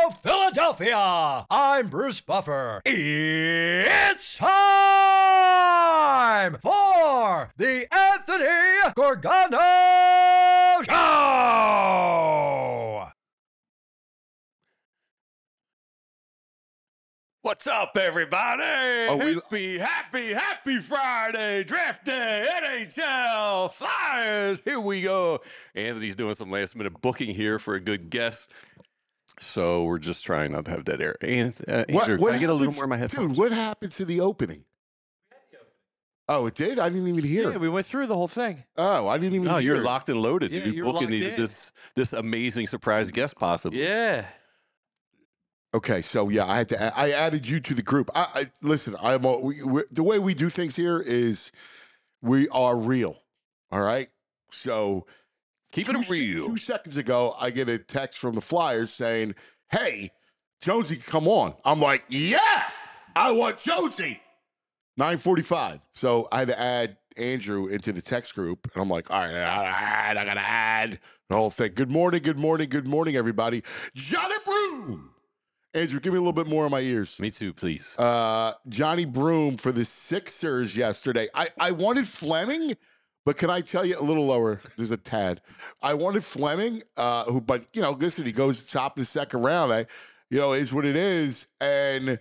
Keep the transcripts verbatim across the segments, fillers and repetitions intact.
Philadelphia. I'm Bruce Buffer. It's time for the Anthony Gargano Show. What's up, everybody? Are we- happy, happy, happy Friday. Draft day, N H L, Flyers. Here we go. Anthony's doing some last minute booking here for a good guest. So we're just trying not to have dead air. And, uh, Andrew, can I get a little happened- more in my headphones? Dude, what happened to the opening? Oh, it did? I didn't even hear. Yeah, we went through the whole thing. Oh, I didn't even No, hear. you're locked and loaded. Yeah, You're you're booking locked these, in. this this amazing surprise guest, possibly. Yeah. Okay, so yeah, I had to. add- I added you to the group. I, I listen. I'm a, we, we, the way we do things here is we are real. All right. So Keep two, it real. Two seconds ago, I get a text from the Flyers saying, "Hey, Jonesy, come on." I'm like, "Yeah, I want Jonesy." nine forty-five. So I had to add Andrew into the text group, and I'm like, "All right, all right, I gotta add the whole thing." Good morning, good morning, good morning, everybody. Johnny Broom. Andrew, give me a little bit more in my ears. Me too, please. Uh, Johnny Broom for the Sixers yesterday. I, I wanted Fleming, but can I tell you a little lower? There's a tad. I wanted Fleming, uh, who, but you know, listen, he goes top of the second round. I, you know, is what it is, and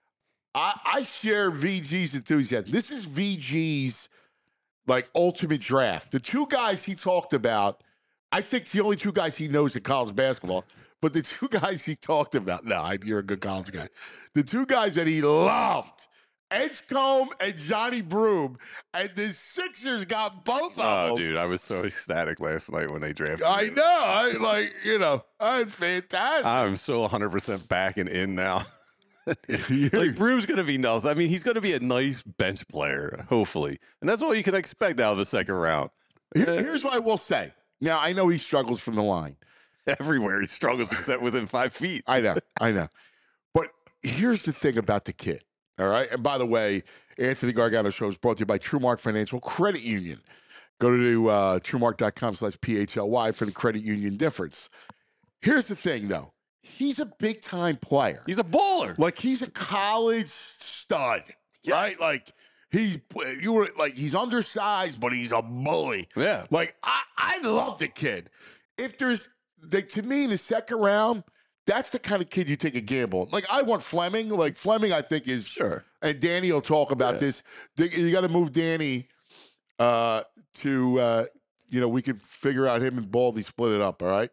I, I share V G's enthusiasm. This is V G's like ultimate draft. The two guys he talked about, I think it's the only two guys he knows in college basketball. But the two guys he talked about, no, I- you're a good college guy. The two guys that he loved, Edgecombe and Johnny Broom, and the Sixers got both of Oh, them. dude, I was so ecstatic last night when they drafted I me. know, I like, you know, I'm fantastic. I'm so one hundred percent back and in now. You're- Like, Broom's going to be nuts. I mean, he's going to be a nice bench player, hopefully. And that's all you can expect out of the second round. Here- here's what I will say. Now, I know he struggles from the line. Everywhere he struggles except within five feet. I know, I know. But here's the thing about the kid, all right? And by the way, Anthony Gargano Show is brought to you by TrueMark Financial Credit Union. Go to uh, TrueMark.com slash P H L Y for the credit union difference. Here's the thing, though. He's a big-time player. He's a baller. Like, he's a college stud, right? Yes. Like, he's you were like he's undersized, but he's a bully. Yeah. Like, I, I love the kid. If there's, like, to me, in the second round, that's the kind of kid you take a gamble on. Like, I want Fleming. Like, Fleming, I think, is Sure. And Danny will talk about Yeah. this. They- You got to move Danny uh, to, uh, you know, we could figure out him and Baldy split it up, all right?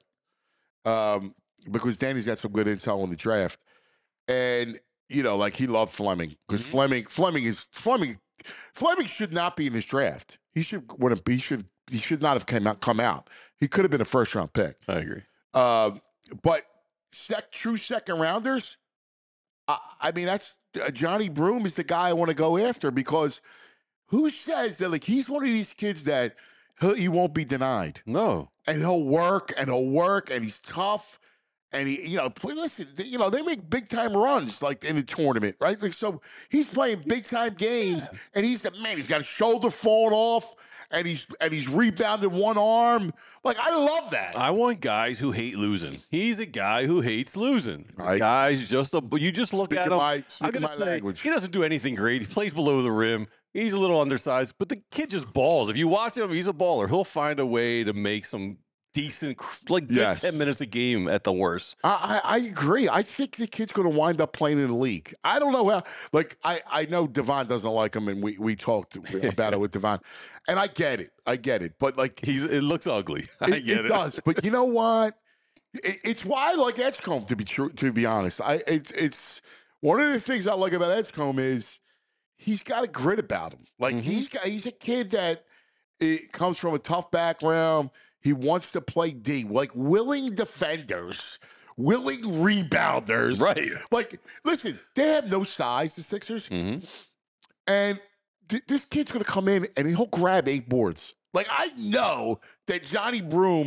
Um, because Danny's got some good intel on the draft. And, you know, like, he loved Fleming. Because Mhm. Fleming, Fleming is, Fleming, Fleming should not be in this draft. He should, would have, he should, he should not have come out, come out. He could have been a first round pick. I agree. Um, but sec, true second rounders, I, I mean, that's uh, Johnny Broom is the guy I want to go after because who says that like he's one of these kids that he'll, he won't be denied No. and he'll work and he'll work and he's tough and he, you know, play, listen, they- you know, they make big time runs like in the tournament, right? Like so, he's playing big time games and he's the man. He's got a shoulder falling off and he's and he's rebounded one arm. Like I love that. I want guys who hate losing. He's a guy who hates losing. I- guys just a, you just look Speaking at him. my- I'm speaking gonna my say language. he doesn't do anything great. He plays below the rim. He's a little undersized, but the kid just balls. If you watch him, he's a baller. He'll find a way to make some decent, like good Yes. ten minutes a game at the worst. I, I I agree. I think the kid's going to wind up playing in the league. I don't know how. Like I, I know Devon doesn't like him, and we we talked about it with Devon, and I get it. I get it. But like He's it looks ugly. I it, get it it. does. But you know what? It, it's why I like Edgecombe. To be true, to be honest, I it's it's one of the things I like about Edgecombe is he's got a grit about him. Like Mhm. he's got he's a kid that it comes from a tough background. He wants to play D, like willing defenders, willing rebounders. Right. Like, listen, they have no size, the Sixers. hmm And th- this kid's going to come in and he'll grab eight boards. Like, I know that Johnny Broom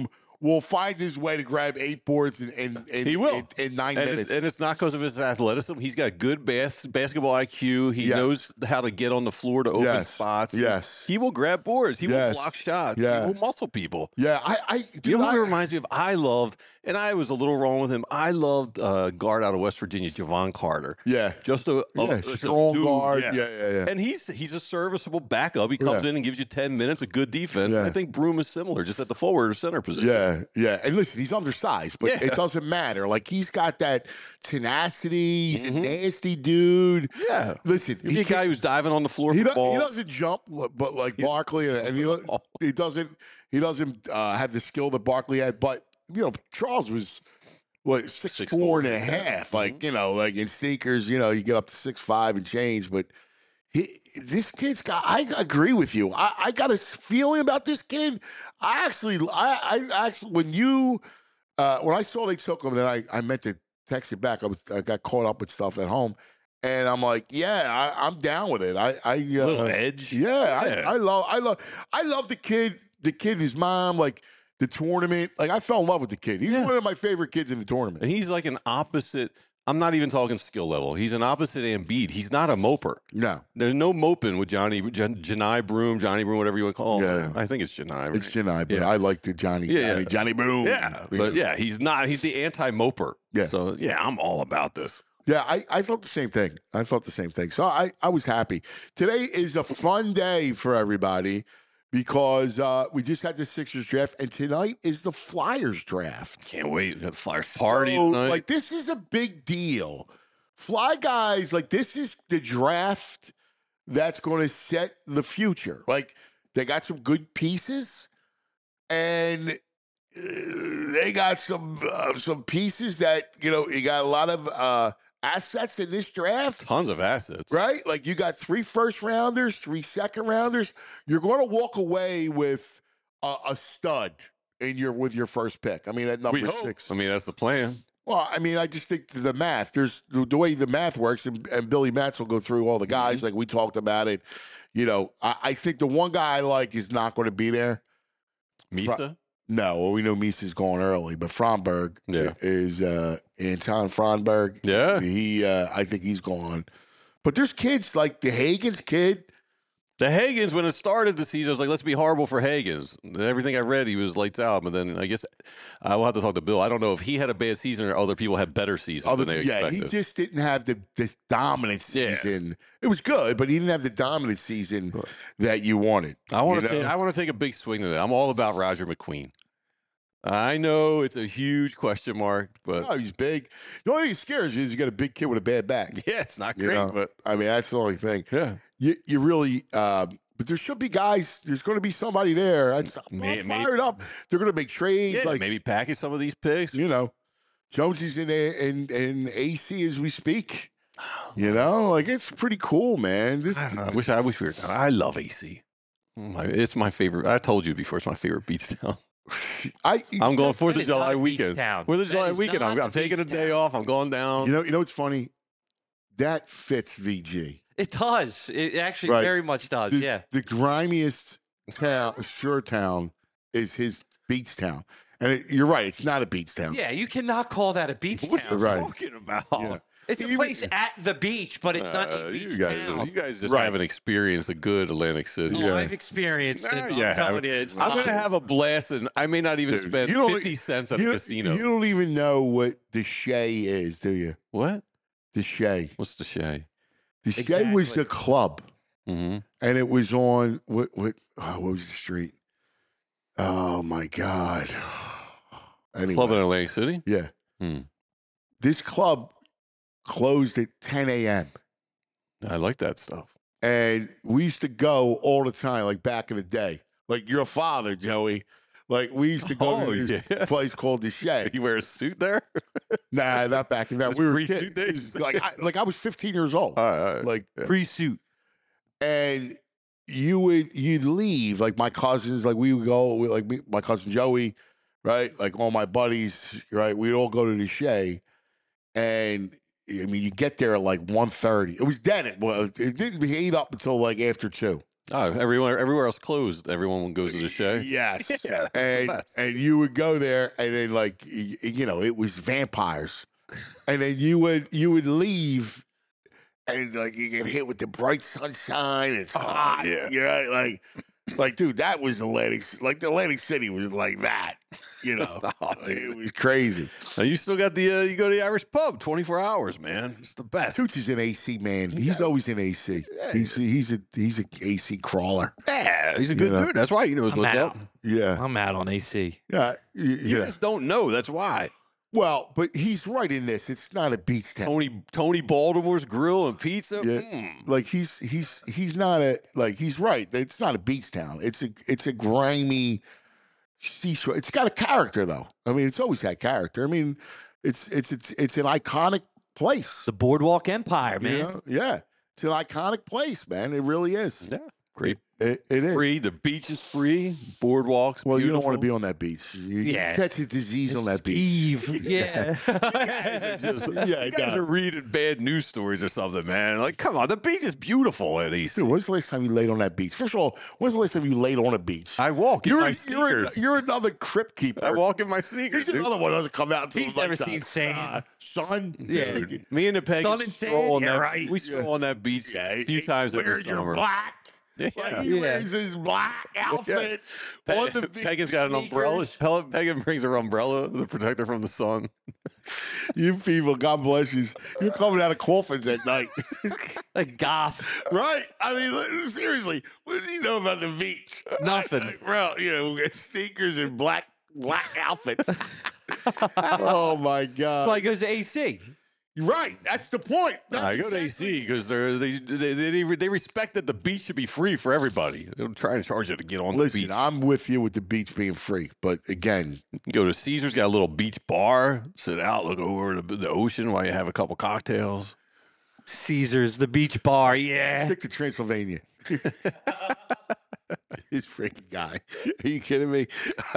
will find his way to grab eight boards in in, in, He will. in, in nine and minutes. It's, and it's not because of his athleticism. He's got good bas- basketball I Q. He Yes. knows how to get on the floor to open Yes. spots. Yes. He, he will grab boards. He Yes. will block shots. Yeah. He will muscle people. yeah, I, I, dude, You know who I, he reminds me of? I loved, and I was a little wrong with him. I loved uh, guard out of West Virginia, Javon Carter. yeah, Just a, a- yeah, a strong dude, guard. yeah. Yeah, yeah, yeah. And he's he's a serviceable backup. He comes Yeah. in and gives you ten minutes of good defense. Yeah. I think Broom is similar, just at the forward or center position. Yeah, yeah. And listen, he's undersized, but Yeah. it doesn't matter. Like he's got that tenacity. He's Mhm. a nasty dude. Yeah. Listen, He's a can- guy who's diving on the floor he, for do- he balls. doesn't jump, but like Barkley, and he, he doesn't he doesn't uh, have the skill that Barkley had. But you know, Charles was what six, Six four four, and a yeah. half. Like Mhm. you know, like in sneakers, you know, you get up to six five and change. But he, this kid's got. I agree with you. I, I got a feeling about this kid. I actually, I, I actually, when you, uh, when I saw they took him, then I, I meant to text you back. I was, I got caught up with stuff at home, and I'm like, yeah, I, I'm down with it. I, I, uh, little edge. yeah, Yeah. I, I love, I love, I love the kid. The kid, his mom, like the tournament. Like I fell in love with the kid. He's Yeah. one of my favorite kids in the tournament. And he's like an opposite. I'm not even talking skill level. He's an opposite Embiid. He's not a moper. No, There's no moping with Johnny, Jan, Janai Broom, Johnny Broom, whatever you want to call him. Yeah. I think it's Janai. Right? it's Chennai, but Yeah. I like the Johnny, Yeah, Johnny, yeah. Johnny Broom. Yeah, but yeah, he's not. He's the anti-moper. Yeah. So yeah, I'm all about this. Yeah, I, I felt the same thing. I felt the same thing. So I, I was happy. Today is a fun day for everybody because uh, we just had the Sixers draft, and tonight is the Flyers draft. Can't wait. We got the Flyers party So, tonight. like, this is a big deal. Fly guys, like, this is the draft that's going to set the future. Like, they got some good pieces, and uh, they got some uh, some pieces that, you know, you got a lot of uh, assets in this draft. Tons of assets. Right? Like you got three first rounders, three second rounders. You're going to walk away with a, a stud in your with your first pick. I mean, at number We hope. six. I mean, that's the plan. Well, I mean, I just think the math. There's the, the way the math works, and, and Billy Matz will go through all the guys like we talked about it. You know, I, I think the one guy I like is not going to be there. Misa. No, well, we know Misa's going early, but Fromberg Yeah. is uh, Anton Fromberg. Yeah. He, uh, I think he's gone. But there's kids like the Hagens kid. The Hagans, when it started the season, I was like, let's be horrible for Hagans. Everything I read, he was lights out. But then I guess I will have to talk to Bill. I don't know if he had a bad season or other people had better seasons Other, than they yeah, expected. he just didn't have the this dominant Yeah. season. It was good, but he didn't have the dominant season that you wanted. I want you to take. know? I want to take a big swing at it. I'm all about Roger McQueen. I know it's a huge question mark, but Oh, he's big. The only thing that scares you is you got a big kid with a bad back. yeah, it's not You great. know? But I mean, that's the only thing. yeah, You you really, um, but there should be guys. There's going to be somebody there. I'm May- I'm may- fired up. They're going to make trades. yeah, like maybe package some of these picks. you know, Jonesy's in a, in in A C as we speak. You know, like it's pretty cool, man. This, I, don't know, I wish I wish we were. I love A C. Oh my- It's my favorite. I told you before. It's my favorite beach town. I I'm going That Fourth of is not July a beach weekend. town. Fourth of That July is weekend. I'm, not I'm a taking a beach day town. off. I'm going down. you know you know what's funny? That fits V G. It does. It actually Right. very much does. The, yeah. the grimiest town, shore town, is his beach town, and it, you're right. It's not a beach town. Yeah, you cannot call that a beach What are town. you Right. talking about? Yeah. It's a Even- place at the beach, but it's not Uh, a beach you guys, town. you guys just Right. haven't experienced the good Atlantic City. Oh, I've experienced it. Nah, I'm yeah, telling you, it's I'm not. gonna have a blast, and I may not even Dude, spend you don't- fifty cents at You, a casino. you don't even know what the Shay is, do you? What? The Shay. What's the Shay? The Shay was Exactly. the club, Mm-hmm. and it was on what? What? Oh, what was the street? Oh my God! Anyway, Club in Atlantic City. yeah. Hmm. This club closed at ten a.m. I like that stuff. and we used to go all the time, like back in the day. Like your father, Joey. Like we used to go Oh, to this yeah. place called the Shay. You wear a suit there? Nah, not back in that. That's We were pre-suit kids. days? Like, I, like I was fifteen years old, All right, all right. like Yeah. pre-suit, and you would you'd leave. Like my cousins, like we would go. We, like me, my cousin Joey, right? Like all my buddies, right? We'd all go to the Shay, and I mean, you get there at like one thirty. It was dead. It was. It didn't heat up until like after two. Oh, everywhere, everywhere else closed. Everyone goes to the show. Yes. Yeah, that's the and best. and you would go there, and then like y- you know, it was vampires, and then you would you would leave, and like you get hit with the bright sunshine. It's hot. yeah. You know, like like dude, that was Atlantic. Like the Atlantic City was like that. You know, Oh, it was crazy. Now, you still got the, uh, you go to the Irish pub twenty-four hours, man. It's the best. Tooch is an A C man. He's always in A C. He's he's a he's a A C crawler. Yeah, he's a good You know. dude. That's why he knows I'm what's out. up. Yeah, I'm out on A C. yeah, y- You yeah. just don't know. That's why. Well, but he's right in this. It's not a beach town. Tony Tony Baltimore's Grill and Pizza. Yeah. Mm. Like he's he's he's not a like he's right. It's not a beach town. It's a it's a grimy seashore. It's got a character though. I mean, it's always had character. I mean, it's it's it's it's an iconic place. The Boardwalk Empire, you man. know? Yeah, it's an iconic place, man. It really is. Yeah, great. It, it is. Free. The beach is free. Boardwalks. Well, you don't want to beautiful. be on that beach. You, Yeah. you catch a disease on that beach. Eve. Yeah. Just, Yeah, you it guys does. are reading bad news stories or something, man. Like, come on, the beach is beautiful at East. Dude, when's the last time you laid on that beach? First of all, when's the last time you laid on a beach? I walk in You're, my you're, sneakers. you're another crypt keeper. I walk in my sneakers. He's dude. another one that doesn't come out until He's the never nighttime. seen sand. Uh, son. Yeah. Dude, Me and the Peggy Sun and stroll sand, on yeah, that. right. We stroll on that beach a few times every wears your summer. black. Yeah. Like he Yeah. wears his black outfit on the beach. Peggy's got an umbrella. sneakers. Pel- Peggy brings her umbrella to protect her from the sun. You people, God bless you. You're coming out of coffins at night. Like goth. Right? I mean, like, seriously, what do you know about the beach? Nothing. Like, bro, you know, sneakers and black black outfits. Oh my God! Well, he goes to A C. Right, that's the point. That's I go to A exactly- C because they they, they they they respect that the beach should be free for everybody. They don't try and charge you to get on the Listen, beach. I'm with you with the beach being free, but again, You go to Caesar's, got a little beach bar, sit out, look over the, the ocean while you have a couple cocktails. Caesar's, the beach bar. Yeah. stick to Transylvania. This freaking guy. Are you kidding me?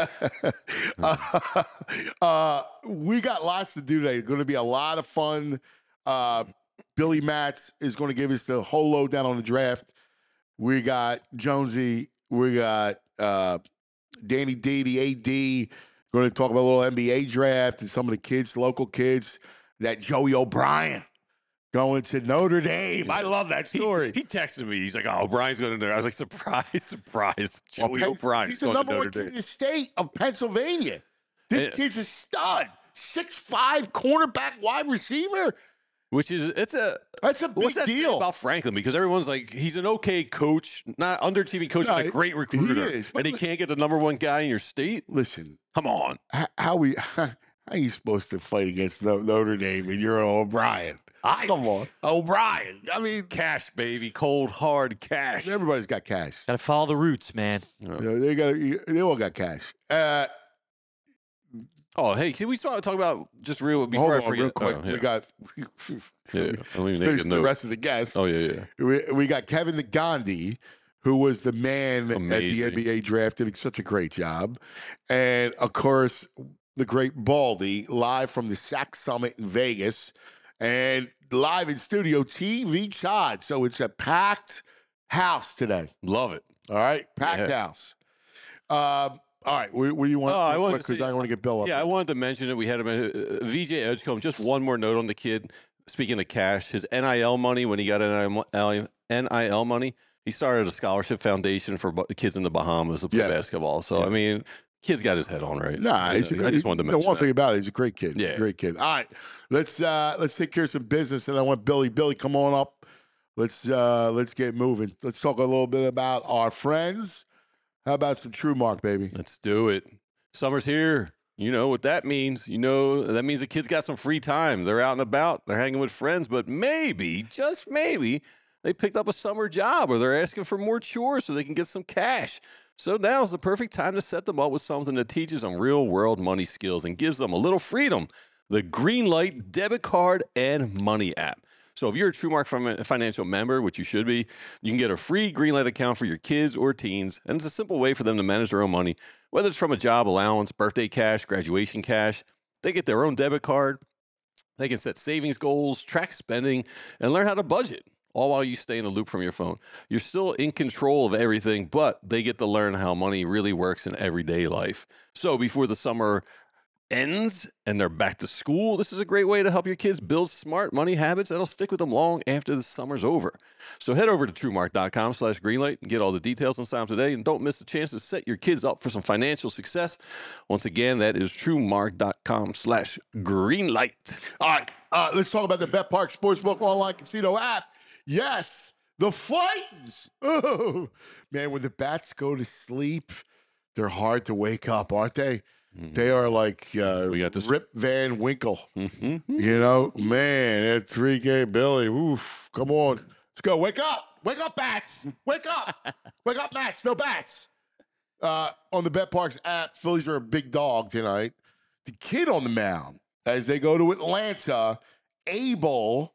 uh, uh, we got lots to do today. It's going to be a lot of fun. Uh, Billy Matz is going to give us the whole lowdown on the draft. We got Jonesy. We got uh, Danny D, the A D. Going to talk about a little N B A draft and some of the kids, local kids. That Joey O'Brien going to Notre Dame. I love that He, story. he texted me. He's like, "Oh, Brian's going to there." I was like, "Surprise, surprise!" Well, Joey Penn- O'Brien's He's the going to number Notre one kid in Dame. the state of Pennsylvania. This Yeah. kid's a stud. six five cornerback wide receiver. Which is it's a That's a big what's that say deal. about Franklin? Because everyone's like, he's an okay coach, not underachieving coach, No, but a great he recruiter, is, but and he li- can't get the number one guy in your state. Listen, Come on. h- how we how are you supposed to fight against No- Notre Dame and you're O'Brien? I Come on, O'Brien. I mean, cash, baby, cold hard cash. everybody's got cash. Gotta follow the roots, man. You know, they got they all got cash. Uh, Oh, hey, can we talk, talk about just real before hold I on, forget? real quick. Oh, yeah. We got yeah. we Let me make finish a the note. rest of the guests. Oh yeah, yeah. We, we got Kevin the Gandhi, who was the man at the Amazing. N B A draft, did such a great job. And of course, the great Baldy, live from the S A C Summit in Vegas, and live in studio T V Chad. So it's a packed house today. Love it. All right, packed Yeah. house. Um, all right, what, what do you want? Oh, I wanted to because say- I want to get Bill up. Yeah, I wanted to mention it. We had him at uh, V J Edgecombe. Just one more note on the kid. Speaking of cash, his N I L money, when he got N I L money, he started a scholarship foundation for bu- kids in the Bahamas to play Yeah. basketball. So, I mean, kid's got his head on right. Nah, he's a, I just wanted to mention the one that. thing about it, he's a great kid. Yeah. great kid. All right, let's uh, let's take care of some business, and I want Billy. Billy, come on up. Let's uh, let's get moving. Let's talk a little bit about our friends. How about some True Mark, baby? Let's do it. Summer's here. You know what that means. You know, that means the kids got some free time. They're out and about. They're hanging with friends, but maybe, just maybe, they picked up a summer job or they're asking for more chores so they can get some cash. So now's the perfect time to set them up with something that teaches them real world money skills and gives them a little freedom. The Greenlight debit card and money app. So if you're a TrueMark fin- financial member, which you should be, you can get a free Greenlight account for your kids or teens. And it's a simple way for them to manage their own money, whether it's from a job allowance, birthday cash, graduation cash. They get their own debit card. They can set savings goals, track spending, and learn how to budget. all while you stay in the loop from your phone. You're still in control of everything, but they get to learn how money really works in everyday life. So before the summer ends and they're back to school, this is a great way to help your kids build smart money habits that'll stick with them long after the summer's over. So head over to truemark.com slash greenlight and get all the details and sign up today, and don't miss the chance to set your kids up for some financial success. Once again, that is truemark.com slash greenlight. All right, uh, let's talk about the Bet Park Sportsbook online casino app. Yes, the flights. Oh, man, when the bats go to sleep, they're hard to wake up, aren't they? Mm-hmm. They are like uh, we got this Rip Van Winkle. Mm-hmm. You know, man, that three K Billy. Oof, come on. Let's go. Wake up. Wake up, bats. Wake up. Wake up, bats. No bats. Uh, on the Bet Parks app, Phillies are a big dog tonight. The kid on the mound as they go to Atlanta, Abel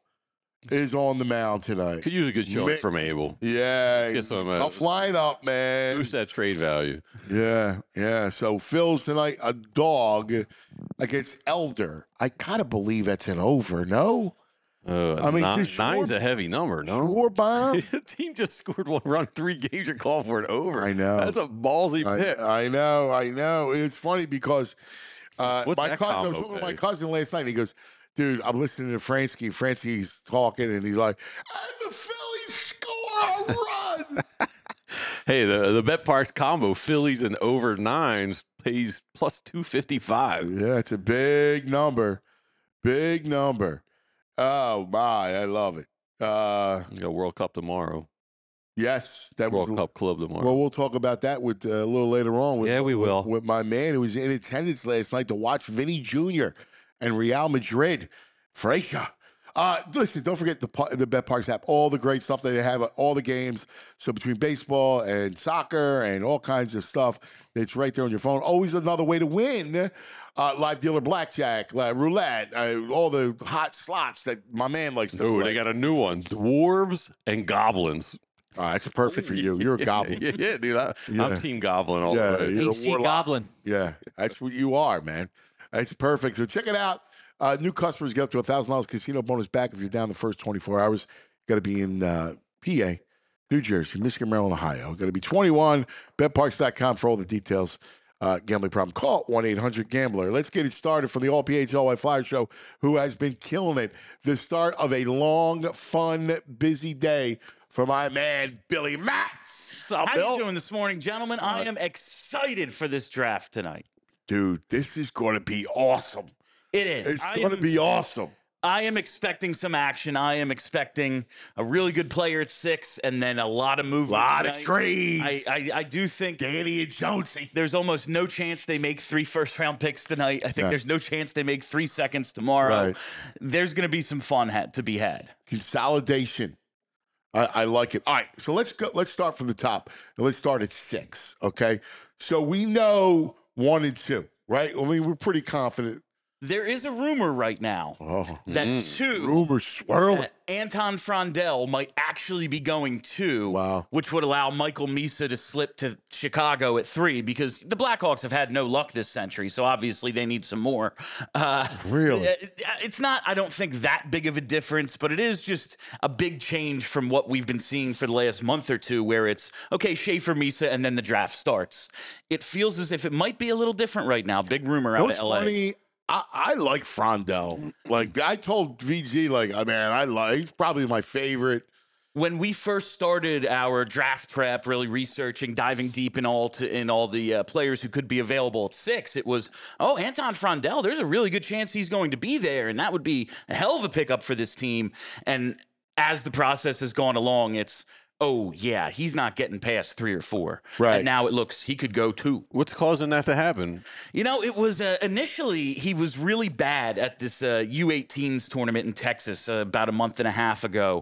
is on the mound tonight. Could use a good showing Man, from Abel. Yeah. Get some, uh, tough lineup, man. Boost that trade value. Yeah, yeah. So Phil's tonight, a dog against Elder. I kind of believe that's an over, no? Uh, I mean, nine, just sure- nine's a heavy number, no? Sure, Bob? The team just scored one run, three games. You're calling for an over. I know. That's a ballsy pick. I, I know, I know. It's funny because uh, What's my that cousin, I was combo talking to my pay? cousin last night, and he goes, dude, I'm listening to Fransky. Fransky's talking, and he's like, and the Phillies score a run. Hey, the the Bet Parks combo, Phillies and over nines, pays plus two fifty five. Yeah, it's a big number. Big number. Oh, my. I love it. Uh, You got World Cup tomorrow. yes, that was World Cup Club tomorrow. Well, we'll talk about that with uh, a little later on. With, Yeah, we will. With, with my man who was in attendance last night to watch Vinny Junior and Real Madrid. Freca. Uh, listen, don't forget the pa- the Bet Parks app. All the great stuff that they have, all the games. So between baseball and soccer and all kinds of stuff, it's right there on your phone. Always another way to win. Uh, live dealer blackjack, uh, roulette, uh, all the hot slots that my man likes to Oh, play. they got a new one: dwarves and goblins. All right, that's perfect for you. You're a goblin. Yeah, yeah, dude. I, Yeah. I'm Team Goblin all Yeah, the way. you're a H C warlock. Goblin. Yeah, that's what you are, man. That's perfect. So check it out. Uh, new customers get up to one thousand dollars casino bonus back if you're down the first twenty-four hours. Got to be in uh, P A, New Jersey, Michigan, Maryland, Ohio. Got to be twenty-one. bet parks dot com for all the details. Uh, gambling problem. Call one eight hundred gambler. Let's get it started from the All P H L Y Flyer Show, who has been killing it. The start of a long, fun, busy day for my man, Billy Matz. What's up, How Bill? you doing this morning, gentlemen? I am excited for this draft tonight. Dude, this is going to be awesome. It is. It's I going to am- be awesome. I am expecting some action. I am expecting a really good player at six, and then a lot of movement. lot of tonight. trades. I, I, I do think Danny and Jonesy. there's almost no chance they make three first round picks tonight. I think Yeah. there's no chance they make three seconds tomorrow. Right. There's going to be some fun ha- to be had. Consolidation. I, I like it. All right, so let's go. Let's start from the top. And let's start at six. Okay. So we know one and two, right? I mean, we're pretty confident. There is a rumor right now Oh, that two rumors swirling. that Anton Frondell might actually be going two, Wow. which would allow Michael Misa to slip to Chicago at three, because the Blackhawks have had no luck this century, so obviously they need some more. Uh, Really? it- It's not, I don't think, that big of a difference, but it is just a big change from what we've been seeing for the last month or two, where it's, okay, Schaefer, Misa, and then the draft starts. It feels as if it might be a little different right now. Big rumor You know out what's of L A. funny? I, I like Frondell. Like I told V G, like, I mean, I like. He's probably my favorite. When we first started our draft prep, really researching, diving deep in all to, in all the uh, players who could be available at six, it was, oh, Anton Frondell, there's a really good chance he's going to be there, and that would be a hell of a pickup for this team. And as the process has gone along, it's, oh, yeah, he's not getting past three or four. Right. And now it looks he could go two. What's causing that to happen? You know, it was uh, initially he was really bad at this uh, U eighteens tournament in Texas uh, about a month and a half ago.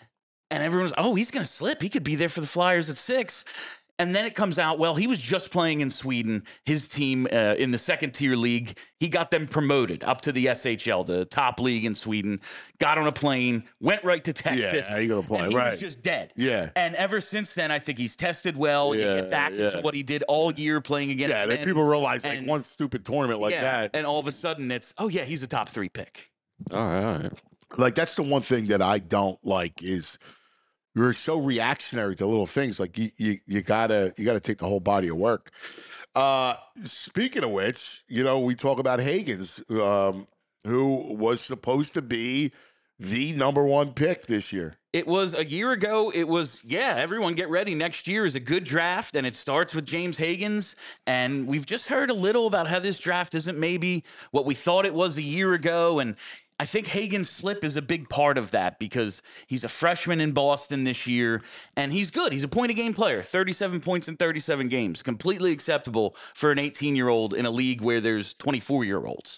And everyone was, oh, he's going to slip. He could be there for the Flyers at six. And then it comes out, well, he was just playing in Sweden. His team uh, in the second tier league, he got them promoted up to the S H L, the top league in Sweden, got on a plane, went right to Texas. Yeah, you gonna play, and he right. was just dead. Yeah. And ever since then, I think he's tested well. You Yeah, get back yeah. into what he did all year playing against Yeah, then men. people realize like and- one stupid tournament like yeah, that. and all of a sudden it's, oh yeah, he's a top three pick. All right, all right. Like that's the one thing that I don't like is we're so reactionary to little things. Like you, you, you gotta, you gotta take the whole body of work. Uh, speaking of which, you know, we talk about Higgins, um, who was supposed to be the number one pick this year. It was a year ago. It was, yeah, everyone get ready. Next year is a good draft, and it starts with James Higgins. And we've just heard a little about how this draft isn't maybe what we thought it was a year ago. And I think Higgins' slip is a big part of that because he's a freshman in Boston this year, and he's good. He's a point-a-game player, thirty-seven points in thirty-seven games. Completely acceptable for an eighteen-year-old in a league where there's twenty-four-year-olds.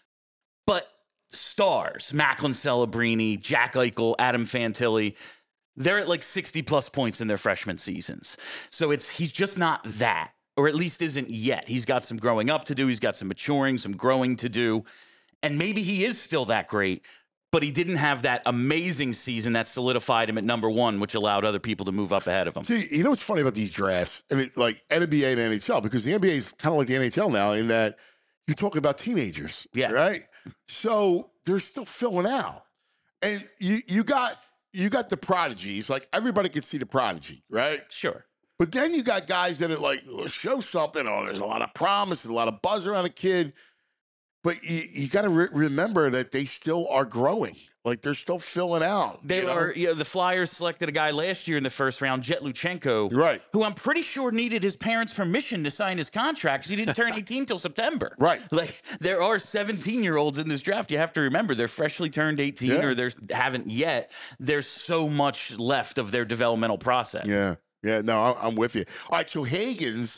But stars, Macklin Celebrini, Jack Eichel, Adam Fantilli, they're at like sixty plus points in their freshman seasons. So it's he's just not that, or at least isn't yet. He's got some growing up to do. He's got some maturing, some growing to do. And maybe he is still that great, but he didn't have that amazing season that solidified him at number one, which allowed other people to move up ahead of him. See, you know what's funny about these drafts? I mean, like N B A and N H L, because the N B A is kind of like the N H L now in that you're talking about teenagers, Yeah. right? So they're still filling out, and you you got you got the prodigies. Like everybody can see the prodigy, right? Sure. But then you got guys that are like, oh, show something. Oh, there's a lot of promise, there's a lot of buzz around a kid. But you, you got to re- remember that they still are growing. Like they're still filling out. They you know? are, you know, the Flyers selected a guy last year in the first round, Jet Luchenko, Right. who I'm pretty sure needed his parents' permission to sign his contract because he didn't turn eighteen till September. Right. Like there are seventeen-year-olds in this draft. You have to remember they're freshly turned eighteen Yeah. or they haven't yet. There's so much left of their developmental process. Yeah. Yeah. No, I- I'm with you. All right. So Higgins,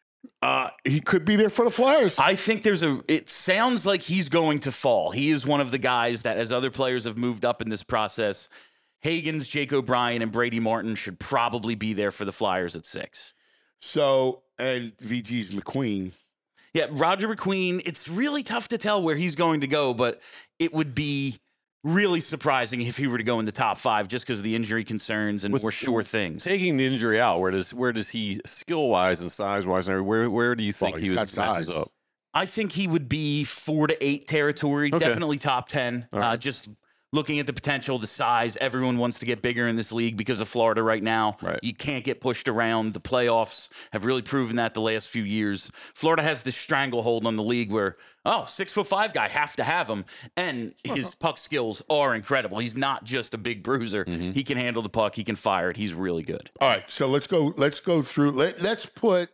uh, he could be there for the Flyers. I think there's a, it sounds like he's going to fall. He is one of the guys that, as other players have moved up in this process, Higgins, Jake O'Brien, and Brady Martin should probably be there for the Flyers at six. So, and V G's McQueen. Yeah, Roger McQueen, it's really tough to tell where he's going to go, but it would be really surprising if he were to go in the top five just because of the injury concerns and With- more sure things. Taking the injury out, where does where does he skill wise and size wise, and where where do you think Well, he he's would got matches size. up? I think he would be four to eight territory, Okay. definitely top ten. All right. Uh, just looking at the potential, the size, everyone wants to get bigger in this league because of Florida right now. Right. You can't get pushed around. The playoffs have really proven that the last few years. Florida has this stranglehold on the league where, oh, six foot five guy, have to have him. And his puck skills are incredible. He's not just a big bruiser. Mm-hmm. He can handle the puck. He can fire it. He's really good. All right. So let's go. Let's go through. Let, let's put.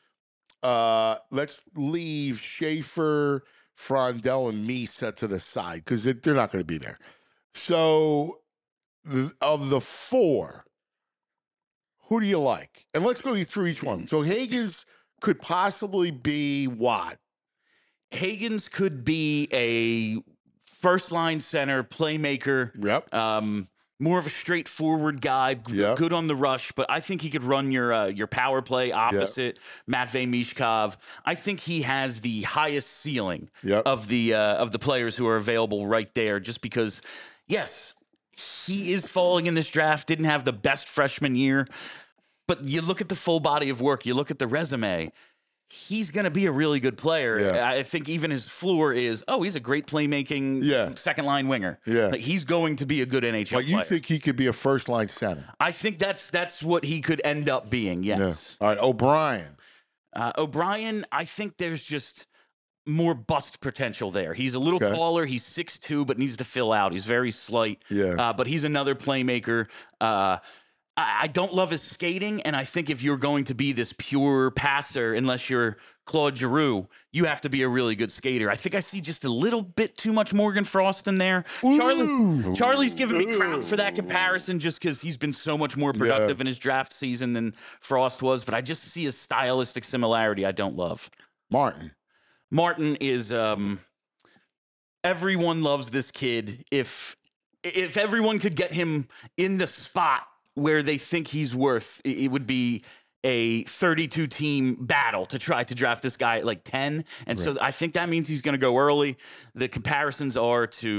Uh, let's leave Schaefer, Frondell, and Misa to the side because they're not going to be there. So, th- of the four, who do you like? And let's go through each one. So Higgins could possibly be what? Higgins could be a first line center, playmaker. Yep. Um, more of a straightforward guy, g- Yeah. good on the rush, but I think he could run your uh, your power play opposite Matvey Mishkov. I think he has the highest ceiling Yep. of the uh, of the players who are available right there. Just because, yes, he is falling in this draft. Didn't have the best freshman year, but you look at the full body of work. You look at the resume. He's going to be a really good player. Yeah. I think even his floor is, oh, he's a great playmaking Yeah. second line winger. Yeah. Like, he's going to be a good N H L But you player. think he could be a first line center? I think that's that's what he could end up being. Yes. All right. O'Brien. Uh, O'Brien, I think there's just more bust potential there. He's a little Okay. taller. He's six two, but needs to fill out. He's very slight. Yeah. Uh, but he's another playmaker. Uh, I, I don't love his skating, and I think if you're going to be this pure passer, unless you're Claude Giroux, you have to be a really good skater. I think I see just a little bit too much Morgan Frost in there. Charlie, Charlie's giving me crap for that comparison just because he's been so much more productive in his draft season than Frost was, but I just see a stylistic similarity I don't love. Martin. Martin is um everyone loves this kid. If if everyone could get him in the spot where they think he's worth, it it would be a thirty-two team battle to try to draft this guy at like ten. And so I think that means he's going to go early. The comparisons are to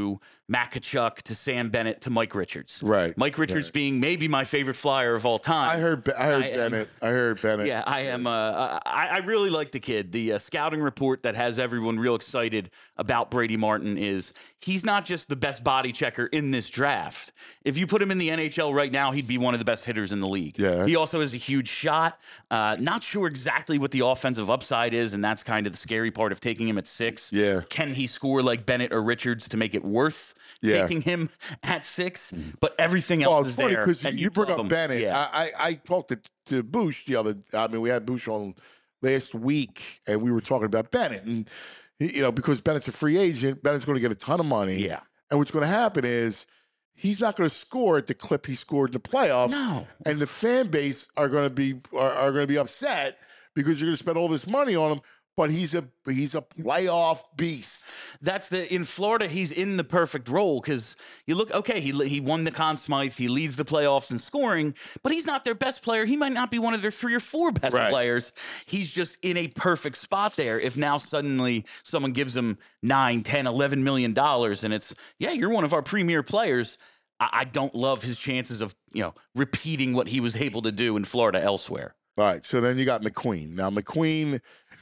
Matt Kachuk to Sam Bennett to Mike Richards. Right. Mike Richards right. being maybe my favorite Flyer of all time. I heard. I heard I am- Bennett. I heard Bennett. Yeah, I am. Uh, I, I really like the kid. The uh, scouting report that has everyone real excited about Brady Martin is he's not just the best body checker in this draft. If you put him in the N H L right now, he'd be one of the best hitters in the league. Yeah. He also has a huge shot. Uh, not sure exactly what the offensive upside is, and that's kind of the scary part of taking him at six. Yeah. Can he score like Bennett or Richards to make it worth Yeah. taking him at six? But everything Well, else it's is funny there. because and you bring love up him. Bennett. Yeah. I, I I talked to to Bush the other. I mean, we had Bush on last week, and we were talking about Bennett, and he- you know, because Bennett's a free agent, Bennett's going to get a ton of money. Yeah. And what's going to happen is he's not going to score at the clip he scored in the playoffs. No. And the fan base are going to be are, are going to be upset because you're going to spend all this money on him. But he's a he's a playoff beast. That's the in Florida. He's in the perfect role because you look okay. He he won the Conn Smythe. He leads the playoffs in scoring, but he's not their best player. He might not be one of their three or four best Right. players. He's just in a perfect spot there. If now suddenly someone gives him nine, ten, eleven million dollars, and it's yeah, you're one of our premier players. I, I don't love his chances of you know repeating what he was able to do in Florida elsewhere. All right, so then you got McQueen. Now McQueen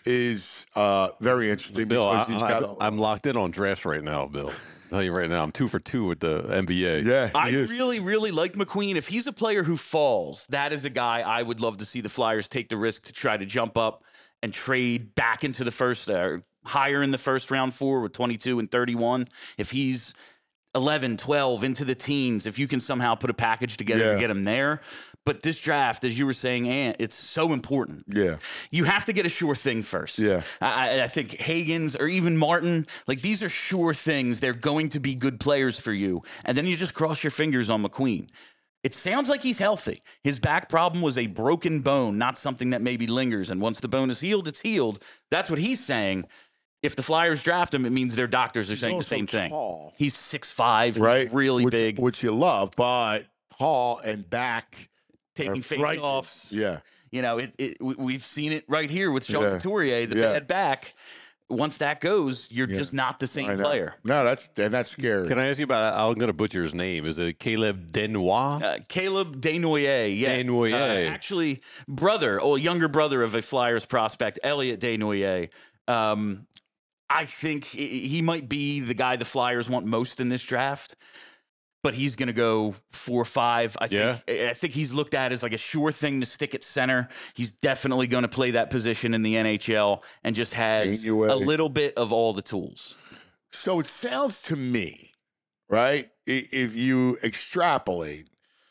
is uh, very interesting Bill, I, because he's got. a- am locked in on drafts right now, Bill. I'll tell you right now, I'm two for two with the N B A. yeah, I he is. really, really like McQueen. If he's a player who falls, that is a guy I would love to see the Flyers take the risk to try to jump up and trade back into the first, uh, higher in the first round four with twenty-two and thirty-one. If he's eleven, twelve into the teens, if you can somehow put a package together Yeah. to get him there. But this draft, as you were saying, Ant, it's so important. Yeah. You have to get a sure thing first. Yeah. I, I think Hagens or even Martin, like these are sure things. They're going to be good players for you. And then you just cross your fingers on McQueen. It sounds like he's healthy. His back problem was a broken bone, not something that maybe lingers. And once the bone is healed, it's healed. That's what he's saying. If the Flyers draft him, it means their doctors are saying the also same thing. tall. He's six five, right, really which, big, which you love, but tall and back taking are face frightening. offs. Yeah, You know, it, it, we- we've seen it right here with Sean Yeah. Couturier, the Yeah. bad back. Once that goes, you're Yeah. just not the I same know. player. No, that's and that's scary. Can I ask you about? I'm going to butcher his name. Is it Caleb Denois? Uh, Caleb Desnoyers, yes. Desnoyers. Uh, actually, brother, or younger brother of a Flyers prospect, Elliot Desnoyers. Um, I think he he might be the guy the Flyers want most in this draft, but he's going to go four or five. I think. I think he's looked at as like a sure thing to stick at center. He's definitely going to play that position in the N H L and just has Desnoyers. a little bit of all the tools. So it sounds to me, right? i- If you extrapolate,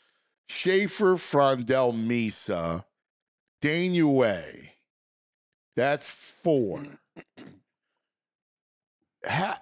Schaefer, Frondell, Misa, Desnoyers, that's four. Ha-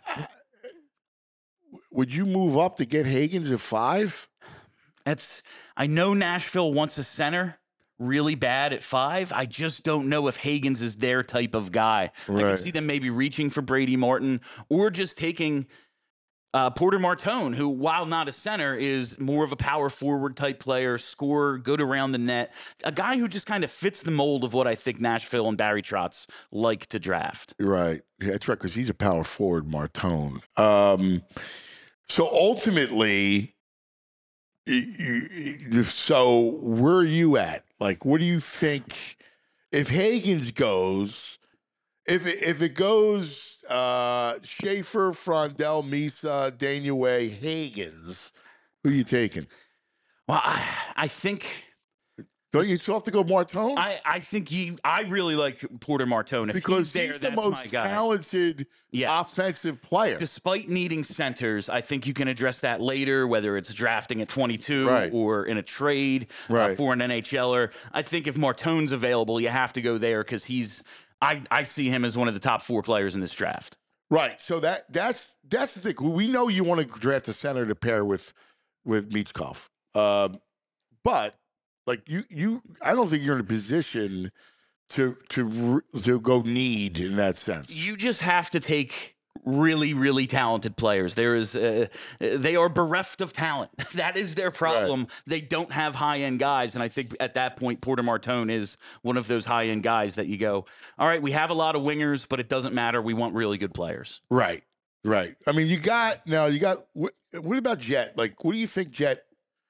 would you move up to get Hagens at five? That's I know Nashville wants a center really bad at five. I just don't know if Hagens is their type of guy. I Right. can see them maybe reaching for Brady Martin or just taking uh, Porter Martone, who, while not a center, is more of a power forward type player, scorer, good around the net, a guy who just kind of fits the mold of what I think Nashville and Barry Trotz like to draft. Right. Yeah, that's right, because he's a power forward, Martone. Um, so ultimately, y- y- y- so where are you at? Like, what do you think if Hagens goes? If it, if it goes uh, Schaefer, Frondell, Misa, Desnoyers, Hagens, who you taking? Well, I, I think Don't you still have to go Martone? I, I think you I really like Porter Martone. If because he's there, he's the that's my most guy. talented Yes. offensive player. Despite needing centers, I think you can address that later, whether it's drafting at twenty-two Right. or in a trade uh, Right. for an N H L er. I think if Martone's available, you have to go there because he's. I, I see him as one of the top four players in this draft. Right. So that that's that's the thing. We know you want to draft a center to pair with with Michkov. Um, but like you you I don't think you're in a position to to re- to go need in that sense. You just have to take really, really talented players. There is, uh, they are bereft of talent. That is their problem. They don't have high end guys, and I think at that point, Porter Martone is one of those high end guys that you go, all right, we have a lot of wingers, but it doesn't matter. We want really good players. Right. Right. I mean, you got now. You got what, what about Jet? Like, what do you think, Jet?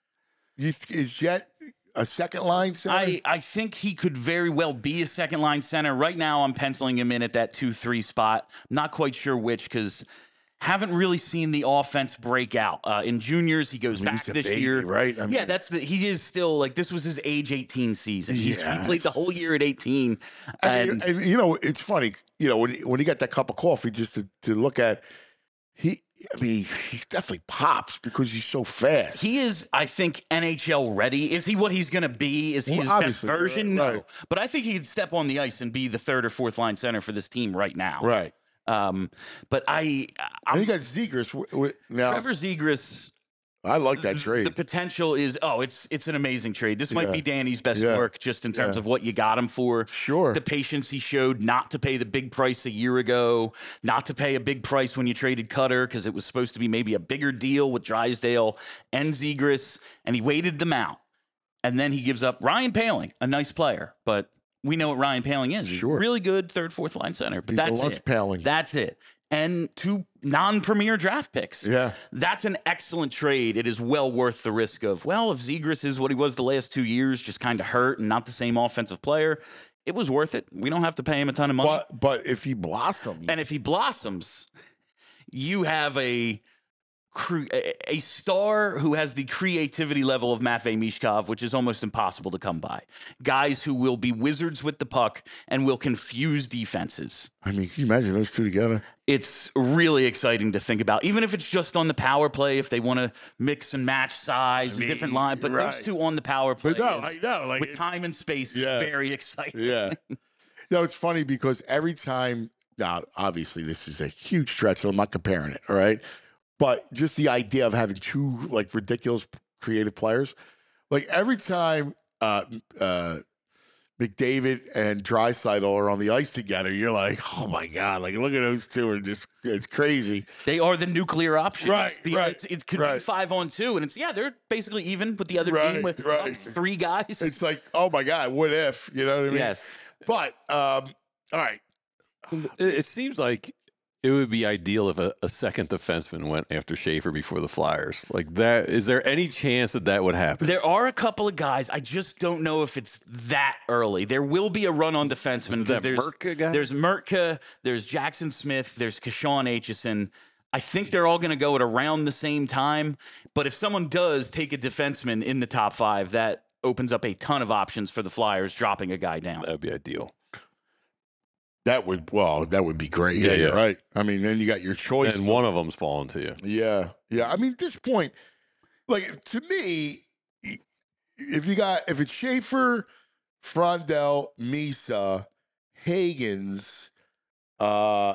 You th- is Jet a second line center? I, I think he could very well be a second line center. Right now, I'm penciling him in at that two three spot. Not quite sure which because haven't really seen the offense break out. Uh, in juniors, he goes I mean, back he's a this baby, year. right? I mean, Yeah, that's the he is still like this was his age eighteen season. He's, Yeah. He played the whole year at eighteen. I And mean, and you know, it's funny. You know, when he, when he got that cup of coffee, just to, to look at, he. I mean, he definitely pops because he's so fast. he is, I think, N H L ready. Is he what he's going to be? Is he Well, his best obviously, version? right. No. But I think he could step on the ice and be the third or fourth line center for this team right now. right. Um, but I, And I'm, you got Zegers. w- w- Now, Trevor Zegras. I like that The trade. potential is oh, it's it's an amazing trade. This might Yeah. be Danny's best Yeah. work just in terms Yeah. of what you got him for. Sure. The patience he showed not to pay the big price a year ago, not to pay a big price when you traded Cutter because it was supposed to be maybe a bigger deal with Drysdale and Zegras, and he waited them out. And then he gives up Ryan Paling, a nice player, but we know what Ryan Paling is. He's Sure. really good third, fourth line center, but He's a that's lunch it. paling. That's it. And two non-premier draft picks. Yeah. That's an excellent trade. It is well worth the risk of, well, if Zegras is what he was the last two years, just kind of hurt and not the same offensive player, it was worth it. We don't have to pay him a ton of money. But but if he blossoms, And if he blossoms, you have a cre- a a star who has the creativity level of Matvei Mishkov, which is almost impossible to come by. Guys who will be wizards with the puck and will confuse defenses. I mean, can you imagine those two together? It's really exciting to think about, even if it's just on the power play, if they want to mix and match size and different line. But right. those two on the power play But no, is- I know, like with it- time and space Yeah. is very exciting. Yeah. You know, it's funny because every time, now, obviously, this is a huge stretch, so I'm not comparing it, all right? But just the idea of having two, like, ridiculous creative players, like, every time uh, uh, McDavid and Draisaitl are on the ice together, you're like, oh, my God, like, look at those two are just, it's crazy. They are the nuclear option. Right, It's the- right, it's- It could be right. five on two, and it's yeah, they're basically even with the other Right, team with right. up three guys. It's like, oh, my God, what if? You know what I mean? yes. But, um, all right. It, it seems like it would be ideal if a, a second defenseman went after Schaefer before the Flyers. Like that, is there any chance that that would happen? There are a couple of guys. I just don't know if it's that early. There will be a run on defensemen because that there's Mertka guy? there's Mertka, there's Jackson Smith, there's Kashawn Aitchison. I think they're all going to go at around the same time. But if someone does take a defenseman in the top five, that opens up a ton of options for the Flyers dropping a guy down. That'd be ideal. That would, well, that would be great. Yeah, yeah. Right. I mean, then you got your choice. And one of them's falling to you. Yeah, yeah. I mean, at this point, like to me, if you got if it's Schaefer, Frondell, Misa, Hagens, uh,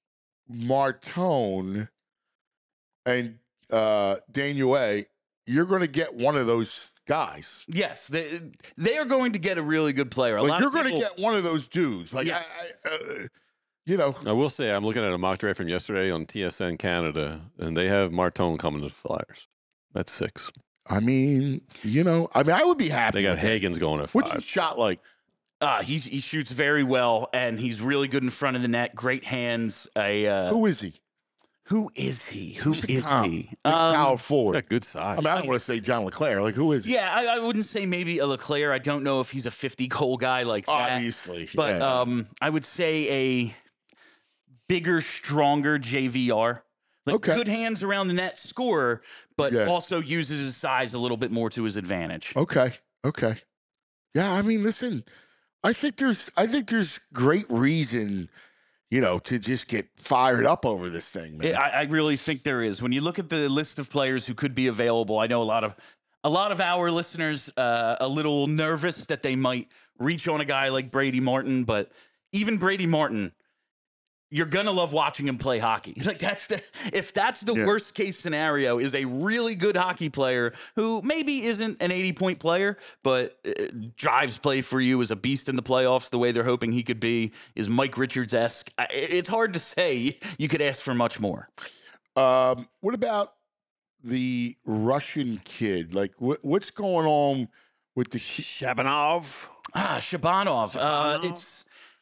Martone, and uh, Daniel, you're going to get one of those guys. Yes, they, they are going to get a really good player. A Like lot you're of going to people- get one of those dudes. Like Yes. I, I, uh, you know, I will say, I'm looking at a mock draft from yesterday on T S N Canada, and they have Martone coming to the Flyers. That's six. I mean, you know, I mean, I would be happy. They got with that. Hagen's going at What's his five. shot like? Uh, he he shoots very well, and he's really good in front of the net. Great hands. A uh, Who is he? who is he? Who Who's the is comp? he? Like Um, power forward. Got good size. I mean, I don't want to say John LeClaire. Like, who is he? yeah, I, I wouldn't say maybe a Leclerc. I don't know if he's a fifty goal guy like that. Obviously. But yeah. um, I would say a bigger, stronger J V R. Like Okay. good hands around the net, scorer, but Yeah. also uses his size a little bit more to his advantage. Okay. Okay. Yeah, I mean, listen, I think there's I think there's great reason, you know, to just get fired up over this thing, man. Yeah, I, I really think there is. When you look at the list of players who could be available, I know a lot of a lot of our listeners uh, a little nervous that they might reach on a guy like Brady Martin, but even Brady Martin, you're gonna love watching him play hockey. Like that's the if that's the Yeah. worst case scenario is a really good hockey player who maybe isn't an eighty point player, but uh, drives play for you, is a beast in the playoffs the way they're hoping he could be, is Mike Richards esque. It's hard to say. You could ask for much more. Um, what about the Russian kid? Like, what, what's going on with the? Shabanov. Ah, Shabanov. Uh, it's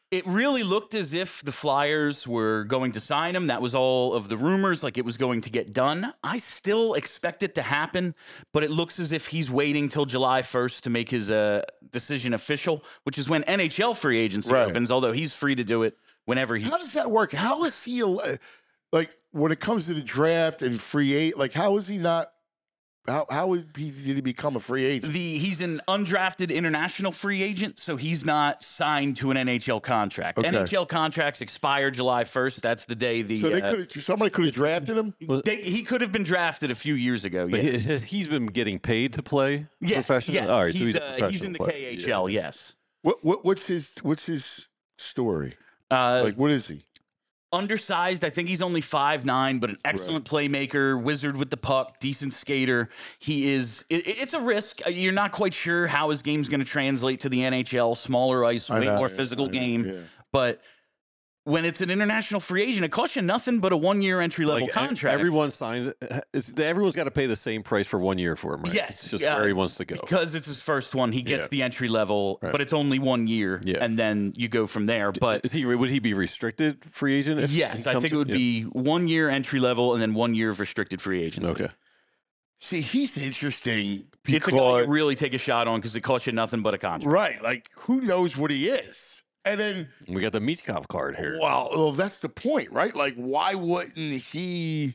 It really looked as if the Flyers were going to sign him. That was all of the rumors, like it was going to get done. I still expect it to happen, but it looks as if he's waiting till July first to make his uh, decision official, which is when N H L free agency Right. opens, although he's free to do it whenever he... How does that work? How is he al- like when it comes to the draft and free agent? Like, how is he not? How how is he, did he become a free agent? The He's an undrafted international free agent, so he's not signed to an N H L contract. Okay. N H L contracts expire July first. That's the day the... So they uh, could somebody could have drafted him. they, he could have been drafted a few years ago. But Yes. he- has he's been getting paid to play Yeah, professional? yes. All right, so he's, he's, a uh, professional he's in the player. K H L, yes. What what what's his what's his story? Uh, Like, what is he? undersized. I think he's only five nine, but an excellent playmaker, wizard with the puck, decent skater. He is. It, it's a risk. Uh, You're not quite sure how his game's going to translate to the N H L. Smaller ice, I way know, more yeah, physical I know, game. yeah. But when it's an international free agent, it costs you nothing but a one year entry level Like, e- contract. Everyone signs it. It's, everyone's got to pay the same price for one year for him, right? Yes, It's just yeah. where he wants to go. because it's his first one, he gets Yeah. the entry level, Right. but it's only one year, Yeah. and then you go from there. But Is he would he be restricted free agent? If yes, he I comes think it in? would Yeah. be one year entry level and then one year of restricted free agency. Okay. See, he's interesting It's a guy because you really take a shot on because it costs you nothing but a contract. right, like who knows what he is, and then We got the Michkov card here. well, well, that's the point, right? Like, why wouldn't he?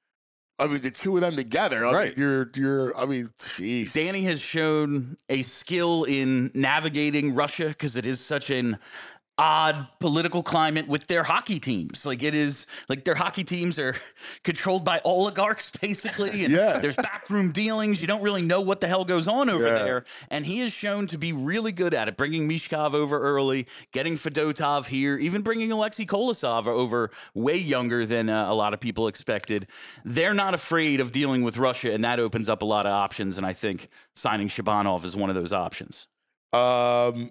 I mean, the two of them together, I mean, Right. you're you're. I mean, jeez. Danny has shown a skill in navigating Russia because it is such an odd political climate with their hockey teams. Like it is like their hockey teams are controlled by oligarchs basically. And Yeah. there's backroom dealings. You don't really know what the hell goes on over Yeah. there. And he has shown to be really good at it, bringing Mishkov over early, getting Fedotov here, even bringing Alexei Kolosov over way younger than uh, a lot of people expected. They're not afraid of dealing with Russia, and that opens up a lot of options. And I think signing Shabanov is one of those options. Um,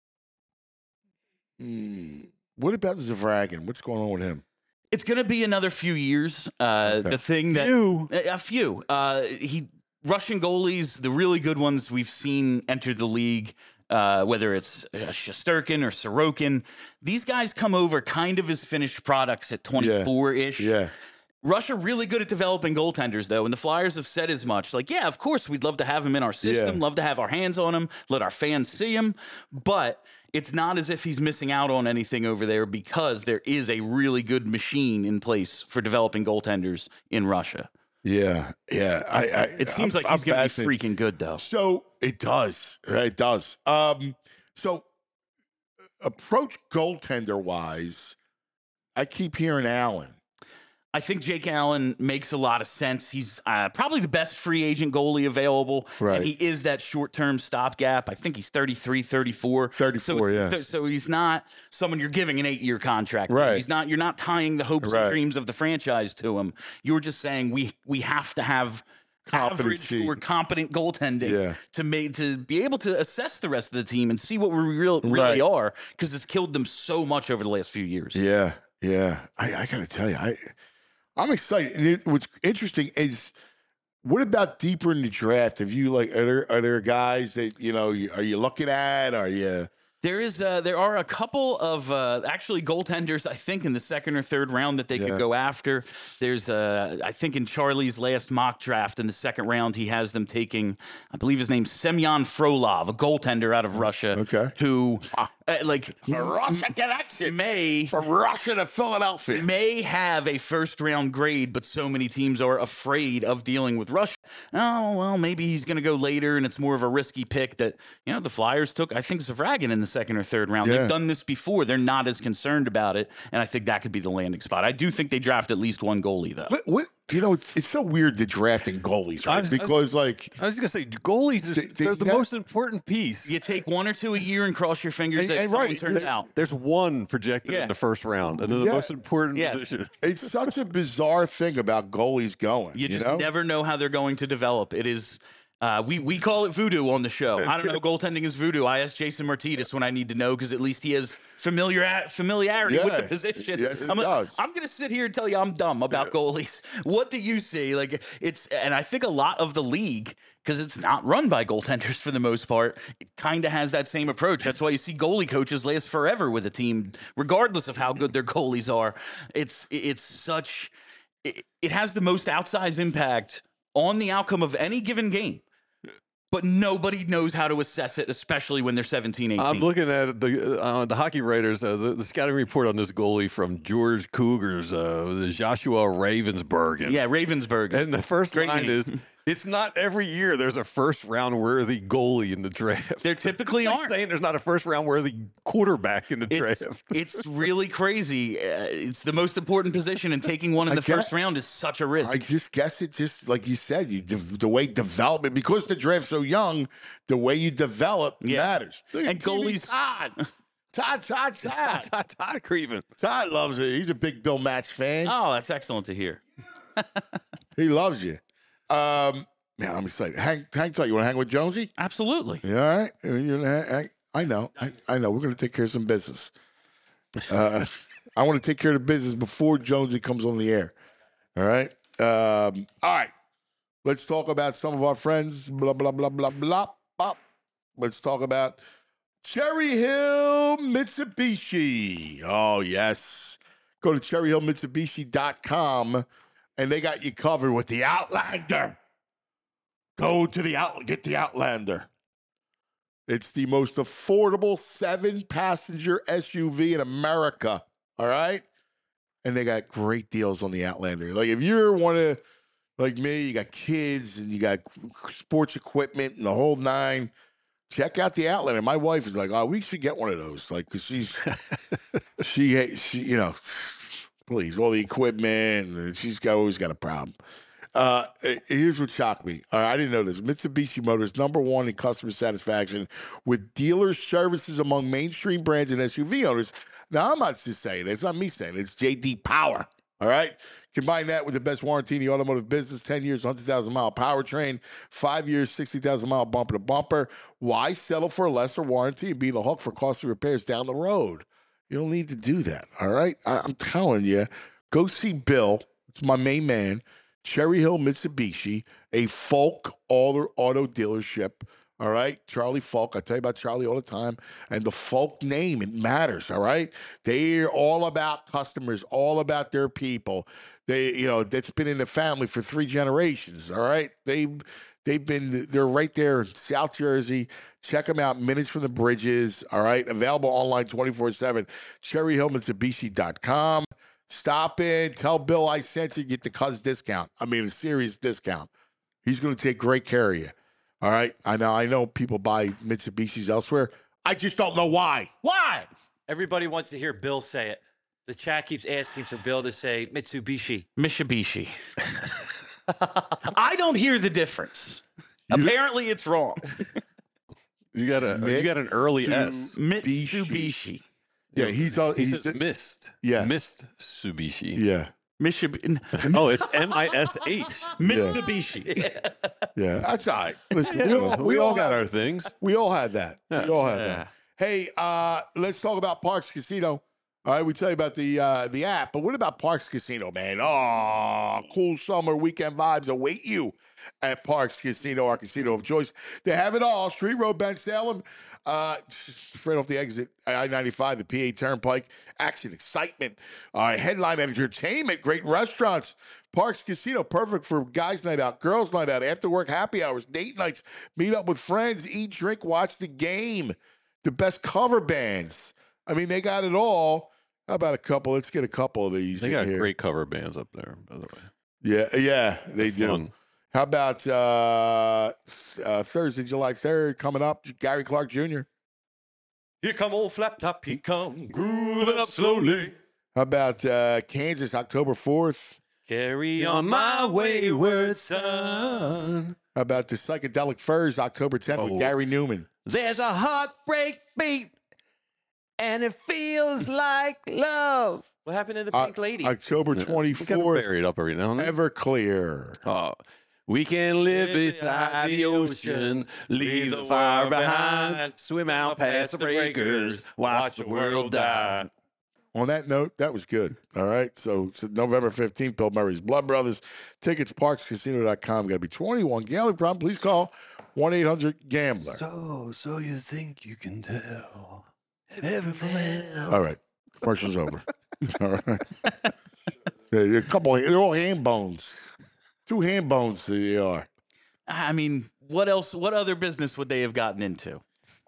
hmm, what about Zavragin? What's going on with him? It's going to be another few years. Uh, Okay. The thing that Few. a a few uh, he Russian goalies, the really good ones we've seen enter the league. Uh, whether it's uh, Shesterkin or Sorokin, these guys come over kind of as finished products at twenty-four ish. Yeah, Russia really good at developing goaltenders, though, and the Flyers have said as much. Like, yeah, of course, we'd love to have him in our system, Yeah. love to have our hands on him, let our fans see him, but it's not as if he's missing out on anything over there because there is a really good machine in place for developing goaltenders in Russia. yeah, yeah. I, I It seems I'm- like he's I'm going to fascinated. be freaking good, though. So it does. It does. Um, so approach goaltender wise, I keep hearing Allen. I think Jake Allen makes a lot of sense. He's uh, probably the best free agent goalie available. Right. And he is that short-term stopgap. I think he's thirty-three, thirty-four. thirty-four, so it's- yeah. th- So he's not someone you're giving an eight-year contract. to. Right. He's not. You're not tying the hopes Right. and dreams of the franchise to him. You're just saying we we have to have average Competency. or competent goaltending Yeah. to make to be able to assess the rest of the team and see what we real, really Right. are, because it's killed them so much over the last few years. Yeah, yeah. I, I gotta tell you, I I'm excited. And it, what's interesting is, what about deeper in the draft? Have you like are there are there guys that you know you- are you looking at? Are you? There is, uh, there are a couple of uh, actually goaltenders, I think, in the second or third round that they Yeah. could go after. There's, uh, I think, in Charlie's last mock draft in the second round, he has them taking, I believe his name's Semyon Frolov, a goaltender out of Russia, Okay. who, uh, like, Russia connection may from Russia to Philadelphia. may have a first round grade, but so many teams are afraid of dealing with Russia. Oh, well, maybe he's going to go later and it's more of a risky pick that, you know, the Flyers took, I think, Zavragin in the second or third round. Yeah. They've done this before. They're not as concerned about it. And I think that could be the landing spot. I do think they draft at least one goalie, though. What, what you know? It's, it's so weird the drafting goalies, I right? was- I was- Because like I was just gonna say goalies. Are, They- they- they're the that- most important piece. You take one or two a year and cross your fingers And- that and someone right, turns there- out. There's one projected Yeah. in the first round, and then the Yeah. most important Yes. position. it's such a bizarre thing about goalies going. You just know? never know how they're going to develop. It is Uh, we we call it voodoo on the show. I don't know. Goaltending is voodoo. I ask Jason Martinez when I need to know because at least he has familiar familiarity with the Yeah. position. Yes, he I'm, does. I'm gonna sit here and tell you I'm dumb about goalies. What do you see? Like it's, and I think a lot of the league, because it's not run by goaltenders for the most part, it kind of has that same approach. That's why you see goalie coaches last forever with a team, regardless of how good their goalies are. It's it's such it, it has the most outsized impact on the outcome of any given game. But nobody knows how to assess it, especially when they're seventeen, eighteen. I'm looking at the uh, the hockey writers, uh, the, the scouting report on this goalie from George Cougars, uh, the Joshua Ravensbergen. Yeah, Ravensburg. And the first Great line name. is, it's not every year there's a first round worthy goalie in the draft. There typically It's like aren't. saying there's not a first round worthy quarterback in the It's, draft. it's really crazy. Uh, it's the most important position, and taking one in I the get- first round is such a risk. I just guess it just like you said, you de- the way development because the draft's so young, the way you develop Yeah. matters. And goalies- Todd, Todd, Todd, Todd, Todd, Todd Creven. Todd loves it. He's a big Bill Match fan. Oh, that's excellent to hear. He loves you. Um, man, I'm excited. Hang, hang tight. You want to hang with Jonesy? Absolutely. You all right? You wanna hang- hang- I know. I, I know. We're going to take care of some business. Uh, I want to take care of the business before Jonesy comes on the air. All right. Um, all right. Let's talk about some of our friends. Blah, blah, blah, blah, blah, blah. Let's talk about Cherry Hill Mitsubishi. Oh, yes. Go to cherry hill mitsubishi dot com and they got you covered with the Outlander. Go to the out, get the Outlander. It's the most affordable seven-passenger S U V in America. All right, and they got great deals on the Outlander. Like if you're one of like me, you got kids and you got sports equipment and the whole nine. Check out the Outlander. My wife is like, "Oh, we should get one of those." Like, cause she's she she you know, please all the equipment. And she's got always got a problem. Uh, here's what shocked me. Uh, I didn't know this. Mitsubishi Motors, number one in customer satisfaction with dealer services among mainstream brands and S U V owners. Now, I'm not just saying it. It's not me saying it. It's J D Power. All right? Combine that with the best warranty in the automotive business, ten years, one hundred thousand mile powertrain, five years, sixty thousand mile bumper to bumper. Why settle for a lesser warranty and be the hook for costly repairs down the road? You don't need to do that. All right? I, I'm telling you, go see Bill. It's my main man. Cherry Hill Mitsubishi, a Folk auto, auto dealership. All right, Charlie Folk. I tell you about Charlie all the time. And the Folk name, it matters. All right, they're all about customers, all about their people. They, you know, that's been in the family for three generations. All right, they, they've been, they're right there in South Jersey. Check them out. Minutes from the Bridges. All right, available online twenty-four seven. cherry hill mitsubishi dot com. Stop in, tell Bill I sent you, get the cuz discount. I mean, a serious discount. He's going to take great care of you. All right? I know I know people buy Mitsubishis elsewhere. I just don't know why. Why? Everybody wants to hear Bill say it. The chat keeps asking for Bill to say Mitsubishi. Mitsubishi. I don't hear the difference. Apparently, it's wrong. You got a you got an early S. Mitsubishi. Yeah, he's all He he's says mist. Yeah. Mist Subishi. yeah. Mitsubishi. Oh, it's M I S H. Mitsubishi. Yeah. That's all right. Listen, we all, We all got had, our things. we all had that. We all had Yeah. that. Hey, uh, let's talk about Parks Casino. All right, we tell you about the uh, the app, but what about Parks Casino, man? Oh, cool summer weekend vibes await you at Parks Casino, our casino of choice. They have it all. Street Road, Ben Salem, uh, just right off the exit, I ninety-five, the P A Turnpike. Action, excitement, uh, headline entertainment, great restaurants. Parks Casino, perfect for guys' night out, girls' night out, after work happy hours, date nights, meet up with friends, eat, drink, watch the game. The best cover bands. I mean, they got it all. How about a couple? Let's get a couple of these. They in got here. great cover bands up there, by the way. Yeah, yeah, they do. Fun. How about uh, th- uh, Thursday, July third, coming up? Gary Clark Junior Here come old Flap Top. He come grooving up slowly. How about uh, Kansas, October fourth? Carry on my wayward son. How about the Psychedelic Furs, October tenth, with Oh. Gary Newman? There's a heartbreak beat, and it feels like love. What happened to the Uh, Pink Lady? October We got it twenty-fourth, buried up every now and then. Everclear. Oh, We can live beside the ocean, leave the fire behind, swim out past the breakers, watch the world die. On that note, that was good. All right. So, so November fifteenth, Bill Murray's Blood Brothers. Tickets, parks casino dot com. Got to be twenty-one. Gambling problem, please call one eight hundred gambler. So, so you think you can tell? Never fail. All right. Commercial's over. All right. Yeah, a couple, they're all ham bones. Two ham bones they are. I mean, what else? What other business would they have gotten into?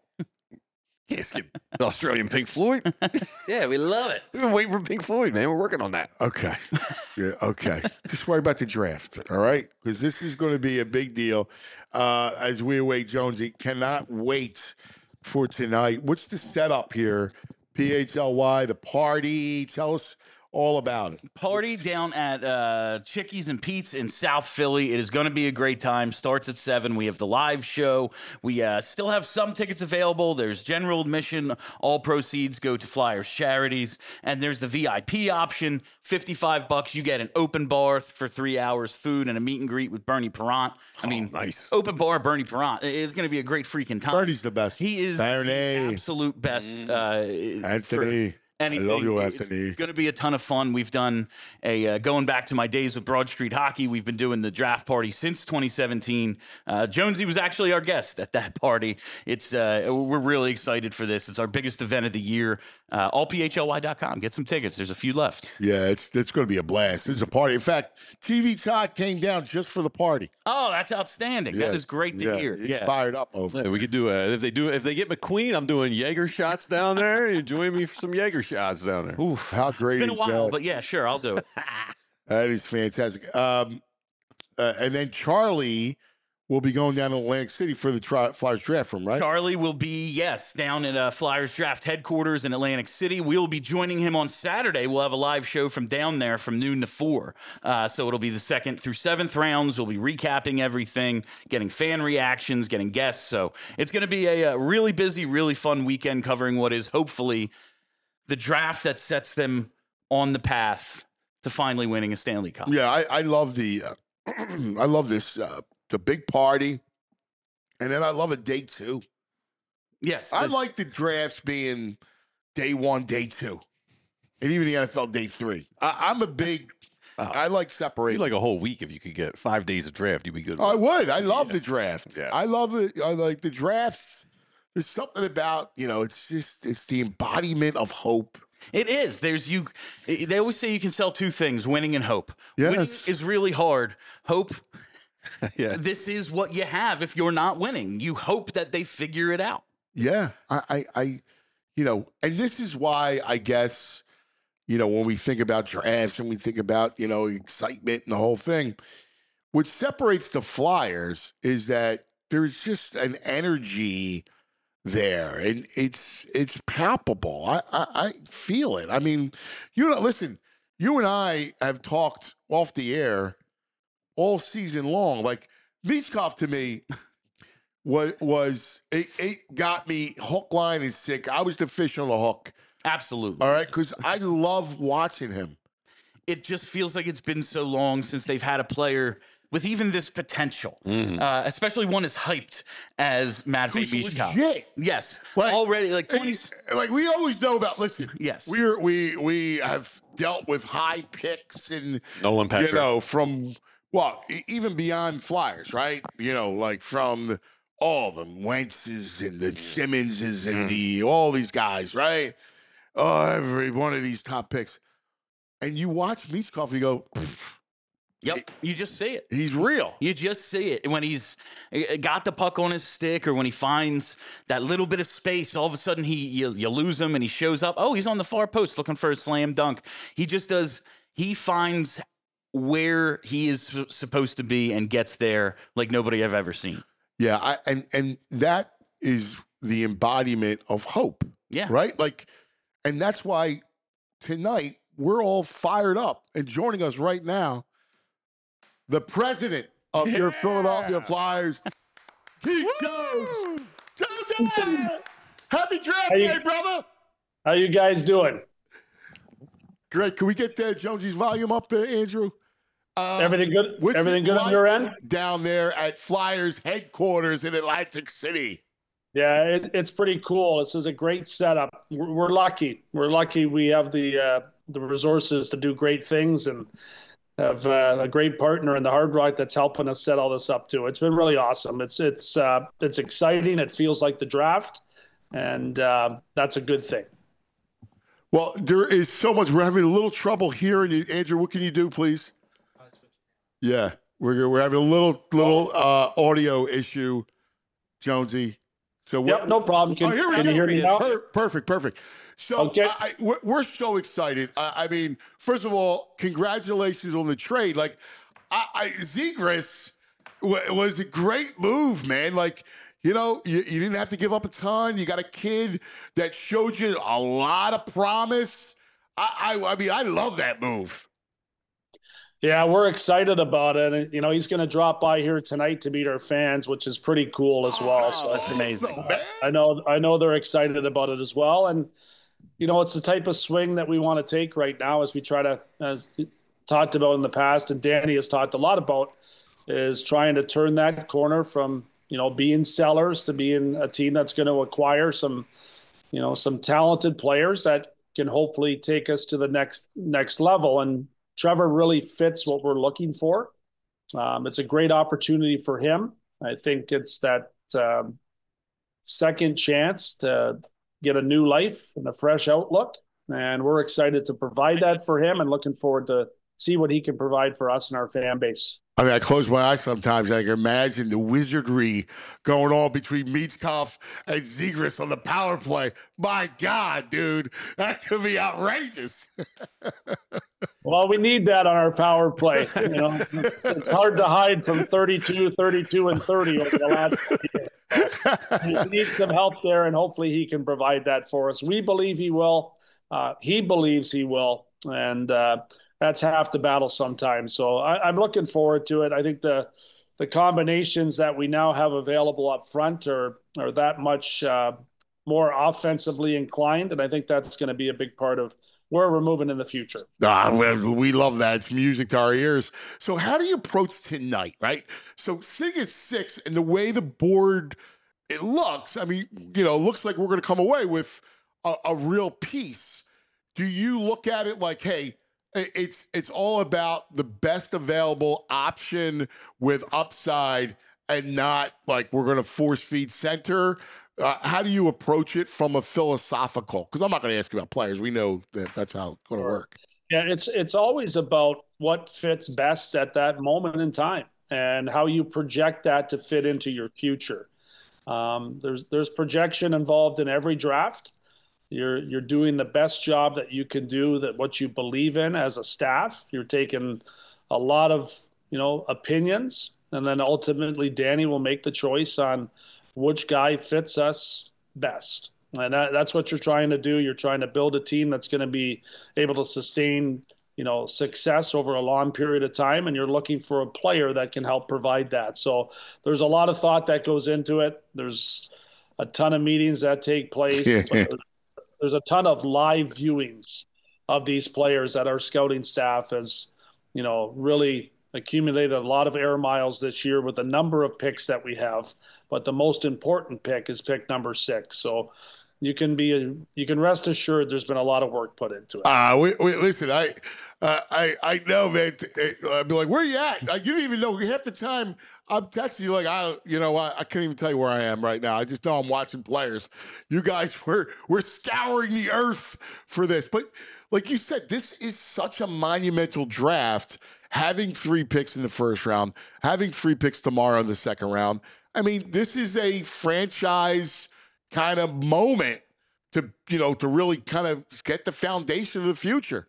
Yes, the Australian Pink Floyd. Yeah, we love it. We've been waiting for Pink Floyd, man. We're working on that. Okay. Yeah, okay. Just worry about the draft, all right? Because this is going to be a big deal. Uh, as we await Jonesy, cannot wait for tonight. What's the setup here? P H L Y, the party. Tell us all about it. Party down at uh, Chickies and Pete's in South Philly. It is going to be a great time. Starts at seven. We have the live show. We uh, still have some tickets available. There's general admission. All proceeds go to Flyers charities. And there's the V I P option. fifty-five bucks. You get an open bar for three hours, food, and a meet and greet with Bernie Perrant. I mean, oh, nice. Open bar Bernie Perrant. It's going to be a great freaking time. Bernie's the best. He is Bernie. the absolute best. Uh, Anthony. Anything. I love you, Anthony. It's going to be a ton of fun. We've done a uh, going back to my days with Broad Street Hockey. We've been doing the draft party since twenty seventeen. Uh, Jonesy was actually our guest at that party. It's uh, we're really excited for this. It's our biggest event of the year. Uh, all P H L Y dot com. Get some tickets. There's a few left. Yeah, it's it's going to be a blast. This is a party. In fact, T V Todd came down just for the party. Oh, that's outstanding. Yeah. That is great to yeah. hear. He's Yeah, fired up over. Yeah, we could do a, if they do if they get McQueen, I'm doing Jaeger shots down there. You join me for some Jaeger shots down there. Oof. How great It's been a is while, that? but yeah, sure, I'll do it. That is fantastic. Um, uh, and then Charlie will be going down to Atlantic City for the tri- Flyers draft room, right? Charlie will be, yes, down at uh, Flyers Draft headquarters in Atlantic City. We'll be joining him on Saturday. We'll have a live show from down there from noon to four. Uh, so it'll be the second through seventh rounds. We'll be recapping everything, getting fan reactions, getting guests. So it's going to be a, a really busy, really fun weekend covering what is hopefully the draft that sets them on the path to finally winning a Stanley Cup. Yeah, I, I love the, uh, I love this, uh, the big party, and then I love a day two. Yes. I this- like the drafts being day one, day two, and even the N F L day three. I, I'm a big, I like You'd separation. like a whole week if you could get five days of draft. You'd be good. I with. would. I love the draft. Yeah. I love it. I like the drafts. There's something about, you know, it's just, it's the embodiment of hope. It is. There's you. They always say you can sell two things: winning and hope. Winning Yes. is really hard. Hope. Yeah. This is what you have if you're not winning. You hope that they figure it out. Yeah. I, I, I, you know, and this is why I guess, you know, when we think about drafts and we think about, you know, excitement and the whole thing, what separates the Flyers is that there's just an energy there, and it's it's palpable. I, I I feel it. I mean, you know, listen, you and I have talked off the air all season long. Like Michkov to me was was it, it got me hook, line, and sick. I was the fish on the hook. Absolutely. All right, because I love watching him. It just feels like it's been so long since they've had a player with even this potential, uh, especially one as hyped as Matvei Who's Michkov. legit. Yes, Like- already like twenty. Like we always know about. Listen, Yes. we're we we have dealt with high picks and Nolan Patrick. you know from well e- even beyond Flyers, right? You know, like from the, all the Wentzes and the Simmonses and the all these guys, right? Oh, every one of these top picks, and you watch Michkov, and you go, Yep, you just see it. he's real. You just see it when he's uh, got the puck on his stick, or when he finds that little bit of space. All of a sudden, he you, you lose him, and he shows up. Oh, he's on the far post looking for a slam dunk. He just does. He finds where he is s- supposed to be and gets there like nobody I've ever seen. Yeah, I, and and that is the embodiment of hope. Yeah. Right? Like, and that's why tonight we're all fired up, and joining us right now, the president of your Philadelphia Flyers, Pete Jones. Jones! Happy draft you- day, brother. How you guys doing? Great. Can we get uh, Jonesy's volume up there, Andrew? Uh, Everything good? what's Everything it good on like your end? down there at Flyers headquarters in Atlantic City? Yeah, it, it's pretty cool. This is a great setup. We're, we're lucky. We're lucky we have the uh, the resources to do great things and have uh, a great partner in the Hard Rock that's helping us set all this up too. It's been really awesome. It's it's uh, it's exciting. It feels like the draft, and uh, that's a good thing. Well, there is so much. We're having a little trouble hearing you, Andrew. What can you do, please? Yeah, we're we're having a little little uh, audio issue, Jonesy. So Yep, no problem. Can, oh, here we can go. you hear me now? Per- perfect, perfect. So Okay. I, I- we're, we're so excited. I, I mean, first of all, congratulations on the trade. Like, I, I Zegras w- was a great move, man. Like, you know, you, you didn't have to give up a ton. You got a kid that showed you a lot of promise. I, I, I mean, I love that move. Yeah, we're excited about it. And, you know, he's going to drop by here tonight to meet our fans, which is pretty cool as well. So that's amazing. I, I know, I know they're excited about it as well. And, you know, it's the type of swing that we want to take right now as we try to, as talked about in the past, and Danny has talked a lot about, is trying to turn that corner from, you know, being sellers to being a team that's going to acquire some, you know, some talented players that can hopefully take us to the next next level. And Trevor really fits what we're looking for. Um, it's a great opportunity for him. I think it's that um, second chance to get a new life and a fresh outlook. And we're excited to provide that for him and looking forward to see what he can provide for us and our fan base. I mean, I close my eyes sometimes. And I can imagine the wizardry going on between Michkov and Zegras on the power play. My God, dude, that could be outrageous. Well, we need that on our power play. You know, it's, it's hard to hide from thirty-two, thirty-two, and thirty over the last year. So we need some help there, and hopefully he can provide that for us. We believe he will. Uh, he believes he will, and uh, that's half the battle sometimes. So I, I'm looking forward to it. I think the the combinations that we now have available up front are are that much uh, more offensively inclined, and I think that's going to be a big part of where we're moving in the future. Ah, well, we love that. It's music to our ears. So how do you approach tonight, right? So sitting at six and the way the board it looks, I mean, you know, looks like we're going to come away with a, a real piece. Do you look at it like, hey, it's it's all about the best available option with upside and not like we're going to force feed center? Uh, how do you approach it from a philosophical? Because I'm not going to ask you about players. We know that that's how it's going to work. Yeah, it's it's always about what fits best at that moment in time and how you project that to fit into your future. Um, there's there's projection involved in every draft. You're you're doing the best job that you can do, that what you believe in as a staff. You're taking a lot of, you know, opinions, and then ultimately Danny will make the choice on which guy fits us best. And that, that's what you're trying to do. You're trying to build a team that's going to be able to sustain, you know, success over a long period of time. And you're looking for a player that can help provide that. So there's a lot of thought that goes into it. There's a ton of meetings that take place. There's, there's a ton of live viewings of these players that our scouting staff has, you know, really accumulated a lot of air miles this year with the number of picks that we have. But the most important pick is pick number six. So you can be, you can rest assured there's been a lot of work put into it. Ah, uh, wait, wait, listen, I, uh, I, I know, man. I'd be like, where are you at? Like, you didn't even know. Half the time I'm texting you like, I, you know, I, I can't even tell you where I am right now. I just know I'm watching players. You guys were, we're scouring the earth for this. But like you said, this is such a monumental draft. Having three picks in the first round, having three picks tomorrow in the second round. I mean, this is a franchise kind of moment to, you know, to really kind of get the foundation of the future.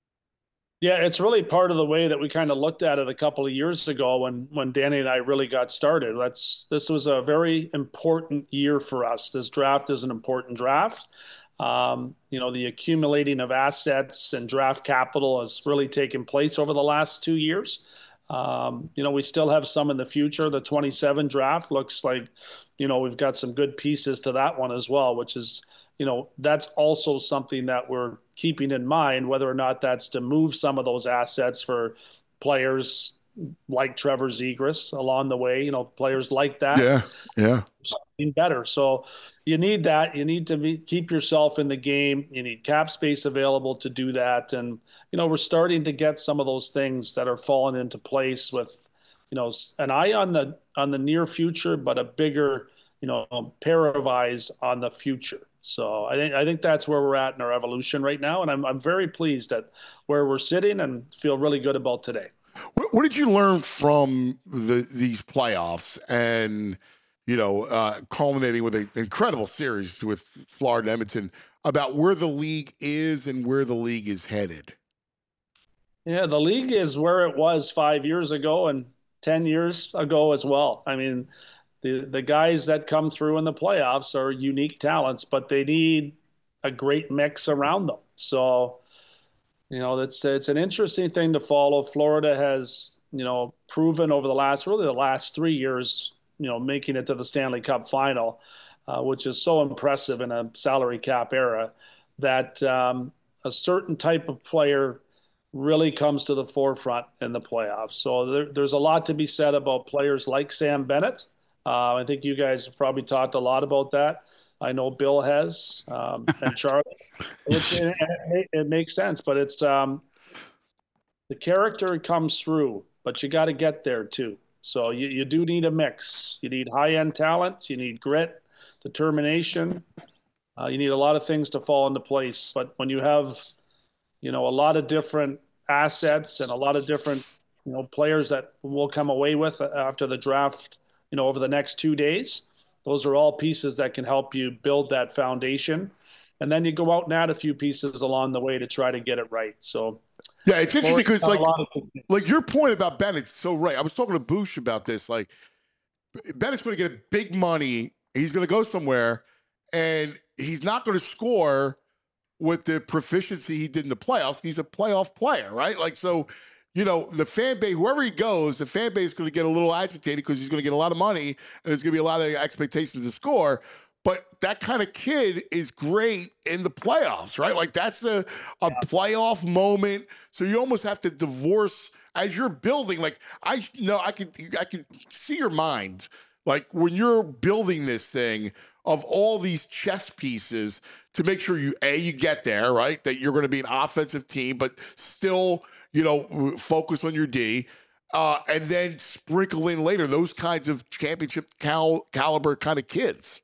Yeah, it's really part of the way that we kind of looked at it a couple of years ago when when Danny and I really got started. That's this was a very important year for us. This draft is an important draft. Um, you know, the accumulating of assets and draft capital has really taken place over the last two years. Um, you know, we still have some in the future. The twenty-seven draft looks like, you know, we've got some good pieces to that one as well, which is, you know, that's also something that we're keeping in mind, whether or not that's to move some of those assets for players like Trevor Zegras along the way, you know, players like that. Yeah, yeah. Something better. So you need that. You need to be, keep yourself in the game. You need cap space available to do that. And, you know, we're starting to get some of those things that are falling into place with, you know, an eye on the on the near future, but a bigger, you know, pair of eyes on the future. So I think I think that's where we're at in our evolution right now, and I'm I'm very pleased at where we're sitting and feel really good about today. What, what did you learn from the these playoffs, and you know, uh, culminating with an incredible series with Florida and Edmonton, about where the league is and where the league is headed? Yeah, the league is where it was five years ago and ten years ago as well. I mean, the the guys that come through in the playoffs are unique talents, but they need a great mix around them. So, you know, it's it's an interesting thing to follow. Florida has, you know, proven over the last really the last three years, you know, making it to the Stanley Cup final, uh, which is so impressive in a salary cap era, that um, a certain type of player really comes to the forefront in the playoffs. So there, there's a lot to be said about players like Sam Bennett. Uh, I think you guys have probably talked a lot about that. I know Bill has, um, and Charlie. It, it, it makes sense, but it's um, the character comes through, but you got to get there too. So you, you do need a mix. You need high-end talent. You need grit, determination. Uh, you need a lot of things to fall into place. But when you have, you know, a lot of different assets and a lot of different, you know, players that we'll come away with after the draft, you know, over the next two days, those are all pieces that can help you build that foundation. And then you go out and add a few pieces along the way to try to get it right. So, yeah, it's interesting because like, of- like your point about Bennett's so right. I was talking to Boosh about this. Like, Bennett's going to get big money. He's going to go somewhere, and he's not going to score with the proficiency he did in the playoffs. He's a playoff player, right? Like, so, you know, the fan base, wherever he goes, the fan base is going to get a little agitated because he's going to get a lot of money and there's going to be a lot of expectations to score. But that kind of kid is great in the playoffs, right? Like, that's a, a yeah. playoff moment. So you almost have to divorce as you're building. Like, I know I can, I can see your mind. Like, when you're building this thing of all these chess pieces to make sure you, A, you get there, right? That you're going to be an offensive team, but still, you know, focus on your D. Uh, and then sprinkle in later those kinds of championship cal- caliber kind of kids.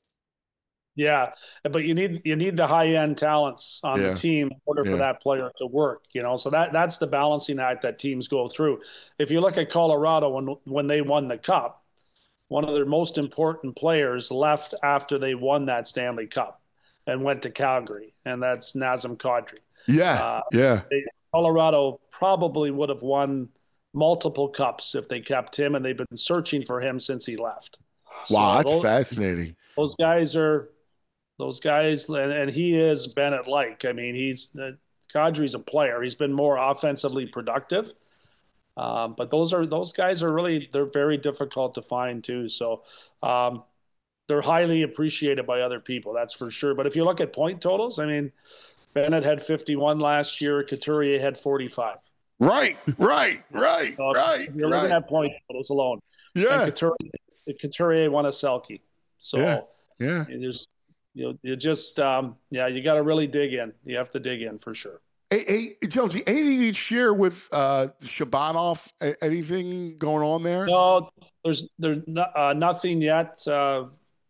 Yeah, but you need you need the high end talents on yeah. the team in order yeah. for that player to work. You know, so that that's the balancing act that teams go through. If you look at Colorado when when they won the Cup, one of their most important players left after they won that Stanley Cup and went to Calgary, and that's Nazem Kadri. Yeah, uh, yeah. They, Colorado probably would have won multiple cups if they kept him, and they've been searching for him since he left. Wow, so that's those, fascinating. Those guys are. Those guys, and, and he is Bennett-like. I mean, he's uh, Kadri's a player. He's been more offensively productive, um, but those are those guys are really they're very difficult to find too. So um, they're highly appreciated by other people, that's for sure. But if you look at point totals, I mean, Bennett had fifty-one last year. Couturier had forty-five. Right, right, right, so right. You're right. looking at point totals alone. Yeah, and Couturier, Couturier won a Selke. So yeah, yeah. There's You know, you just, um, yeah, you got to really dig in. You have to dig in for sure. Hey, hey Jonesy, anything you'd share with uh, Shabanov? Anything going on there? No, there's there's no, uh, nothing yet. Uh,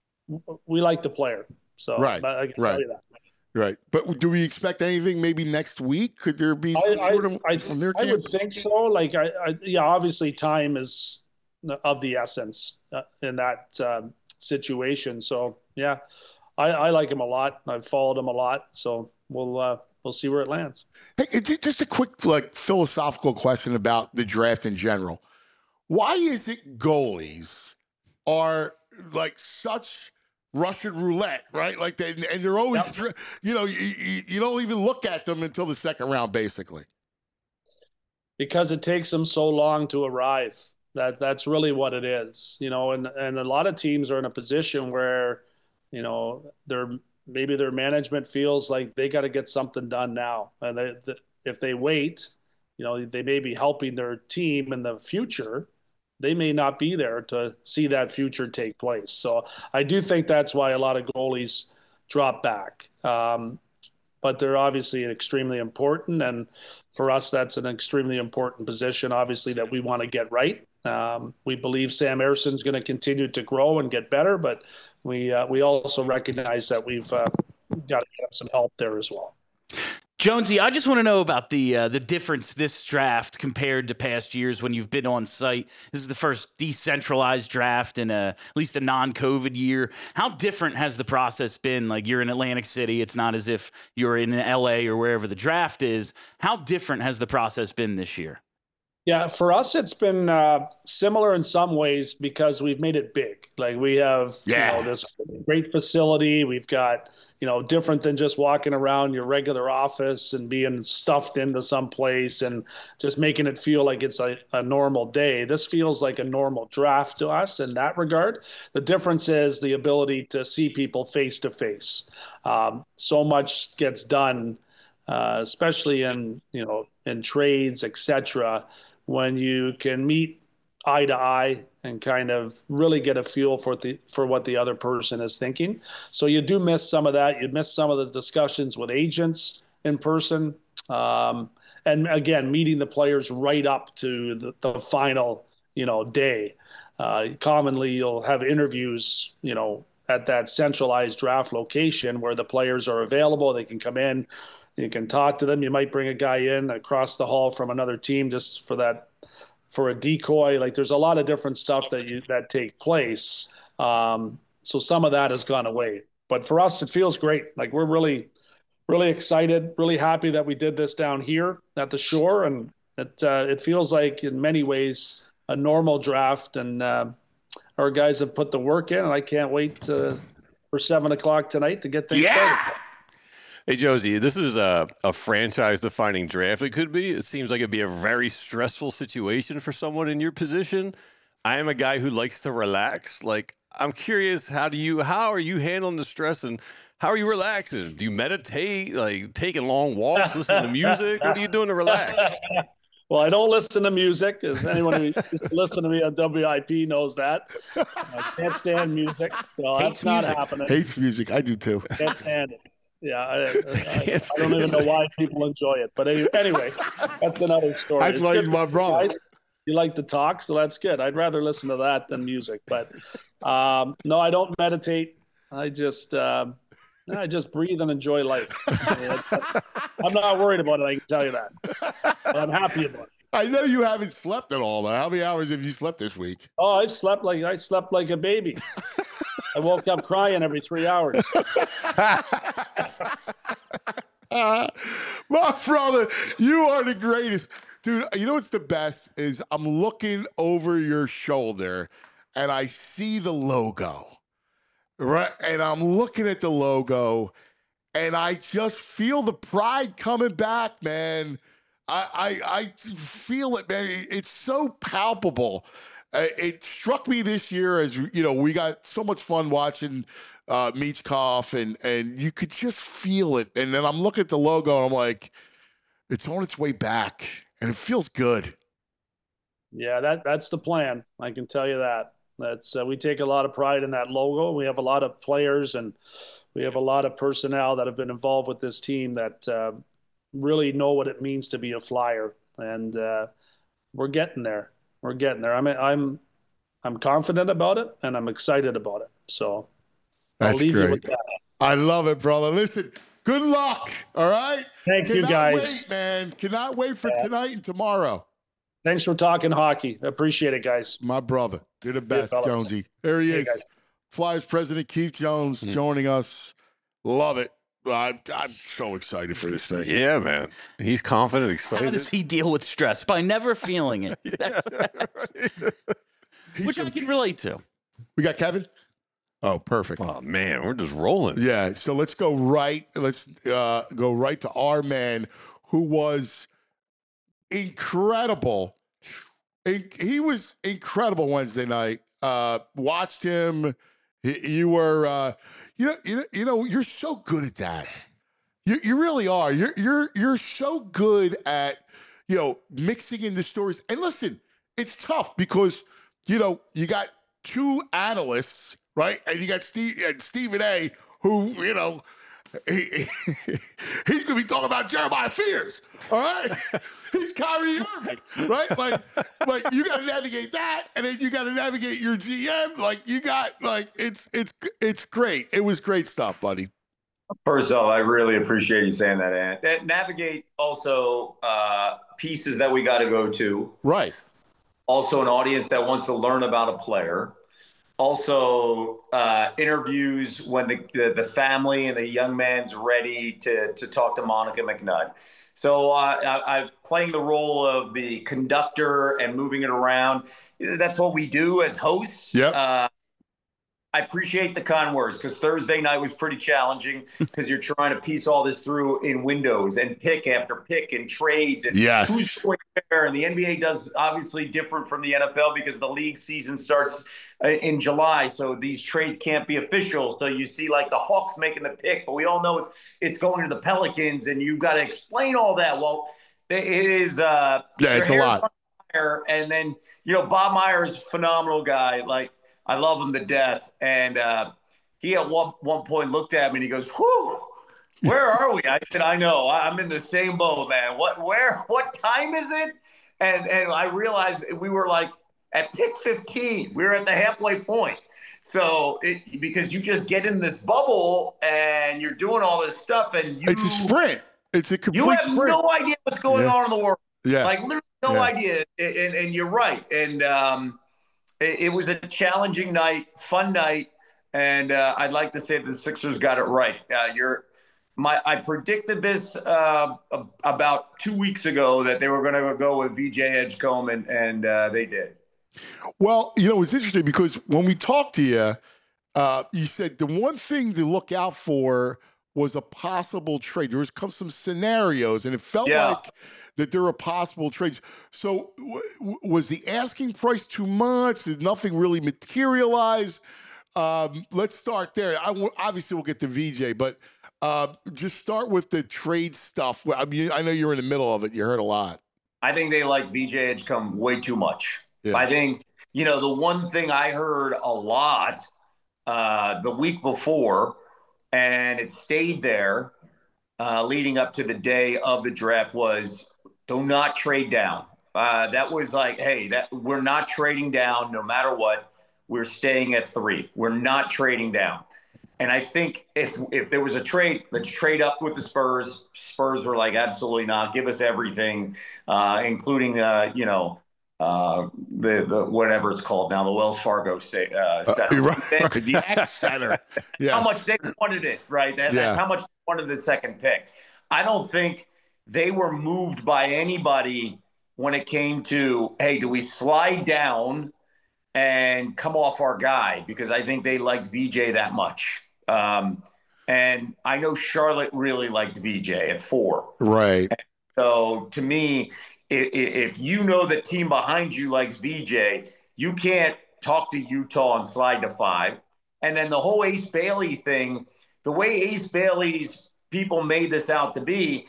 we like the player, so right, I can right, tell you that. Right. But do we expect anything maybe next week? Could there be some I, sort of I, from their I camp? would think so. Like, I, I yeah, obviously time is of the essence uh, in that um, situation. So yeah. I, I like him a lot. I've followed him a lot, so we'll uh, we'll see where it lands. Hey, just a quick like philosophical question about the draft in general. Why is it goalies are like such Russian roulette, right? Like they and they're always, yep. you know, you, you don't even look at them until the second round, basically. Because it takes them so long to arrive. That that's really what it is, you know. And and a lot of teams are in a position where, you know, their maybe their management feels like they got to get something done now, and they, the, if they wait, you know, they may be helping their team in the future. They may not be there to see that future take place. So I do think that's why a lot of goalies drop back. Um, but they're obviously extremely important. And for us, that's an extremely important position, obviously, that we want to get right. Um, we believe Sam Erson's going to continue to grow and get better, but we uh, we also recognize that we've uh, got to get some help there as well. Jonesy, I just want to know about the uh, the difference this draft compared to past years when you've been on site. This is the first decentralized draft in a, at least a non-COVID year. How different has the process been? Like, you're in Atlantic City. It's not as if you're in L A or wherever the draft is. How different has the process been this year? Yeah, for us, it's been uh, similar in some ways because we've made it big. Like, we have Yeah. you know, this great facility. We've got, you know, different than just walking around your regular office and being stuffed into some place and just making it feel like it's a, a normal day. This feels like a normal draft to us in that regard. The difference is the ability to see people face to face. Um, so much gets done, uh, especially in, you know, in trades, et cetera, when you can meet eye to eye and kind of really get a feel for the for what the other person is thinking. So you do miss some of that. You miss some of the discussions with agents in person. Um, and again, meeting the players right up to the, the final, you know, day. Uh, commonly, you'll have interviews, you know, at that centralized draft location where the players are available. They can come in. You can talk to them. You might bring a guy in across the hall from another team just for that, for a decoy. Like, there's a lot of different stuff that you that take place. Um, so some of that has gone away. But for us, it feels great. Like, we're really, really excited, really happy that we did this down here at the Shore, and it uh, it feels like in many ways a normal draft. And uh, our guys have put the work in, and I can't wait to, for seven o'clock tonight to get things Yeah. started. Hey, Josie, this is a, a franchise-defining draft. It could be. It seems like it'd be a very stressful situation for someone in your position. I am a guy who likes to relax. Like, I'm curious, how do you, how are you handling the stress, and how are you relaxing? Do you meditate, like taking long walks, listen to music? What are you doing to relax? Well, I don't listen to music, as anyone who listens to me on W I P knows that. I can't stand music, so Hates that's not music. happening. Hates music. I do too. Can't stand it. Yeah, I, I, I, I don't even know why people enjoy it. But anyway, that's another story. That's It's why good he's my for brother. you guys. You like to talk, so that's good. I'd rather listen to that than music. But um, no, I don't meditate. I just um, I just breathe and enjoy life. I'm not worried about it, I can tell you that. But I'm happy about it. I know you haven't slept at all, but how many hours have you slept this week? Oh, I slept like I slept like a baby. I woke up crying every three hours. Uh, my brother, you are the greatest. Dude, you know what's the best is I'm looking over your shoulder and I see the logo, right? And I'm looking at the logo and I just feel the pride coming back, man. I, I, I feel it, man. It's so palpable. Uh, it struck me this year as, you know, we got so much fun watching uh, Michkov, and and you could just feel it. And then I'm looking at the logo, and I'm like, it's on its way back, and it feels good. Yeah, that that's the plan. I can tell you that. That's uh, we take a lot of pride in that logo. We have a lot of players, and we have a lot of personnel that have been involved with this team that uh, really know what it means to be a Flyer, and uh, we're getting there. We're getting there. I'm I'm I'm confident about it, and I'm excited about it. So That's I'll leave great. you with that. I love it, brother. Listen, good luck. All right. Thank you, Cannot guys. wait, man. Cannot wait for Yeah. tonight and tomorrow. Thanks for talking hockey. I appreciate it, guys. My brother, you're the best, fella. Jonesy. There he Hey, is. guys. Flyers president Keith Jones Mhm. joining us. Love it. I'm, I'm so excited for this thing. Yeah, man. He's confident, How excited. does he deal with stress? By never feeling it, Yeah, right. He's which I a- can relate to. we got Kevin? Oh, perfect. Oh man, we're just rolling. Yeah, so let's go right. Let's uh, go right to our man who was incredible. In- He was incredible Wednesday night. Uh, watched him. He- You were, uh, you know, you know, you know, you're so good at that. You you really are. You're you're you're so good at, you know, mixing in the stories. And listen, it's tough because, you know, you got two analysts, right? And you got Steve and Stephen A, who, you know, he, he, he's going to be talking about Jeremiah Fears, all right? He's Kyrie Irving, right? Like, like you got to navigate that, and then you got to navigate your G M. Like, you got, like, it's it's it's great. It was great stuff, buddy. First off, I really appreciate you saying that, Ant. That navigate also uh, pieces that we got to go to. Right. Also, an audience that wants to learn about a player. Also, uh, interviews when the, the the family and the young man's ready to to talk to Monica McNutt. So uh, I, I'm playing the role of the conductor and moving it around. That's what we do as hosts. Yeah. Uh, I appreciate the kind words because Thursday night was pretty challenging because you're trying to piece all this through in windows and pick after pick and trades and Yes. who's going where. And the N B A does obviously different from the N F L because the league season starts in July. So these trades can't be official. So you see like the Hawks making the pick, but we all know it's it's going to the Pelicans and you've got to explain all that. Well, it is uh, Yeah, it's a lot. Fire. And then, you know, Bob Myers, phenomenal guy. Like, I love him to death. And uh, he at one, one point looked at me and he goes, whew, where are we? I said, I know. I'm in the same boat, man. What, where, what time is it? And and I realized we were like at pick fifteen. We were at the halfway point. So it, because you just get in this bubble and you're doing all this stuff and you. It's a sprint. It's a complete You have sprint. no idea what's going Yeah. on in the world. Yeah. Like literally no Yeah. idea. And, and, and you're right. And um, it, it was a challenging night, fun night. And uh, I'd like to say that the Sixers got it right. Uh, you're my. I predicted this uh, about two weeks ago that they were going to go with V J Edgecombe, and, and uh, they did. Well, you know, it's interesting because when we talked to you, uh, you said the one thing to look out for was a possible trade. There was come some scenarios, and it felt Yeah. like that there were possible trades. So w- w- was the asking price too much? Did nothing really materialize? Um, let's start there. I w- obviously we'll get to V J, but uh, just start with the trade stuff. I mean, I know you're in the middle of it. You heard a lot. I think they like V J Edgecombe way too much. Yeah. I think, you know, the one thing I heard a lot uh, the week before, and it stayed there uh, leading up to the day of the draft, was do not trade down. Uh, that was like, hey, that we're not trading down no matter what. We're staying at three. We're not trading down. And I think if if there was a trade, let's trade up with the Spurs. Spurs were like, absolutely not. Give us everything, uh, including, uh, you know, uh, the the whatever it's called now, the Wells Fargo state, uh, Uh, center. right, right, the X Center. Yeah. How much they wanted it, right? That, Yeah. That's how much they wanted the second pick. I don't think they were moved by anybody when it came to, hey, do we slide down and come off our guy? Because I think they liked V J that much. Um, and I know Charlotte really liked V J at four. Right. So to me, if, if you know the team behind you likes V J, you can't talk to Utah and slide to five. And then the whole Ace Bailey thing, the way Ace Bailey's people made this out to be,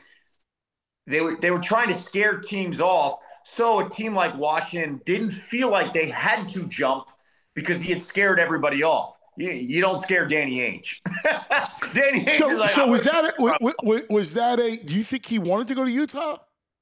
they were they were trying to scare teams off. So a team like Washington didn't feel like they had to jump because he had scared everybody off. You, you don't scare Danny Ainge. Danny Ainge So, is like, so I'm was gonna- that a, was, was, was that a? Do you think he wanted to go to Utah?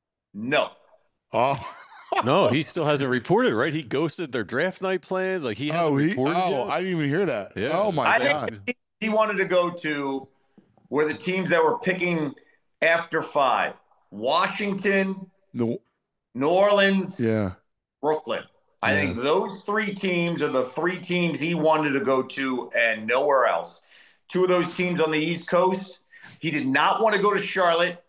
No. Oh, No, he still hasn't reported, right? He ghosted their draft night plans. Like he hasn't oh, he, reported oh yet. I didn't even hear that. Yeah. Oh my I god. think he wanted to go to where the teams that were picking after five: Washington, No, New Orleans, yeah. Brooklyn. I Yeah. think those three teams are the three teams he wanted to go to and nowhere else. Two of those teams on the East Coast. He did not want to go to Charlotte.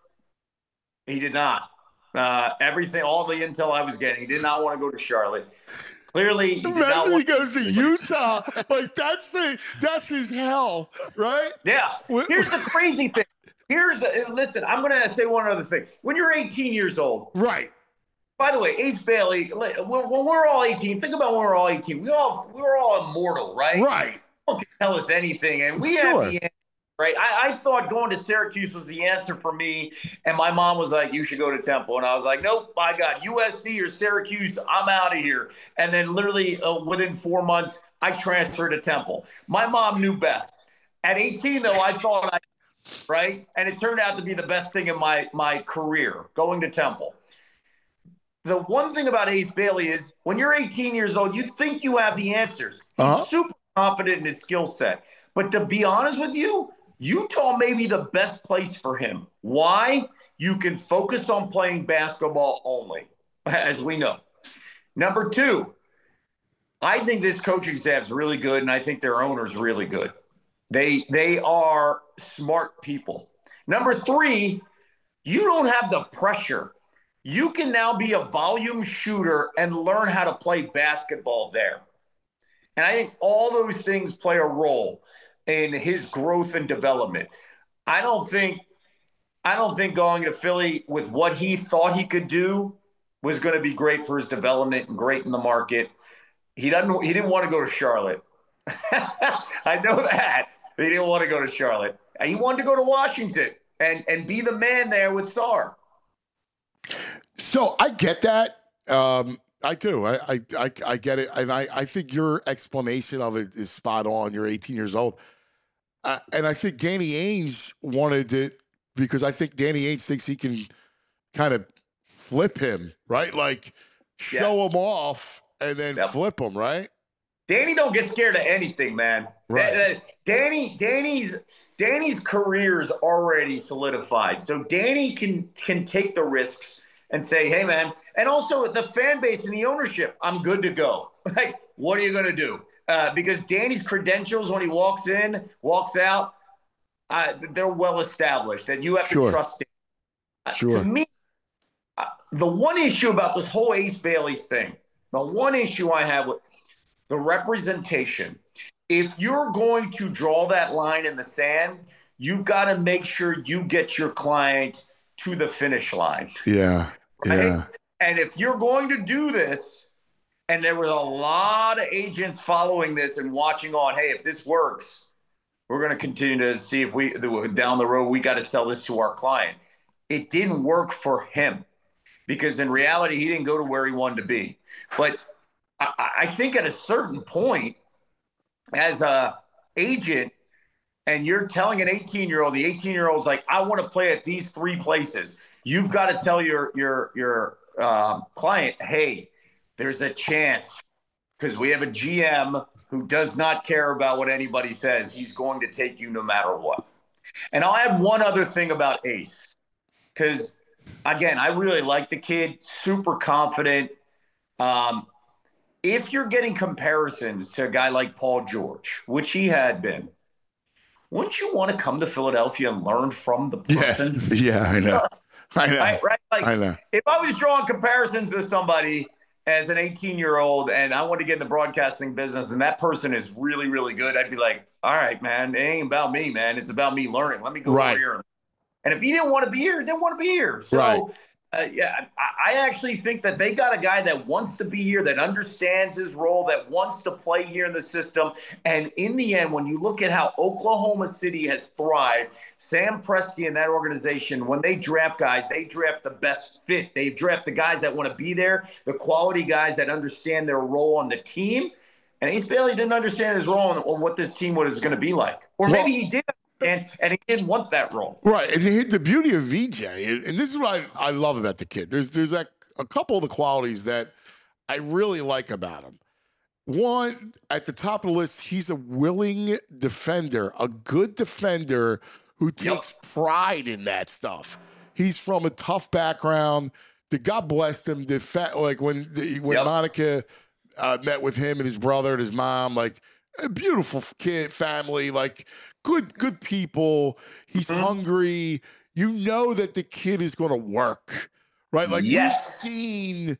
He did not. Uh, everything, all the intel I was getting, he did not want to go to Charlotte. Clearly, he did not Imagine he want. goes to Utah. Like that's the that's his hell, right? Yeah. Wh- Here's the crazy thing. Here's the listen. I'm going to say one other thing. When you're eighteen years old, Right. by the way, Ace Bailey. When when we're all eighteen, think about when we're all eighteen. We all we were all immortal, right? Right. No one can tell us anything, and we Sure. have the answer right? I, I thought going to Syracuse was the answer for me. And my mom was like, you should go to Temple. And I was like, nope, I got U S C or Syracuse. I'm out of here. And then literally uh, within four months, I transferred to Temple. My mom knew best. At eighteen, though, I thought I, right? And it turned out to be the best thing in my, my career, going to Temple. The one thing about Ace Bailey is when you're eighteen years old, you think you have the answers. He's uh-huh. super confident in his skill set. But to be honest with you, Utah may be the best place for him. Why? You can focus on playing basketball only, as we know. Number two, I think this coaching staff is really good, and I think their owner's really good. They they are smart people. Number three, you don't have the pressure. You can now be a volume shooter and learn how to play basketball there. And I think all those things play a role in his growth and development. I don't think I don't think going to Philly with what he thought he could do was going to be great for his development and great in the market. He doesn't he didn't want to go to Charlotte. I know that. He didn't want to go to Charlotte. He wanted to go to Washington and, and be the man there with Sarr. So I get that. Um, I do. I, I, I, I get it. And I, I think your explanation of it is spot on. You're eighteen years old. Uh, and I think Danny Ainge wanted it because I think Danny Ainge thinks he can kind of flip him, right? Like show yeah. him off and then yep. flip him, right? Danny don't get scared of anything, man. Right. Danny, Danny's Danny's career is already solidified. So Danny can can take the risks and say, hey, man. And also the fan base and the ownership, I'm good to go. Like, what are you going to do? Uh, because Danny's credentials when he walks in, walks out, uh, they're well established. And you have sure. to trust him. Uh, sure. To me, uh, the one issue about this whole Ace Bailey thing, the one issue I have with the representation, if you're going to draw that line in the sand, you've got to make sure you get your client to the finish line. Yeah. Right? Yeah. And if you're going to do this, and there was a lot of agents following this and watching on, hey, if this works, we're going to continue to see if we, down the road, we got to sell this to our client. It didn't work for him because in reality, he didn't go to where he wanted to be. But I, I think at a certain point, as a agent, and you're telling an eighteen-year-old, the eighteen-year-old's like, I want to play at these three places. You've got to tell your your your uh, client, hey, there's a chance because we have a G M who does not care about what anybody says. He's going to take you no matter what. And I'll add one other thing about Ace because, again, I really like the kid, super confident. Um, if you're getting comparisons to a guy like Paul George, which he had been, wouldn't you want to come to Philadelphia and learn from the person? Yeah, yeah I know. I know. Right, right? Like, I know. If I was drawing comparisons to somebody as an eighteen-year-old and I want to get in the broadcasting business and that person is really, really good, I'd be like, all right, man, it ain't about me, man. It's about me learning. Let me go right. over here. And if he didn't want to be here, he didn't want to be here. So, right. uh, yeah, I, I actually think that they got a guy that wants to be here, that understands his role, that wants to play here in the system. And in the end, when you look at how Oklahoma City has thrived, Sam Presti and that organization, when they draft guys, they draft the best fit. They draft the guys that want to be there, the quality guys that understand their role on the team. And Ace Bailey didn't understand his role and what this team was going to be like. Or maybe well, he did. And, and he didn't want that role. Right. And the, the beauty of V J, and this is what I, I love about the kid, there's there's a, a couple of the qualities that I really like about him. One, at the top of the list, he's a willing defender, a good defender who takes yep. pride in that stuff. He's from a tough background. The God bless him. The fa- like when the, when yep. Monica uh, met with him and his brother and his mom, like a beautiful kid family, like good good people. He's mm-hmm. hungry. You know that the kid is going to work, right? Like yes. we've seen,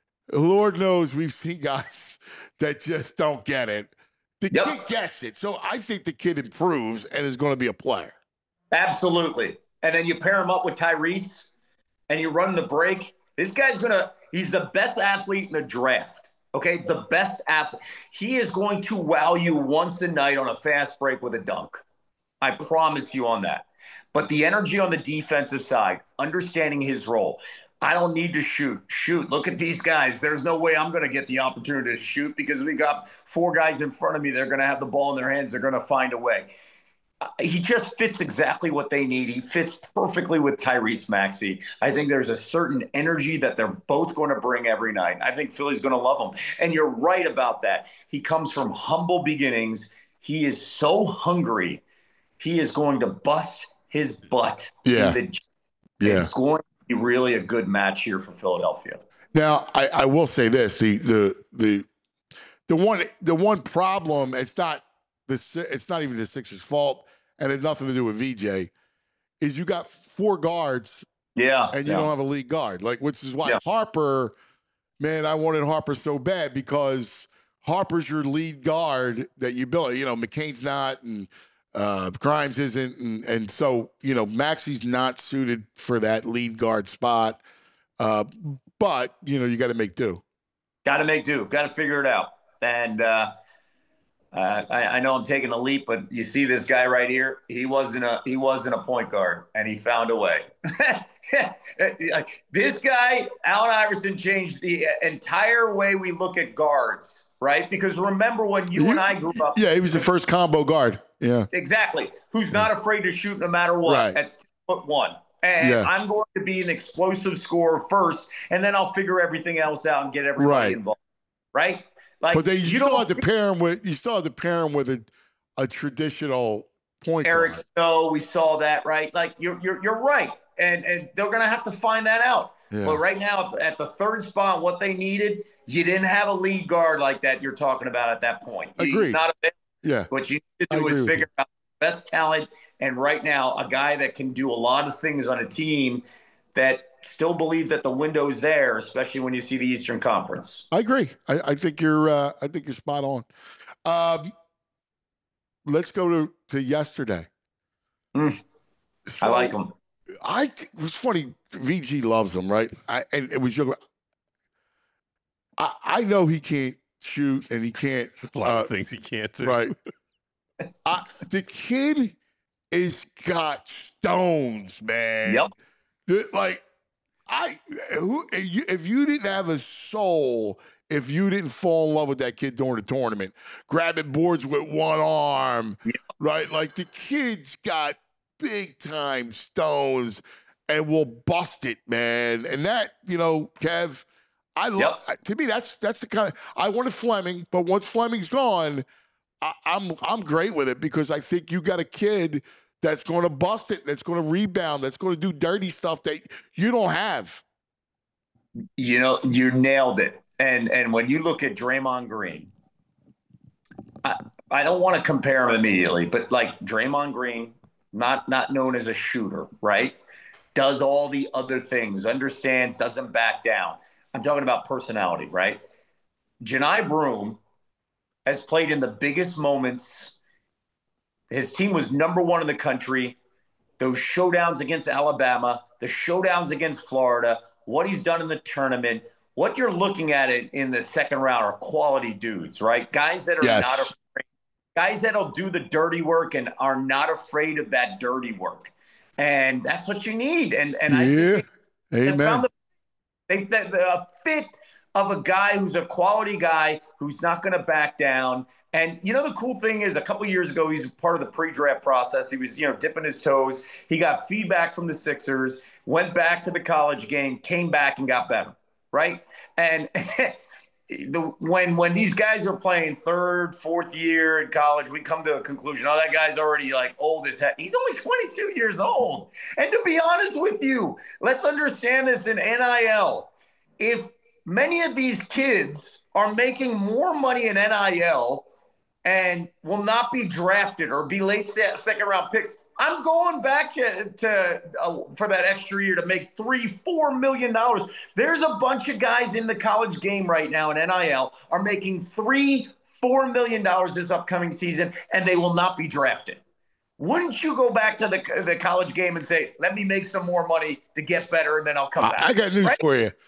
Lord knows we've seen guys that just don't get it. The yep. kid gets it. So I think the kid improves and is going to be a player. Absolutely. And then you pair him up with Tyrese and you run the break. This guy's going to, he's the best athlete in the draft. Okay. The best athlete. He is going to wow you once a night on a fast break with a dunk. I promise you on that. But the energy on the defensive side, understanding his role. I don't need to shoot. Shoot. Look at these guys. There's no way I'm going to get the opportunity to shoot because we got four guys in front of me. They're going to have the ball in their hands. They're going to find a way. He just fits exactly what they need. He fits perfectly with Tyrese Maxey. I think there's a certain energy that they're both going to bring every night. I think Philly's going to love him. And you're right about that. He comes from humble beginnings. He is so hungry. He is going to bust his butt. Yeah. In the, yeah. It's going to be really a good match here for Philadelphia. Now, I, I will say this: the the the the one the one problem. It's not the it's not even the Sixers' fault, and it's nothing to do with V J. Is you got four guards, yeah, and you yeah. don't have a lead guard, like which is why yeah. Harper. Man, I wanted Harper so bad because Harper's your lead guard that you built. You know, McCain's not, and uh, Grimes isn't, and and so you know Maxey's not suited for that lead guard spot. Uh, but you know you got to make do. Got to make do. Got to figure it out. And uh, uh, I, I know I'm taking a leap, but you see this guy right here. He wasn't a he wasn't a point guard, and he found a way. This guy, Allen Iverson, changed the entire way we look at guards. Right? Because remember when you, you and I grew up. Yeah, he was the first combo guard. Yeah. Exactly. Who's not afraid to shoot no matter what right. at six foot one. And yeah. I'm going to be an explosive scorer first, and then I'll figure everything else out and get everybody right. involved. Right? Like, but they, you, you still have to see- pair him with you still have to pair him with a, a traditional point Eric guard. Snow, we saw that, right? Like you're you're you're right. And and they're gonna have to find that out. Yeah. But right now at the third spot, what they needed, you didn't have a lead guard like that you're talking about at that point. Agreed. He's not a yeah. What you need to do is figure out the best talent. And right now, a guy that can do a lot of things on a team that still believes that the window's there, especially when you see the Eastern Conference. I agree. I, I think you're. Uh, I think you're spot on. Um, let's go to, to yesterday. Mm, so, I like him. I think it was funny. V G loves him, right? I, and it was your. I, I know he can't shoot and he can't. A lot uh, of things he can't do. Right. I, the kid is got stones, man. Yep. The, like I, who, if you didn't have a soul, if you didn't fall in love with that kid during the tournament, grabbing boards with one arm, yep. right? Like the kid's got big time stones and will bust it, man. And that, you know, Kev, I love. Yep. To me, that's that's the kind of I wanted Fleming, but once Fleming's gone. I, I'm I'm great with it because I think you got a kid that's going to bust it, that's going to rebound, that's going to do dirty stuff that you don't have. You know, you nailed it. And and when you look at Draymond Green, I, I don't want to compare him immediately, but like Draymond Green, not not known as a shooter, right? Does all the other things, understands, doesn't back down. I'm talking about personality, right? Janai Broome has played in the biggest moments. His team was number one in the country. Those showdowns against Alabama, the showdowns against Florida, what he's done in the tournament, what you're looking at it in the second round are quality dudes, right? Guys that are yes. not afraid, guys that'll do the dirty work and are not afraid of that dirty work. And that's what you need. And and yeah. I think they, Amen. They found the, they, the, the fit of a guy who's a quality guy who's not going to back down. And, you know, the cool thing is a couple of years ago, he's part of the pre-draft process. He was, you know, dipping his toes. He got feedback from the Sixers, went back to the college game, came back and got better, right? And the, when when these guys are playing third, fourth year in college, we come to a conclusion, oh, that guy's already, like, old as heck. He's only twenty-two years old. And to be honest with you, let's understand this in N I L. If many of these kids are making more money in N I L and will not be drafted or be late second round picks. I'm going back to, to uh, for that extra year to make three, four million dollars. There's a bunch of guys in the college game right now in N I L are making three, four million dollars this upcoming season, and they will not be drafted. Wouldn't you go back to the the college game and say, "Let me make some more money to get better, and then I'll come I, back"? I got news right? for you.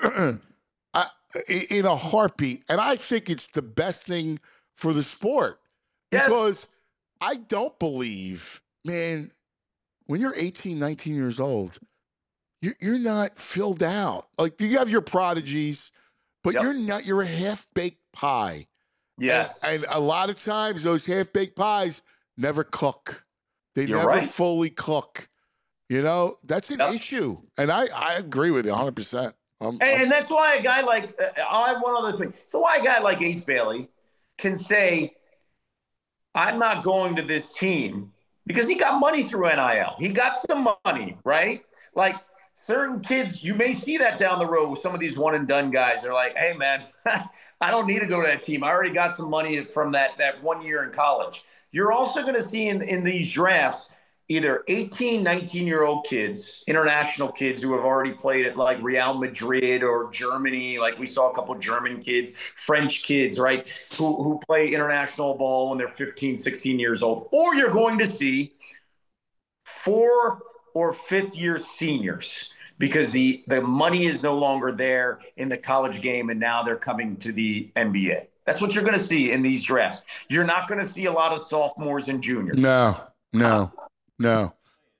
I, in a heartbeat, and I think it's the best thing for the sport Yes. because I don't believe, man, when you're eighteen, nineteen years old, you're, you're not filled out. Like, you have your prodigies, but Yep. you're not, you're a half-baked pie. Yes. And, and a lot of times those half-baked pies never cook. They You're never right. fully cook. You know, that's an Yep. issue. And I, I agree with you one hundred percent. I'm, And, I'm- and that's why a guy like, uh, I'll have one other thing. So why a guy like Ace Bailey can say, I'm not going to this team because he got money through N I L. He got some money, right? Like certain kids, you may see that down the road with some of these one and done guys. They're like, hey, man, I don't need to go to that team. I already got some money from that, that one year in college. You're also going to see in, in these drafts either eighteen, nineteen-year-old kids, international kids who have already played at like Real Madrid or Germany. Like we saw a couple of German kids, French kids, right, who, who play international ball when they're fifteen, sixteen years old. Or you're going to see four or fifth-year seniors because the, the money is no longer there in the college game, and now they're coming to the N B A. That's what you're going to see in these drafts. You're not going to see a lot of sophomores and juniors. no, no, no.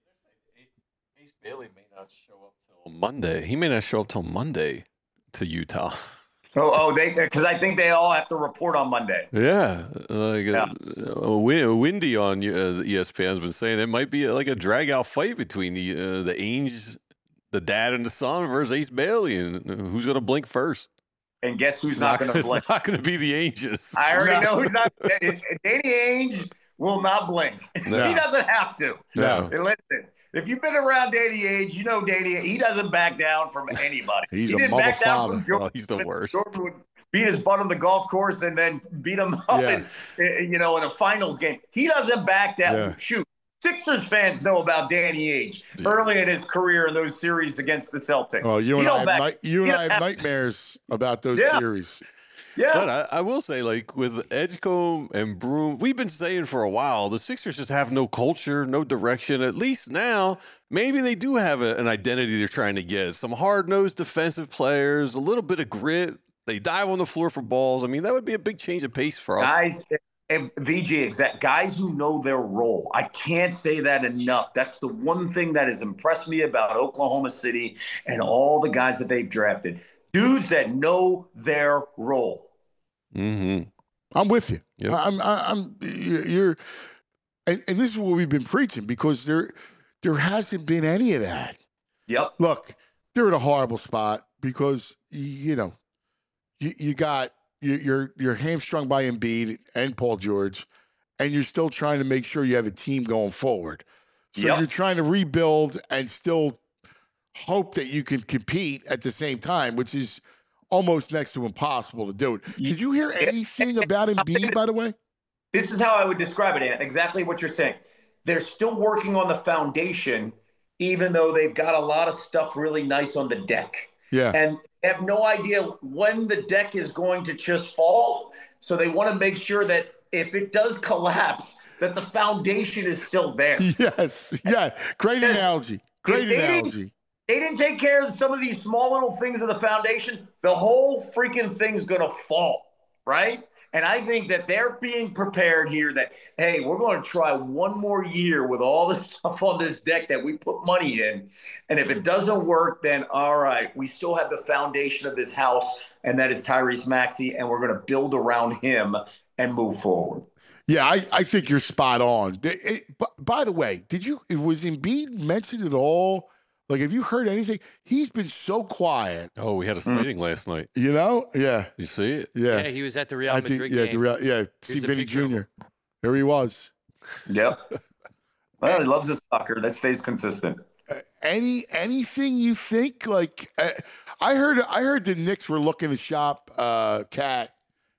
Ace Bailey may not show up till Monday. He may not show up till Monday to Utah. Oh, oh, they because I think they all have to report on Monday. Yeah, like Yeah. Uh, Win- Windy on uh, E S P N has been saying it might be uh, like a drag out fight between the uh, the Ainge, the dad and the son versus Ace Bailey, and uh, who's going to blink first? And guess who's It's not, going to it's blink? not going to be the Ainges. I already No. know who's not. Danny Ainge will not blink. No. He doesn't have to. No. And listen, if you've been around Danny Ainge, you know Danny. He doesn't back down from anybody. He's he a didn't mother back down father. from Jordan. Oh, he's the worst. Jordan would beat his butt on the golf course and then beat him up Yeah. in, in, you know, in a finals game. He doesn't back down. Yeah. Shoot. Sixers fans know about Danny Ainge early in his career in those series against the Celtics. Oh, you He and don't I have, back- night, you and he I have don't nightmares about those Yeah. series. Yeah. But I, I will say, like with Edgecombe and Broom, we've been saying for a while the Sixers just have no culture, no direction. At least now, maybe they do have a, an identity they're trying to get. Some hard-nosed defensive players, a little bit of grit. They dive on the floor for balls. I mean, that would be a big change of pace for us. Guys, and V G, exact guys who know their role. I can't say that enough. That's the one thing that has impressed me about Oklahoma City and all the guys that they've drafted. Dudes that know their role. Mm-hmm. I'm with you. Yep. I'm, I'm, you're, and, and this is what we've been preaching because there, there hasn't been any of that. Yep. Look, they're in a horrible spot because you know, you, you got you, you're you're hamstrung by Embiid and Paul George, and you're still trying to make sure you have a team going forward. So Yep. you're trying to rebuild and still hope that you can compete at the same time, which is almost next to impossible to do it. Did you hear anything about Embiid, by the way? This is how I would describe it, Ant. Exactly what you're saying. They're still working on the foundation, even though they've got a lot of stuff really nice on the deck. Yeah. And they have no idea when the deck is going to just fall. So they want to make sure that if it does collapse, that the foundation is still there. Yes. Yeah. Great Because analogy. Great if they didn't- analogy. They didn't take care of some of these small little things of the foundation. The whole freaking thing's going to fall, right? And I think that they're being prepared here that, hey, we're going to try one more year with all the stuff on this deck that we put money in. And if it doesn't work, then all right, we still have the foundation of this house, and that is Tyrese Maxey, and we're going to build around him and move forward. Yeah, I, I think you're spot on. It- it- b- by the way, did you was Embiid mentioned at all? Like, have you heard anything? He's been so quiet. Oh, we had a sighting last night. You know? Yeah, You see it? yeah. Yeah, he was at the Real I Madrid think, yeah, game. the real, yeah. See Here's a Vinny picture of Junior There he was. Yep. Well, he loves his soccer. That stays consistent. Any anything you think? Like, uh, I heard, I heard the Knicks were looking to shop uh, Cat,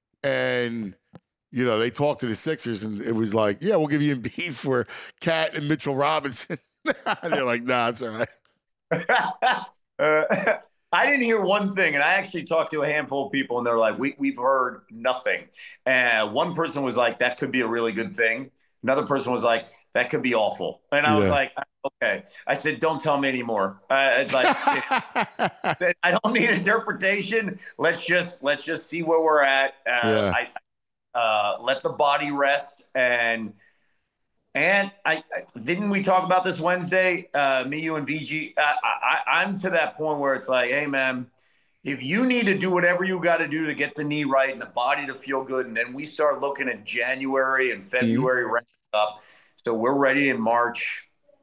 and you know they talked to the Sixers, and it was like, yeah, we'll give you Embiid for Cat and Mitchell Robinson. They're like, nah, it's all right. uh, I didn't hear one thing, and I actually talked to a handful of people, and they're like, we, we've heard nothing. And one person was like, that could be a really good thing. Another person was like, that could be awful. And I was Yeah. like, okay. I said, don't tell me anymore. Uh, it's like, I don't need interpretation. Let's just let's just see where we're at. Uh, Yeah. I, uh, let the body rest, and And I, I didn't we talk about this Wednesday? Uh, me, you, and V G. I, I, I'm to that point where it's like, hey, man, if you need to do whatever you got to do to get the knee right and the body to feel good, and then we start looking at January and February mm-hmm. wrapping up, so we're ready in March.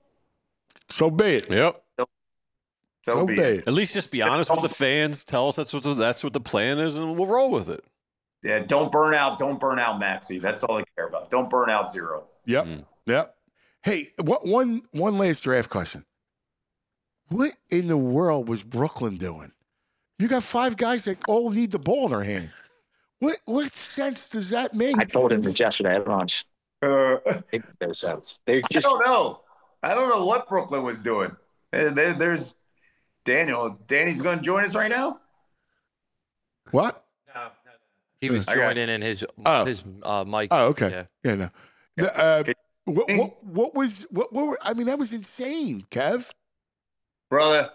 So be it. Yep. So, so, so be be it. it. At least just be honest with the fans. Tell us that's what the, that's what the plan is, and we'll roll with it. Yeah, don't burn out. Don't burn out, Maxie. That's all I care about. Don't burn out zero. Yep. Mm. Yep. Hey, what one one last draft question. What in the world was Brooklyn doing? You got five guys that all need the ball in their hand. What what sense does that make? I told him this yesterday at lunch. Uh, it makes no sense. They just I don't know. I don't know what Brooklyn was doing. There, there, there's Daniel. Danny's going to join us right now. What? He was joining in his oh. his uh, mic. Oh, okay. Yeah, yeah no. The, uh, what, what what was what, what were, I mean, that was insane, Kev. Brother,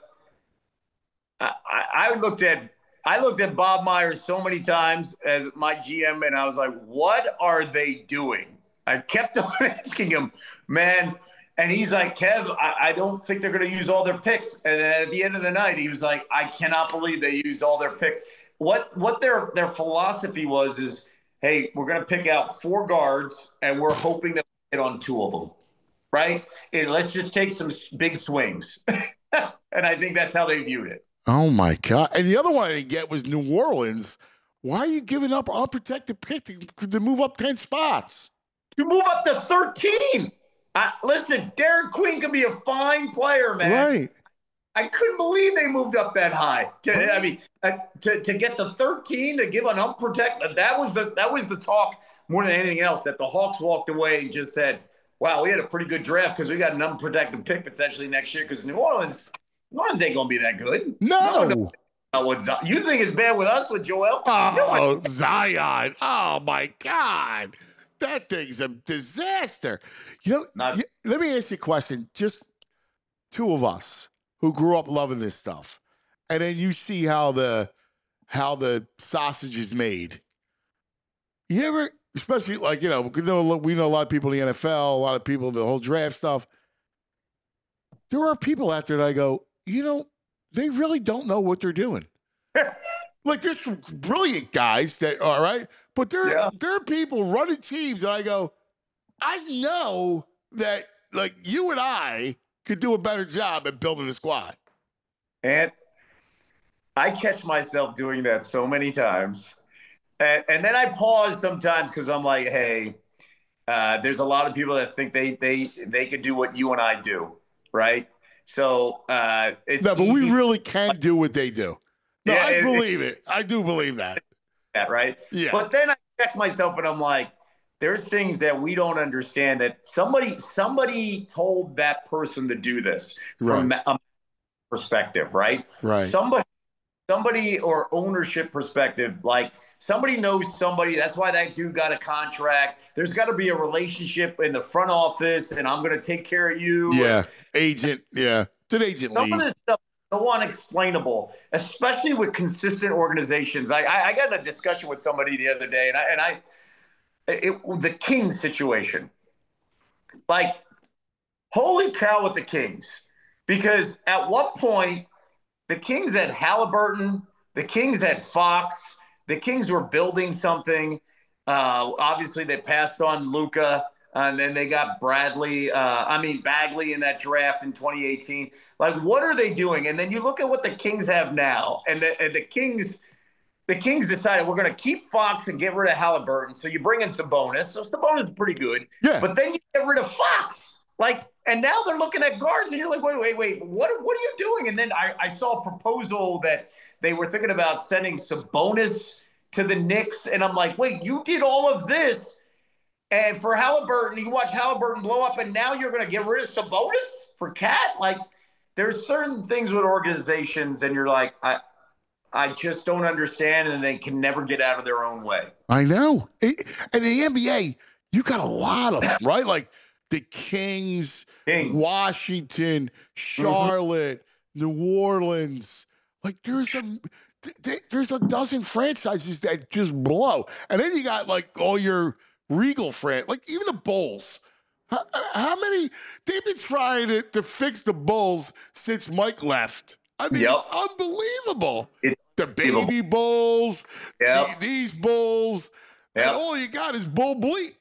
I, I, I looked at I looked at Bob Myers so many times as my G M, and I was like, "What are they doing?" I kept on asking him, man, and he's like, "Kev, I, I don't think they're going to use all their picks." And then at the end of the night, he was like, "I cannot believe they used all their picks." What what their their philosophy was is, hey, we're going to pick out four guards, and we're hoping that we hit on two of them, right? And let's just take some big swings. And I think that's how they viewed it. Oh, my God. And the other one I didn't get was New Orleans. Why are you giving up unprotected pick to, to move up ten spots? To move up to thirteen. Uh, listen, Derek Queen could be a fine player, man. Right. I couldn't believe they moved up that high. To, I mean, uh, to, to get to thirteen, to give an unprotected, that was the that was the talk more than anything else, that the Hawks walked away and just said, wow, we had a pretty good draft because we got an unprotected pick potentially next year because New Orleans, New Orleans ain't going to be that good. No. no, no, no. You think it's bad with us, with Joel? Oh, no, Zion. Oh, my God. That thing's a disaster. You know, Not- you, let me ask you a question. Just two of us who grew up loving this stuff. And then you see how the how the sausage is made. You ever, especially like, you know, we know, we know a lot of people in the N F L, a lot of people, the whole draft stuff. There are people out there that I go, you know, they really don't know what they're doing. Like, there's some brilliant guys that are, right? But there, Yeah. there are people running teams, and I go, I know that, like, you and I could do a better job at building a squad. And I catch myself doing that so many times. And, and then I pause sometimes because I'm like, hey, uh, there's a lot of people that think they they they could do what you and I do, right? So uh, it's No, but we easy- really can do what they do. No, Yeah, I it- believe it. I do believe that. that, right? Yeah. But then I check myself and I'm like, there's things that we don't understand that somebody somebody told that person to do this from a perspective, right? Right. Somebody somebody or ownership perspective, like somebody knows somebody. That's why that dude got a contract. There's got to be a relationship in the front office, and I'm going to take care of you. Yeah. Agent. Yeah. It's an agent Some league. of this stuff is so unexplainable, especially with consistent organizations. I, I, I got in a discussion with somebody the other day, and I, and I, it, the Kings situation, like, holy cow with the Kings, because at what point the Kings had Halliburton, the Kings had Fox, the Kings were building something. Uh, obviously, they passed on Luka. And then they got Bradley, uh, I mean, Bagley in that draft in twenty eighteen. Like, what are they doing? And then you look at what the Kings have now. And the, and the Kings the Kings decided we're going to keep Fox and get rid of Halliburton. So you bring in Sabonis. So Sabonis is pretty good. Yeah. But then you get rid of Fox. Like, and now they're looking at guards, and you're like, wait, wait, wait. What, what are you doing? And then I, I saw a proposal that they were thinking about sending Sabonis to the Knicks. And I'm like, wait, you did all of this. And for Halliburton, you watch Halliburton blow up, and now you're going to get rid of Sabonis for Cat? Like, there's certain things with organizations, and you're like, I I just don't understand, and they can never get out of their own way. I know. It, and in the N B A, you got a lot of them, right? Like the Kings, Kings. Washington, Charlotte, mm-hmm. New Orleans. Like there's a th- there's a dozen franchises that just blow. And then you got like all your Regal friends, like even the Bulls. How, how many? They've been trying to, to fix the Bulls since Mike left. I mean, Yep. it's unbelievable. It's the baby Bulls, Yep. the, these Bulls, Yep. and all you got is Bull Bleep.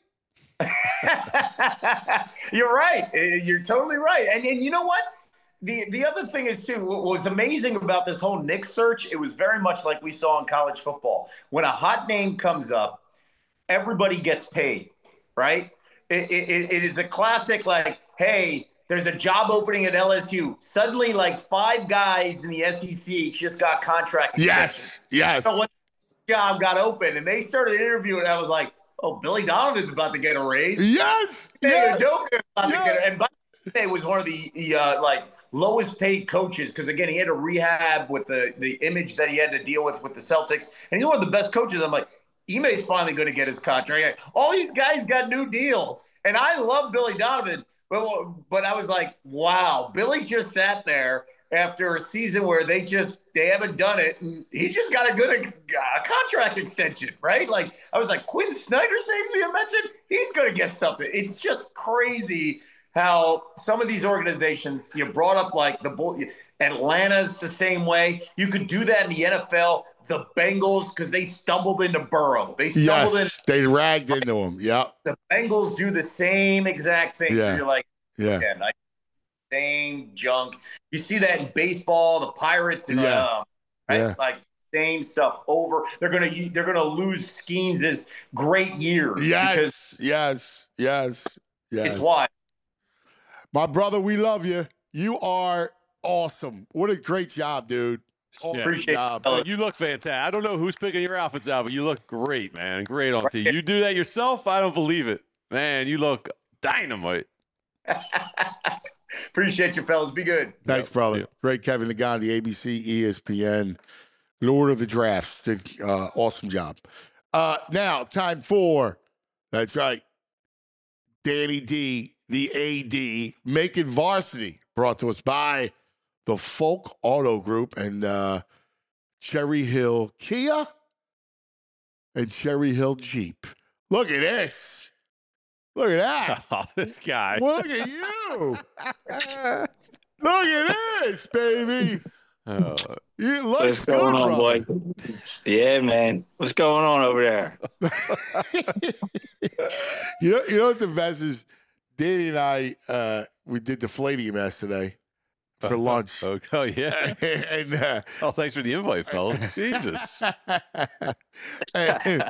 You're right. Uh, You're totally right. And, and you know what? The the other thing is, too, what was amazing about this whole Knick search, it was very much like we saw in college football. When a hot name comes up, everybody gets paid, right? It, it, it is a classic, like, hey, there's a job opening at L S U. Suddenly, like, five guys in the S E C just got contract Yes, yes. So what job got open, and they started interviewing, and I was like, oh, Billy Donovan's about to get a raise. Yes, Hey, yes, Udoka about yes. to get a, and by the way, was one of the, the uh, like lowest paid coaches because again he had to rehab with the the image that he had to deal with with the Celtics, and he's one of the best coaches. I'm like, Ime's finally going to get his contract. All these guys got new deals, and I love Billy Donovan, but but I was like, wow, Billy just sat there after a season where they just they haven't done it, and he just got a good uh, contract extension, right? Like I was like, Quinn Snyder's name's being mentioned, he's going to get something. It's just crazy how some of these organizations, you brought up like the Bull, Atlanta's the same way. You could do that in the N F L. The Bengals, because they stumbled into Burrow. They stumbled Yes, in. they ragged into him. Yeah, The Bengals do the same exact thing. Yeah. So you're like, yeah, yeah, like, same junk. You see that in baseball, the Pirates, and Yeah. um, right? Yeah. Like same stuff over. They're gonna they're gonna lose Skeens' great years because yes, yes, yes, yes. it's why. My brother, we love you. You are awesome. What a great job, dude. Yeah. Appreciate job. it. You look fantastic. I don't know who's picking your outfits out, but you look great, man. Great on T V. You do that yourself? I don't believe it. Man, you look dynamite. Appreciate you, fellas. Be good. Thanks, brother. Yeah. Great Kevin Nagandi, A B C, E S P N, Lord of the Drafts. Did uh, awesome job. Uh, now, time for, that's right, Danny D, the A D, making varsity, brought to us by the Folk Auto Group and uh, Cherry Hill Kia and Cherry Hill Jeep. Look at this. Look at that. Oh, this guy. Look at you. Look at this, baby. Oh, You look What's good, going on, brother. boy? Yeah, man. What's going on over there? you know, you know what the best is? Danny and I, uh, we did the Fladium yesterday for lunch. oh, oh, yeah. and uh, Oh, thanks for the invite, fellas. Jesus. and,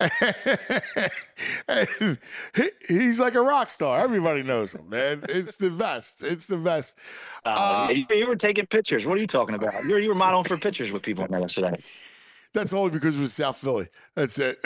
and he- he's like a rock star. Everybody knows him, man. It's the best. It's the best. Uh, Uh, you, you were taking pictures. What are you talking about? You were, you were modeling for pictures with people yesterday. That's only because it was South Philly. That's it.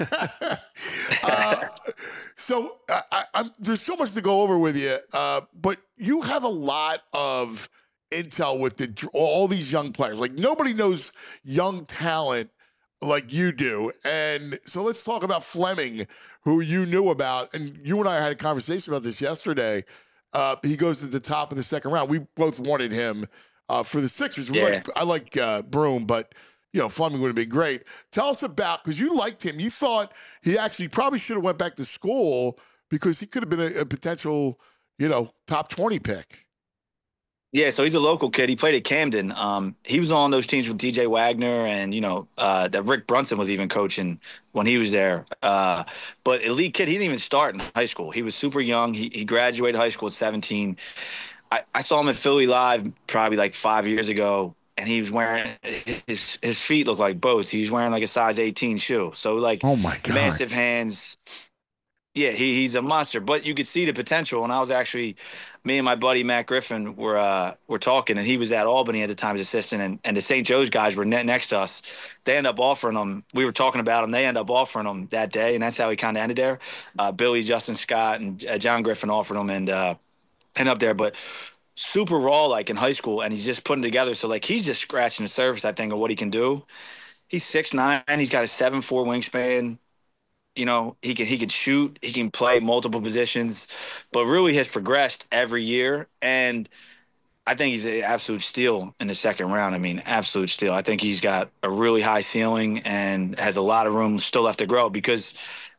uh, so I, I, I'm, there's so much to go over with you, uh, but you have a lot of intel with the, all these young players. Like nobody knows young talent like you do. And so let's talk about Fleming, who you knew about. And you and I had a conversation about this yesterday. Uh, he goes to the top of the second round. We both wanted him uh, for the Sixers. We Yeah. like, I like uh, Broom, but you know, Fleming would have been great. Tell us about, because you liked him. You thought he actually probably should have went back to school because he could have been a, a potential, you know, top twenty pick. Yeah, so he's a local kid. He played at Camden. Um, he was on those teams with D J Wagner, and you know uh, that Rick Brunson was even coaching when he was there. Uh, but elite kid, he didn't even start in high school. He was super young. He, he graduated high school at seventeen. I, I saw him at Philly Live probably like five years ago, and he was wearing his his feet look like boats. He was wearing like a size eighteen shoe. So like Oh my God. massive hands. Yeah, he, he's a monster, but you could see the potential. And I was actually, me and my buddy Matt Griffin were uh, were talking, and he was at Albany at the time as assistant, and, and the Saint Joe's guys were ne- next to us. They end up offering him. We were talking about him. They end up offering him that day, and that's how he kind of ended there. Uh, Billy, Justin Scott, and uh, John Griffin offered him, and uh, end up there. But super raw, like in high school, and he's just putting together. So like he's just scratching the surface, I think, of what he can do. He's six nine. He's got a seven four wingspan. You know, he can he can shoot, he can play multiple positions, but really has progressed every year. And I think he's an absolute steal in the second round. I mean, absolute steal. I think he's got a really high ceiling and has a lot of room still left to grow because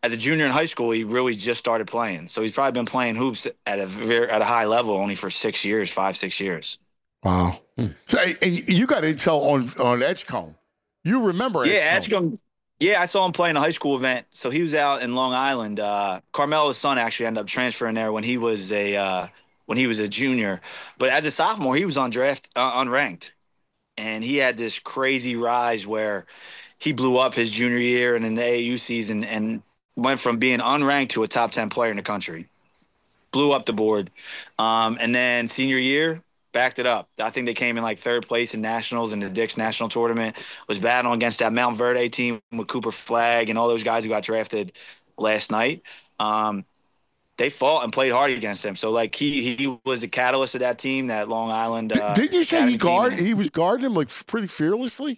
as a junior in high school, he really just started playing. So he's probably been playing hoops at a very at a high level only for six years, five, six years. Wow. Hmm. So, and you got intel on on Edgecombe. You remember Yeah, Edgecombe? Edgecombe. Yeah, I saw him playing a high school event. So he was out in Long Island. Uh, Carmelo's son actually ended up transferring there when he was a uh, when he was a junior. But as a sophomore, he was on draft uh, unranked, and he had this crazy rise where he blew up his junior year and in the A A U season and went from being unranked to a top ten player in the country. Blew up the board. Um, and then senior year, backed it up. I think they came in like third place in nationals in the Dick's National Tournament, was battling against that Mount Verde team with Cooper Flagg and all those guys who got drafted last night. Um, they fought and played hard against him. So, like, he he was the catalyst of that team, that Long Island uh, Didn't you say Academy he guard? team. He was guarding him like pretty fearlessly.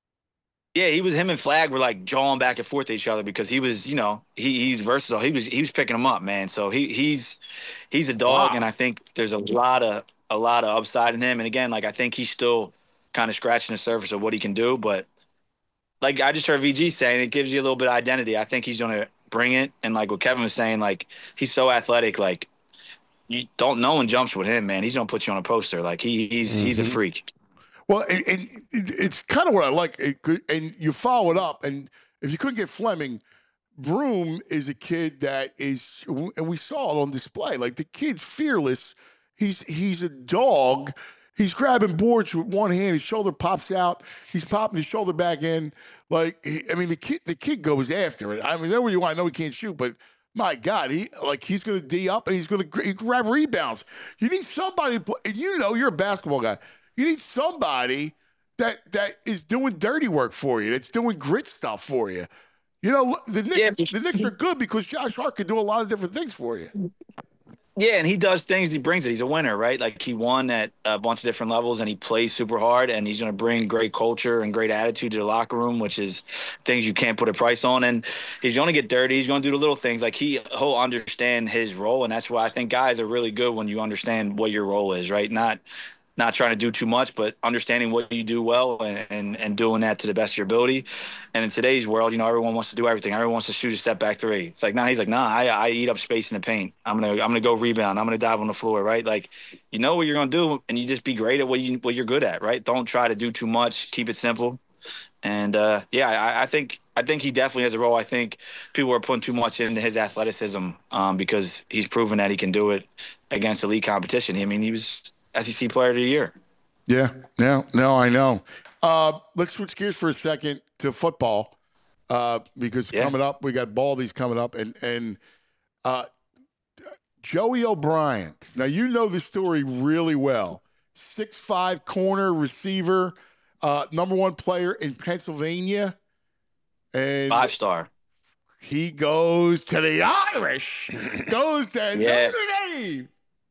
Yeah, he was him and Flag were like jawing back and forth to each other because he was, you know, he he's versatile. He was he was picking him up, man. So he he's he's a dog, Wow. and I think there's a lot of a lot of upside in him. And again, like I think he's still kind of scratching the surface of what he can do. But like I just heard V G saying, it gives you a little bit of identity. I think he's gonna bring it. And like what Kevin was saying, like he's so athletic, like you don't no one jumps with him, man. He's gonna put you on a poster. Like he he's mm-hmm. he's a freak. Well, and, and it's kind of what I like. It could, and you follow it up. And if you couldn't get Fleming, Broome is a kid that is, and we saw it on display. Like the kid's fearless. He's he's a dog. He's grabbing boards with one hand. His shoulder pops out. He's popping his shoulder back in. Like he, I mean, the kid the kid goes after it. I mean, there you want. I know he can't shoot, but my God, he like he's going to D up and he's going to grab rebounds. You need somebody, and you know you're a basketball guy. You need somebody that that is doing dirty work for you, that's doing grit stuff for you. You know, the Knicks, yeah. the Knicks are good because Josh Hart can do a lot of different things for you. Yeah, and he does things. He brings it. He's a winner, right? Like he won at a bunch of different levels, and he plays super hard, and he's going to bring great culture and great attitude to the locker room, which is things you can't put a price on. And he's going to get dirty. He's going to do the little things. Like he, he'll understand his role, and that's why I think guys are really good when you understand what your role is, right? Not – Not trying to do too much, but understanding what you do well and, and, and doing that to the best of your ability. And in today's world, you know, everyone wants to do everything. Everyone wants to shoot a step back three. It's like, nah, he's like, nah, I, I eat up space in the paint. I'm gonna I'm gonna go rebound. I'm gonna dive on the floor, right? Like, you know what you're gonna do, and you just be great at what you what you're good at, right? Don't try to do too much. Keep it simple. And uh, yeah, I, I think I think he definitely has a role. I think people are putting too much into his athleticism um, because he's proven that he can do it against elite competition. I mean, he was S E C Player of the Year. Yeah, no, no, I know. Uh, let's switch gears for a second to football uh, because yeah. coming up, we got Baldy's coming up, and and uh, Joey O'Brien. Now you know the story really well. six five corner receiver, uh, number one player in Pennsylvania, and five star. He goes to the Irish. Goes to yeah. Notre Dame.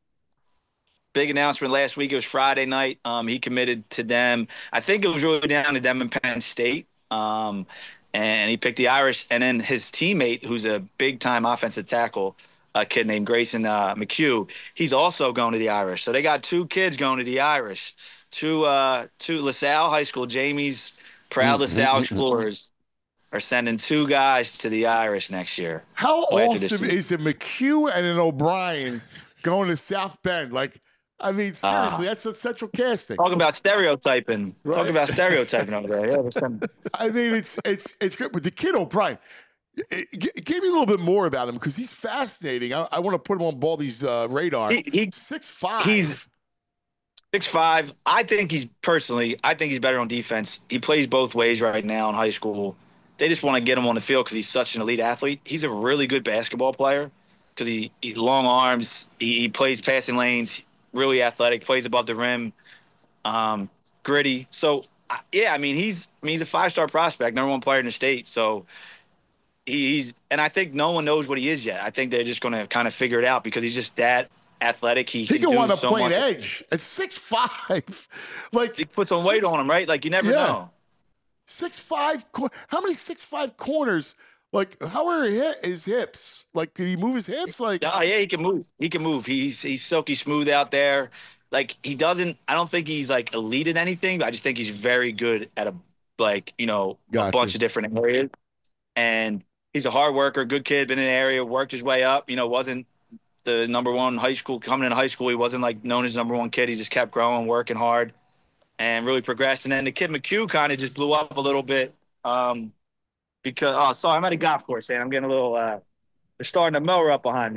Big announcement last week. It was Friday night. Um, he committed to them. I think it was really down to them and Penn State. Um, and he picked the Irish. And then his teammate, who's a big-time offensive tackle, a kid named Grayson uh, McHugh, he's also going to the Irish. So they got two kids going to the Irish. Two, uh, two LaSalle High School, Jamie's proud LaSalle Explorers, are sending two guys to the Irish next year. How awesome is a McHugh and an O'Brien going to South Bend? Like, I mean, seriously, uh, that's a central casting. Talking about stereotyping. Right. Talking about stereotyping over there. Yeah, some... I mean, it's it's it's good. But the kid O'Brien, give me a little bit more about him because he's fascinating. I, I want to put him on Baldy's uh, radar. He, he, six five. He's six five. I think he's personally. I think he's better on defense. He plays both ways right now in high school. They just want to get him on the field because he's such an elite athlete. He's a really good basketball player because he, he long arms. He, he plays passing lanes. Really athletic, plays above the rim, um, gritty. So, uh, yeah, I mean, he's I mean, he's a five-star prospect, number one player in the state. So he, he's – and I think no one knows what he is yet. I think they're just going to kind of figure it out because he's just that athletic. He, he can, can wind up so playing much. edge at six five. Like, he puts some weight on him, right? Like, you never yeah. know. six five. How many six five corners? Like, how are his hips? Like, can he move his hips? Like, oh yeah, he can move. He can move. He's he's silky smooth out there. Like he doesn't. I don't think he's like elite at anything. But I just think he's very good at a like you know gotcha. a bunch of different areas. And he's a hard worker, good kid, been in the area, worked his way up. You know, wasn't the number one high school coming into high school. He wasn't like known as number one kid. He just kept growing, working hard, and really progressed. And then the kid McHugh kind of just blew up a little bit um, because oh, sorry, I'm at a golf course, and I'm getting a little. Uh, they're starting to mower up behind me.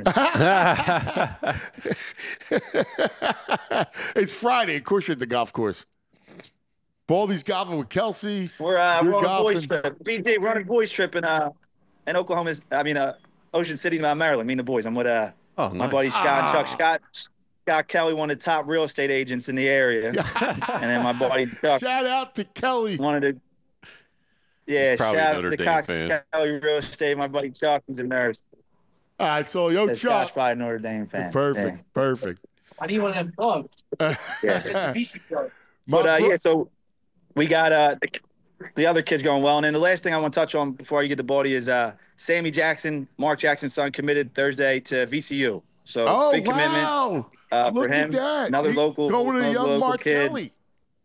It's Friday. Of course, you're at the golf course. Baldy's golfing with Kelsey. We're uh, You're we're on a golfing. boys trip. B J, we're on a boys trip in uh in Oklahoma. I mean uh Ocean City, Maryland. Me and the boys. I'm with uh Oh, my nice. buddy Scott and Chuck. Scott Scott Kelly, one of the top real estate agents in the area, and then my buddy Chuck Shout out to Kelly. wanted to. Yeah, Probably shout a out Notre to Dame Cox fan. Kelly Real Estate. My buddy Chuck is a nurse. All right, so yo, That's Scott's Chuck. probably a Notre Dame fan. Perfect, Yeah. perfect. Why do you want to have dogs? Yeah. My But uh, bro- yeah, so we got uh the, the other kids going well, and then the last thing I want to touch on before you get the body is uh Sammy Jackson, Mark Jackson's son, committed Thursday to V C U. So oh big commitment wow! uh, for Look him. at that. Another He local, going to another young local Martelli. kid.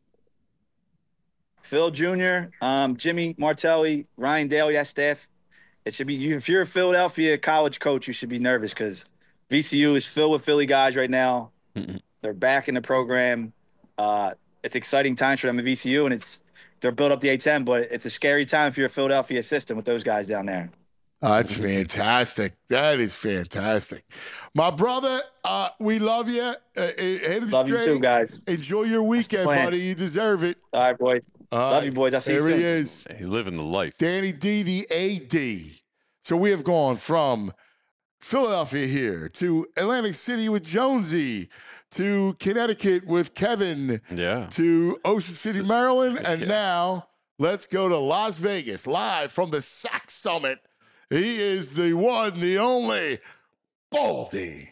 Phil Junior, um, Jimmy Martelli, Ryan Daly, that staff. It should be you. If you're a Philadelphia college coach, you should be nervous because V C U is filled with Philly guys right now. Mm-mm. They're back in the program. Uh, it's exciting times for them at V C U, and it's they're built up the A ten, but it's a scary time if you're a Philadelphia assistant with those guys down there. Oh, that's fantastic. That is fantastic. My brother, uh, we love you. Uh, uh, hit him Love you straight. too, guys. Enjoy your weekend, plan. buddy. You deserve it. All right, boys. All Love right. you, boys. I'll see you There soon. he is. Hey, living the life. Danny D, the A D. So we have gone from Philadelphia here to Atlantic City with Jonesy to Connecticut with Kevin Yeah. to Ocean City, Maryland. And Yeah. now let's go to Las Vegas live from the S A C Summit. He is the one, the only Baldy.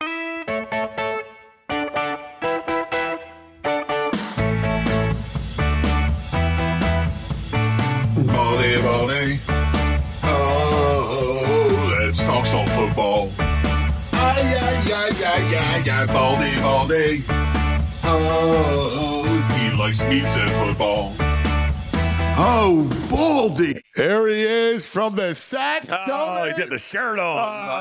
Baldy, Baldy. Oh, let's talk some football. Ay, ay, ay, ay, ay, ay, Baldy, Baldy. Oh, he likes meats and football. Oh, Baldy. There he is from the S A C Oh, Summit. he's got the shirt on.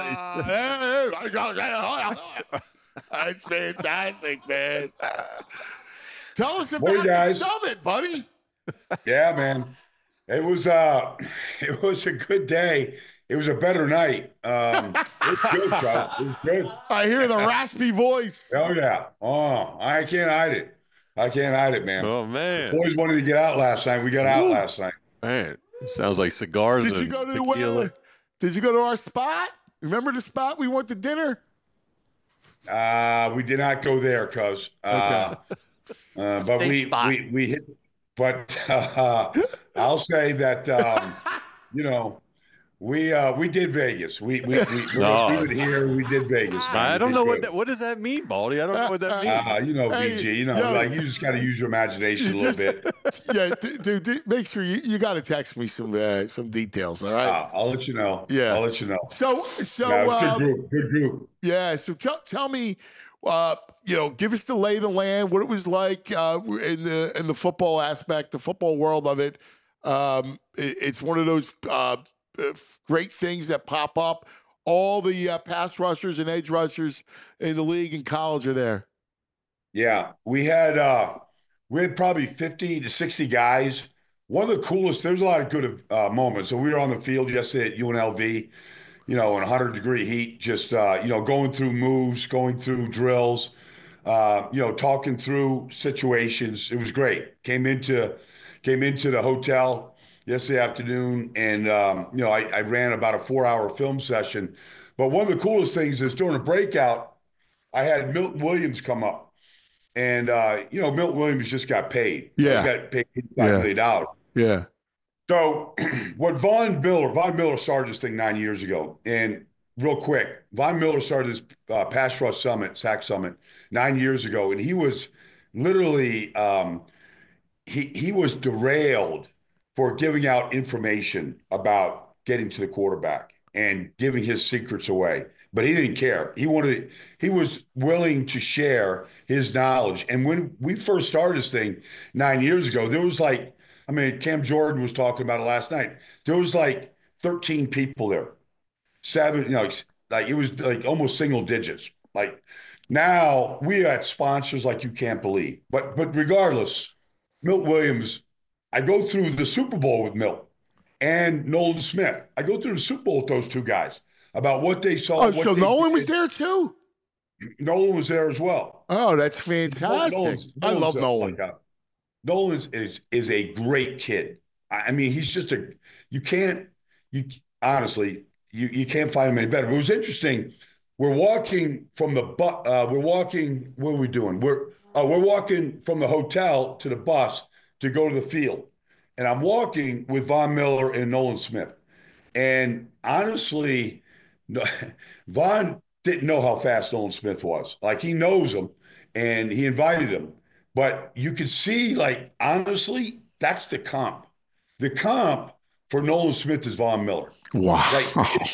Ah, That's fantastic, man. Tell us about Boy, the guys. summit, buddy. Yeah, man. It was uh it was a good day. It was a better night. Um it was good, Chuck. It was good. I hear the raspy voice. Oh yeah. Oh, I can't hide it. I can't hide it, man. Oh, man. Boys wanted to get out last night. We got out last night. Man, sounds like cigars Did you and go to tequila. uh, Did you go to our spot? Remember the spot we went to dinner? Uh we did not go there, cuz. Uh, uh but Steak we, spot. we we hit but uh, I'll say that um, you know, we uh we did Vegas. We we we, we No. were doing it here, we did Vegas. Man. I We don't did know what good. that. What does that mean, Baldy? I don't know what that means. Uh, you know, Hey, B G, you know, yo. like you just got to use your imagination You a little just- bit. Yeah, d- dude, d- make sure you, you got to text me some uh, some details, all right? Uh, I'll let you know. Yeah. I'll let you know. So, so No, it was a um, good group. Good group. yeah. So tell tell me, uh, you know, give us the lay of the land, what it was like uh, in the in the football aspect, the football world of it. Um, it it's one of those uh, uh, great things that pop up. All the uh, pass rushers and edge rushers in the league and college are there. Yeah, we had uh, we had probably fifty to sixty guys. One of the coolest. There was a lot of good uh, moments. So we were on the field yesterday at U N L V. You know, in one hundred degree heat, just uh, you know, going through moves, going through drills. Uh, you know, talking through situations. It was great. Came into came into the hotel yesterday afternoon, and um, you know, I, I ran about a four hour film session. But one of the coolest things is during a breakout, I had Milton Williams come up, and uh, you know, Milton Williams just got paid. Yeah. he got paid five Yeah. million dollars. Yeah. So what Von Miller, Von Miller started this thing nine years ago. And real quick, Von Miller started this uh, pass rush summit, S A C summit, nine years ago. And he was literally, um, he, he was derailed for giving out information about getting to the quarterback and giving his secrets away. But he didn't care. He wanted, he was willing to share his knowledge. And when we first started this thing nine years ago, there was like, I mean, Cam Jordan was talking about it last night. There was like thirteen people there. Seven, you know, like, like it was like almost single digits. Like now we had sponsors like you can't believe. But but regardless, Milt Williams, I go through the Super Bowl with Milt and Nolan Smith. I go through the Super Bowl with those two guys about what they saw. Oh, what so they Nolan did. was there too? Nolan was there as well. Oh, that's fantastic. Nolan's, I Nolan's love a- Nolan. like a- Nolan is is a great kid. I I mean, he's just a you can't you honestly you you can't find him any better. But it was interesting. We're walking from the bu- uh, we're walking. What are we doing? We're uh, we're walking from the hotel to the bus to go to the field, and I'm walking with Von Miller and Nolan Smith. And honestly, no, Von didn't know how fast Nolan Smith was. Like he knows him, and he invited him. But you could see, like honestly, that's the comp. The comp for Nolan Smith is Von Miller. Wow. Like,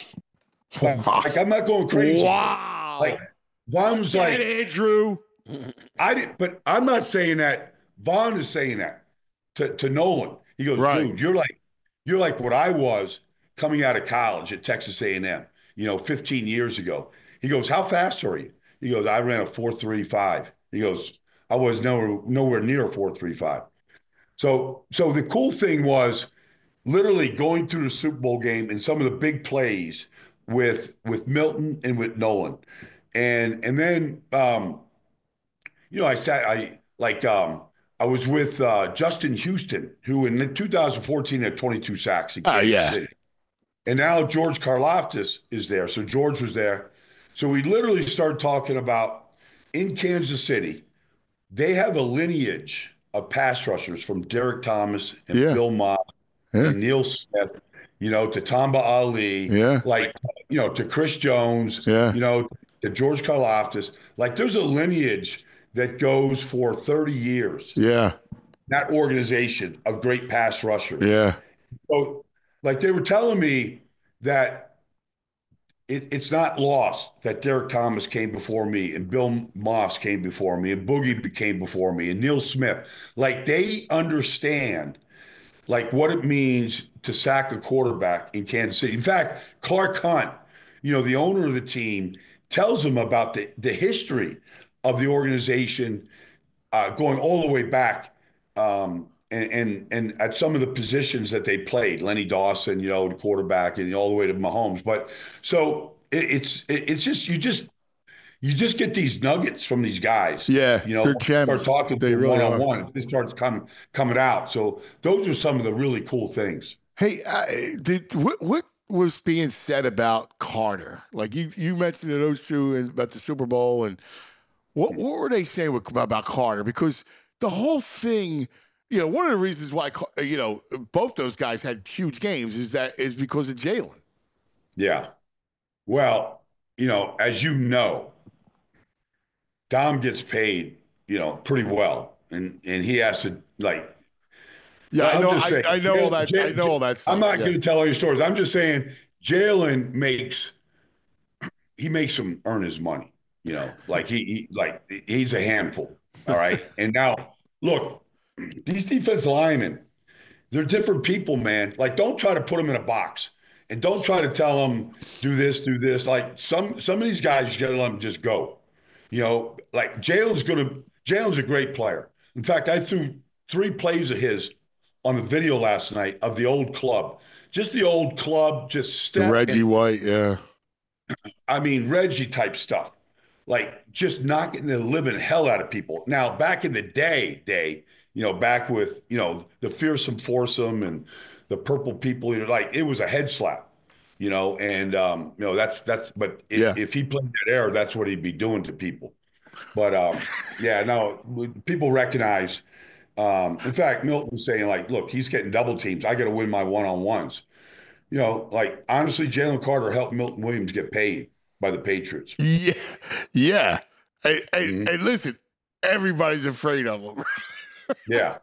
like, like, I'm not going crazy. Wow. Like Von was like, Andrew. I didn't, but I'm not saying that. Von is saying that to, to Nolan. He goes, Right. dude, you're like, you're like what I was coming out of college at Texas A and M, you know, fifteen years ago. He goes, how fast are you? He goes, I ran a four three five. He goes, I was nowhere, nowhere near a four three five. So, so the cool thing was literally going through the Super Bowl game and some of the big plays with with Milton and with Nolan. And and then um, you know, I sat I like um I was with uh, Justin Houston, who in two thousand fourteen had twenty-two sacks in Oh, Kansas yeah. City. And now George Karlaftis is there. So George was there. So we literally started talking about in Kansas City, they have a lineage of pass rushers from Derek Thomas and Yeah. Bill Moss Yeah. and Neil Smith, you know, to Tamba Ali, Yeah. like, you know, to Chris Jones, Yeah. you know, to George Karlaftis. Like there's a lineage that goes for thirty years, Yeah. that organization of great pass rushers. Yeah. So, like they were telling me that it, it's not lost that Derek Thomas came before me and Bill Moss came before me and Boogie came before me and Neil Smith. Like they understand like what it means to sack a quarterback in Kansas City. In fact, Clark Hunt, you know, the owner of the team, tells them about the, the history of the organization uh, going all the way back um, and, and and at some of the positions that they played, Lenny Dawson, you know, the quarterback, and all the way to Mahomes. But so it, it's it, it's just you just you just get these nuggets from these guys. Yeah, you know, they're gems. start talking They to really one on are. one. It starts coming coming out. So those are some of the really cool things. Hey, uh, did what what was being said about Carter? Like you you mentioned to those two and about the Super Bowl, and what what were they saying with, about Carter? Because the whole thing, you know, one of the reasons why Car- you know both those guys had huge games is that is because of Jalen. Yeah. Well, you know, as you know, Dom gets paid, you know, pretty well, and and he has to like. Yeah, I I'm know. just I, saying, I know all that. Jalen- I know all that. Stuff. I'm not yeah. going to tell all your stories. I'm just saying Jalen makes he makes him earn his money. You know, like he, he like he's a handful. All right, and now look, these defensive linemen, they're different people, man. Like, don't try to put them in a box, and don't try to tell them do this, do this. Like some some of these guys, you got to let them just go. You know, like Jalen's gonna Jalen's a great player. In fact, I threw three plays of his on the video last night of the old club. Just the old club, just step. Reggie and- White, yeah. I mean, Reggie type stuff, like just knocking the living hell out of people. Now, back in the day, day, you know, back with, you know, the fearsome foursome and the purple people, you know, like it was a head slap, you know, and, um, you know, that's, that's, but if, Yeah. if he played that era, that's what he'd be doing to people. But, um, yeah, no, people recognize, um, in fact, Milton was saying like, look, he's getting double teams. I got to win my one-on-ones. You know, like honestly, Jalen Carter helped Milton Williams get paid by the Patriots. Yeah, yeah. Hey, hey, Mhm. hey, listen, everybody's afraid of him. Yeah.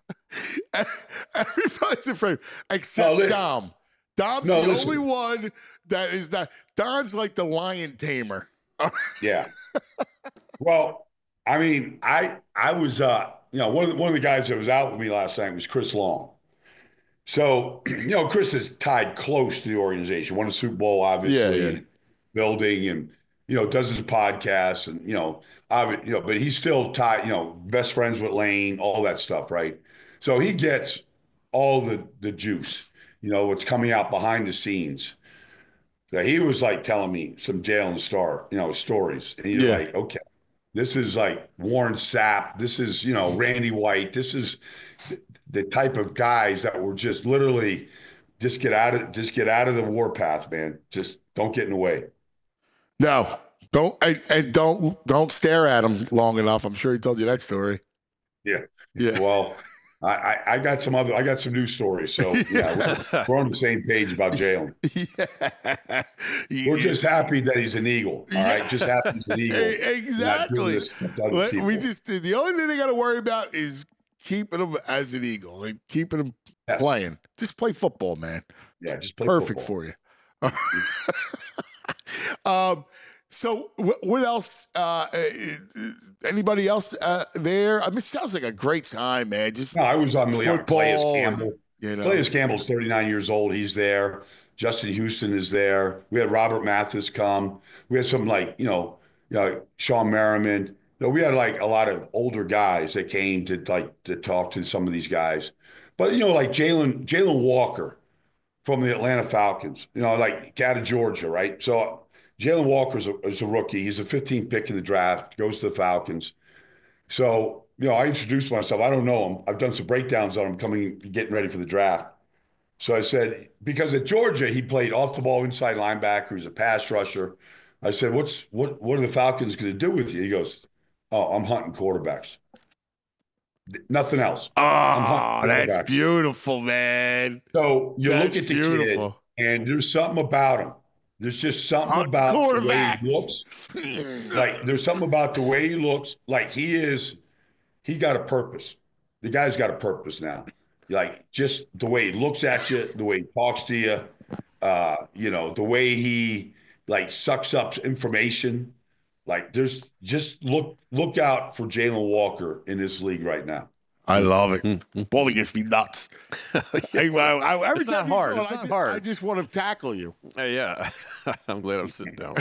Everybody's afraid, except No, listen. Dom. Dom's No, the listen. only one that is not. Don's like the lion tamer. Yeah. Well, I mean, I I was uh, you know, one of the, one of the guys that was out with me last night was Chris Long. So, you know, Chris is tied close to the organization. Won a Super Bowl, obviously, Yeah, yeah. and building, and you know, does his podcast, and you know, obvi- you know, but he's still tied. You know, best friends with Lane, all that stuff, right? So he gets all the the juice. You know, what's coming out behind the scenes. So he was like telling me some Jalen Star, you know, stories, and you're Yeah. like, okay, this is like Warren Sapp. This is, you know, Randy White. This is the, the type of guys that were just literally just get out of just get out of the warpath, man. Just don't get in the way. No, don't and, and don't don't stare at him long enough. I'm sure he told you that story. Yeah. Yeah. Well, I, I, I got some other I got some news stories. So yeah, we're, we're on the same page about Jalen. Yeah. We're just happy that he's an Eagle. All right. Just happy he's an Eagle. Exactly. Not doing this to other Let- people. We just the only thing they got to worry about is keeping him as an Eagle and keeping him Yes. playing. Just play football, man. Yeah, just play Perfect football. for you. um. So wh- what else? Uh, uh, anybody else uh, there? I mean, it sounds like a great time, man. Just No, I was on the football. Calais and, Campbell. you know, Calais Campbell's thirty-nine years old. He's there. Justin Houston is there. We had Robert Mathis come. We had some like, you know, you know, Sean Merriman. You know, we had like a lot of older guys that came to like to talk to some of these guys. But you know, like Jalen Jalen Walker from the Atlanta Falcons, you know, like out of Georgia, right? So Jalen Walker is a, is a rookie. He's a fifteenth pick in the draft, goes to the Falcons. So, you know, I introduced myself. I don't know him. I've done some breakdowns on him coming, getting ready for the draft. So I said, because at Georgia, he played off the ball inside linebacker. He was a pass rusher. I said, what's what what are the Falcons going to do with you? He goes, oh, I'm hunting quarterbacks. Nothing else. I'm oh, hunting that's quarterbacks. beautiful, man. So you That's look at the beautiful. kid, and there's something about him. There's just something Hunting about the way quarterbacks. he looks. Like there's something about the way he looks. Like he is, he got a purpose. The guy's got a purpose now. Like just the way he looks at you, the way he talks to you, uh, you know, the way he like sucks up information. Like there's just look look out for Jalen Walker in this league right now. I love it. Bowling gets me nuts. Hey, well, I, every It's not time you hard. throw it, It's I not just, hard. I just want to tackle you. Uh, yeah. I'm glad I'm sitting down.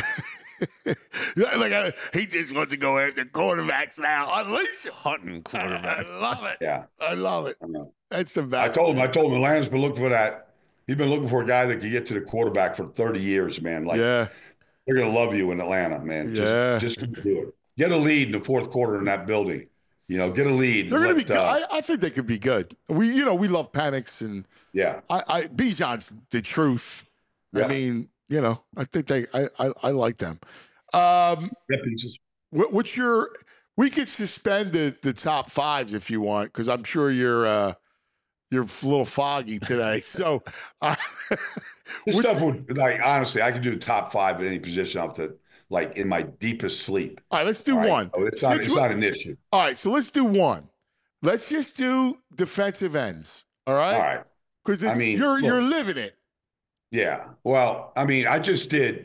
Like I, he just wants to go after quarterbacks now. Unleash him. Hunting quarterbacks. I love it. Yeah. I love it. I know. That's the I best. told him, I told him Atlanta's been looking for that. He's been looking for a guy that could get to the quarterback for thirty years, man. Like yeah. they're gonna love you in Atlanta, man. Yeah. Just just do it. Get a lead in the fourth quarter in that building. You know, get a lead. They're going to Let, be good. uh, I, I think they could be good. We, you know, we love panics and yeah. I, I Bijan's the truth. Yeah. I mean, you know, I think they, I, I, I like them. Um, Get pieces. what, what's your? We could suspend the the top fives if you want, because I'm sure you're uh, you're a little foggy today. So, uh, This Which- stuff would like honestly, I could do the top five at any position off the like in my deepest sleep. all right, let's do All right? one. So it's not Since it's we- not an issue. All right, so let's do one. Let's just do defensive ends. All right, All right. because I mean, you're look. you're living it. Yeah. Well, I mean, I just did.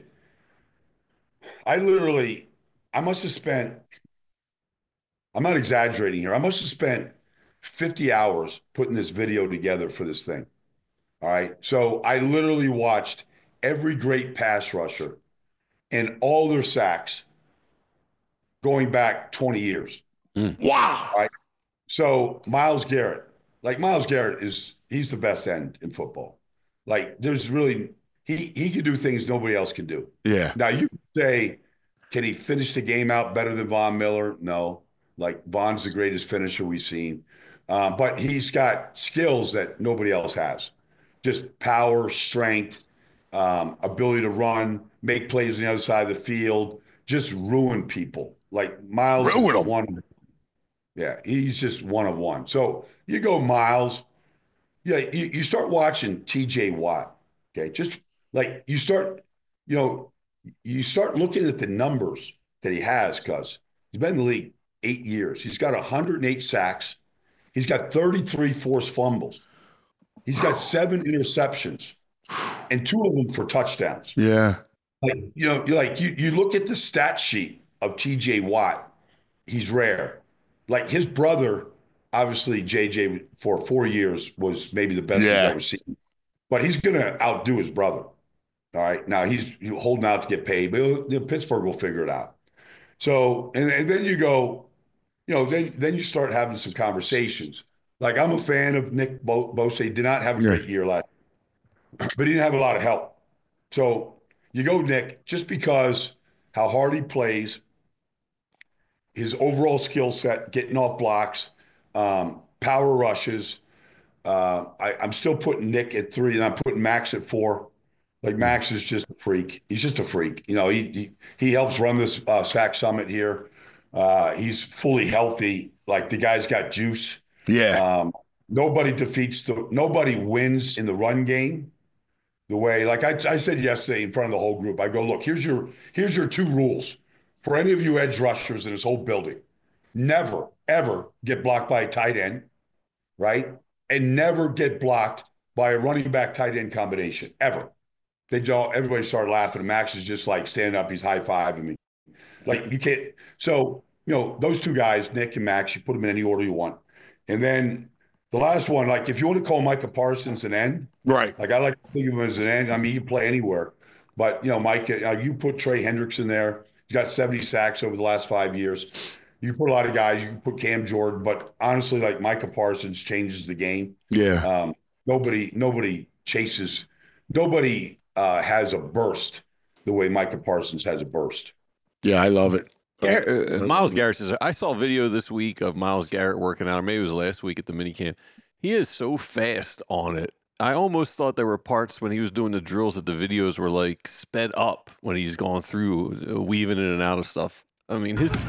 I literally, I must have spent, I'm not exaggerating here. I must have spent fifty hours putting this video together for this thing. All right. So I literally watched every great pass rusher and all their sacks going back twenty years. Wow. Right. So Myles Garrett, like Myles Garrett is, he's the best end in football. Like there's really, he, he can do things nobody else can do. Yeah. Now you could say, can he finish the game out better than Von Miller? No. Like Von's the greatest finisher we've seen. Uh, but he's got skills that nobody else has. Just power, strength, um, ability to run, make plays on the other side of the field, just ruin people. Like Myles Ruin is 'em. one. Yeah, he's just one of one. So you go Myles. Yeah, you, you start watching T J Watt. Okay, just like you start, you know, you start looking at the numbers that he has because he's been in the league eight years. He's got one hundred eight sacks. He's got thirty-three forced fumbles. He's got seven interceptions and two of them for touchdowns. Yeah. Like, you know, you're like you you look at the stat sheet of T J Watt, he's rare. Like his brother obviously J J for four years was maybe the best Yeah. we've ever seen. But he's going to outdo his brother. All right. Now he's holding out to get paid, but you know, Pittsburgh will figure it out. So, and, and then you go, you know, then then you start having some conversations. Like, I'm a fan of Nick Bo- Bosa. He did not have a Yeah. great year last year, but he didn't have a lot of help. So you go, Nick, just because how hard he plays, his overall skill set, getting off blocks, um, power rushes. Uh, I, I'm still putting Nick at three, and I'm putting Max at four. Like, Max is just a freak. He's just a freak. You know, he he, he helps run this uh, Sack Summit here. Uh, he's fully healthy. Like, the guy's got juice. Yeah. Um, nobody defeats the nobody wins in the run game the way, like I, I said yesterday in front of the whole group. I go, look, here's your here's your two rules for any of you edge rushers in this whole building. Never, ever get blocked by a tight end, right? And never get blocked by a running back tight end combination, ever. They don't, everybody started laughing. Max is just like standing up, he's high-fiving me. Like, you can't, so, you know, those two guys, Nick and Max, you put them in any order you want. And then the last one, like, if you want to call Micah Parsons an end, right? Like, I like to think of him as an end. I mean, he can play anywhere. But, you know, Mike, uh, you put Trey Hendricks in there. He's got seventy sacks over the last five years. You put a lot of guys. You can put Cam Jordan. But honestly, like, Micah Parsons changes the game. Yeah. Um, nobody, nobody chases. Nobody uh, has a burst the way Micah Parsons has a burst. Yeah, I love it. Gar- uh, Myles Garrett says, I saw a video this week of Myles Garrett working out, or maybe it was last week at the minicamp. He is so fast on it. I almost thought there were parts when he was doing the drills that the videos were like sped up when he's going through, uh, weaving in and out of stuff. I mean, his.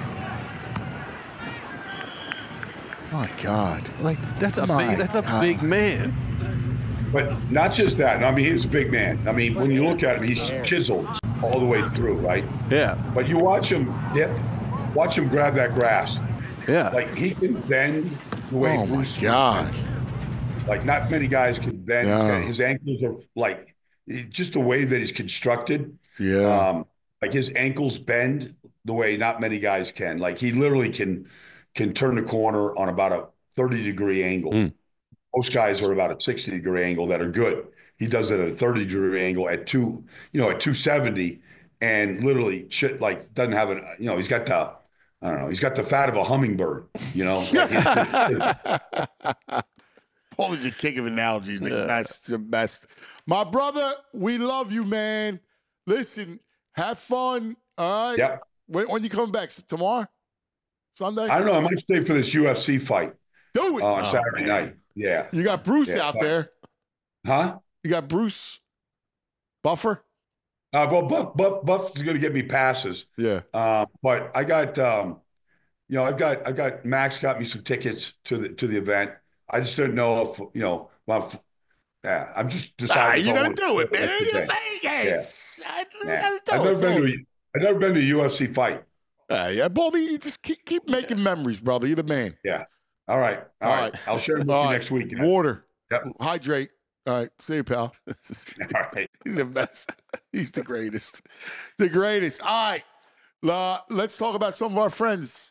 My God. Like, that's a My big, that's a God. big man. But not just that. I mean, he's a big man. I mean, when you look at him, he's chiseled all the way through, right? Yeah. But you watch him dip, watch him grab that grass. Yeah. Like, he can bend the way Oh, my Bruce. God. Like, not many guys can bend. Yeah. His ankles are like, just the way that he's constructed. Yeah. Um, like, his ankles bend the way not many guys can. Like, he literally can can turn the corner on about a thirty degree angle. Mm. Most guys are about a sixty degree angle that are good. He does it at a thirty degree angle at two, you know, at two seventy, and literally shit, like, doesn't have an, you know, he's got the, I don't know, he's got the fat of a hummingbird, you know. Like, he's- Paul is a king of analogies. The best, the best. My brother, we love you, man. Listen, have fun. All right. Yep. When, when you coming back? Tomorrow? Sunday? I don't know. I might stay for this U F C fight Do it. uh, on Oh, Saturday man. night. Yeah. You got Bruce Yeah. out there. Huh? You got Bruce Buffer. Uh, well, Buff, Buff, Buff is going to get me passes. Yeah. Uh, but I got, um, you know, I've got, I've got Max got me some tickets to the to the event. I just don't know if, you know, well, yeah, I'm just Ah, deciding. you if I got to want do it, man. to You're today. Vegas. I- you Yeah. gotta do I've it. never been So- to, a, I've never been to a U F C fight. Ah, yeah, Baldy, you just keep, keep making memories, brother. You're the man. Yeah. All right. All, All right. right. I'll share them with All you right. next week. Water. Yep. Hydrate. All right. See you, pal. All right. He's the best. He's the greatest. The greatest. All right. Uh, let's talk about some of our friends.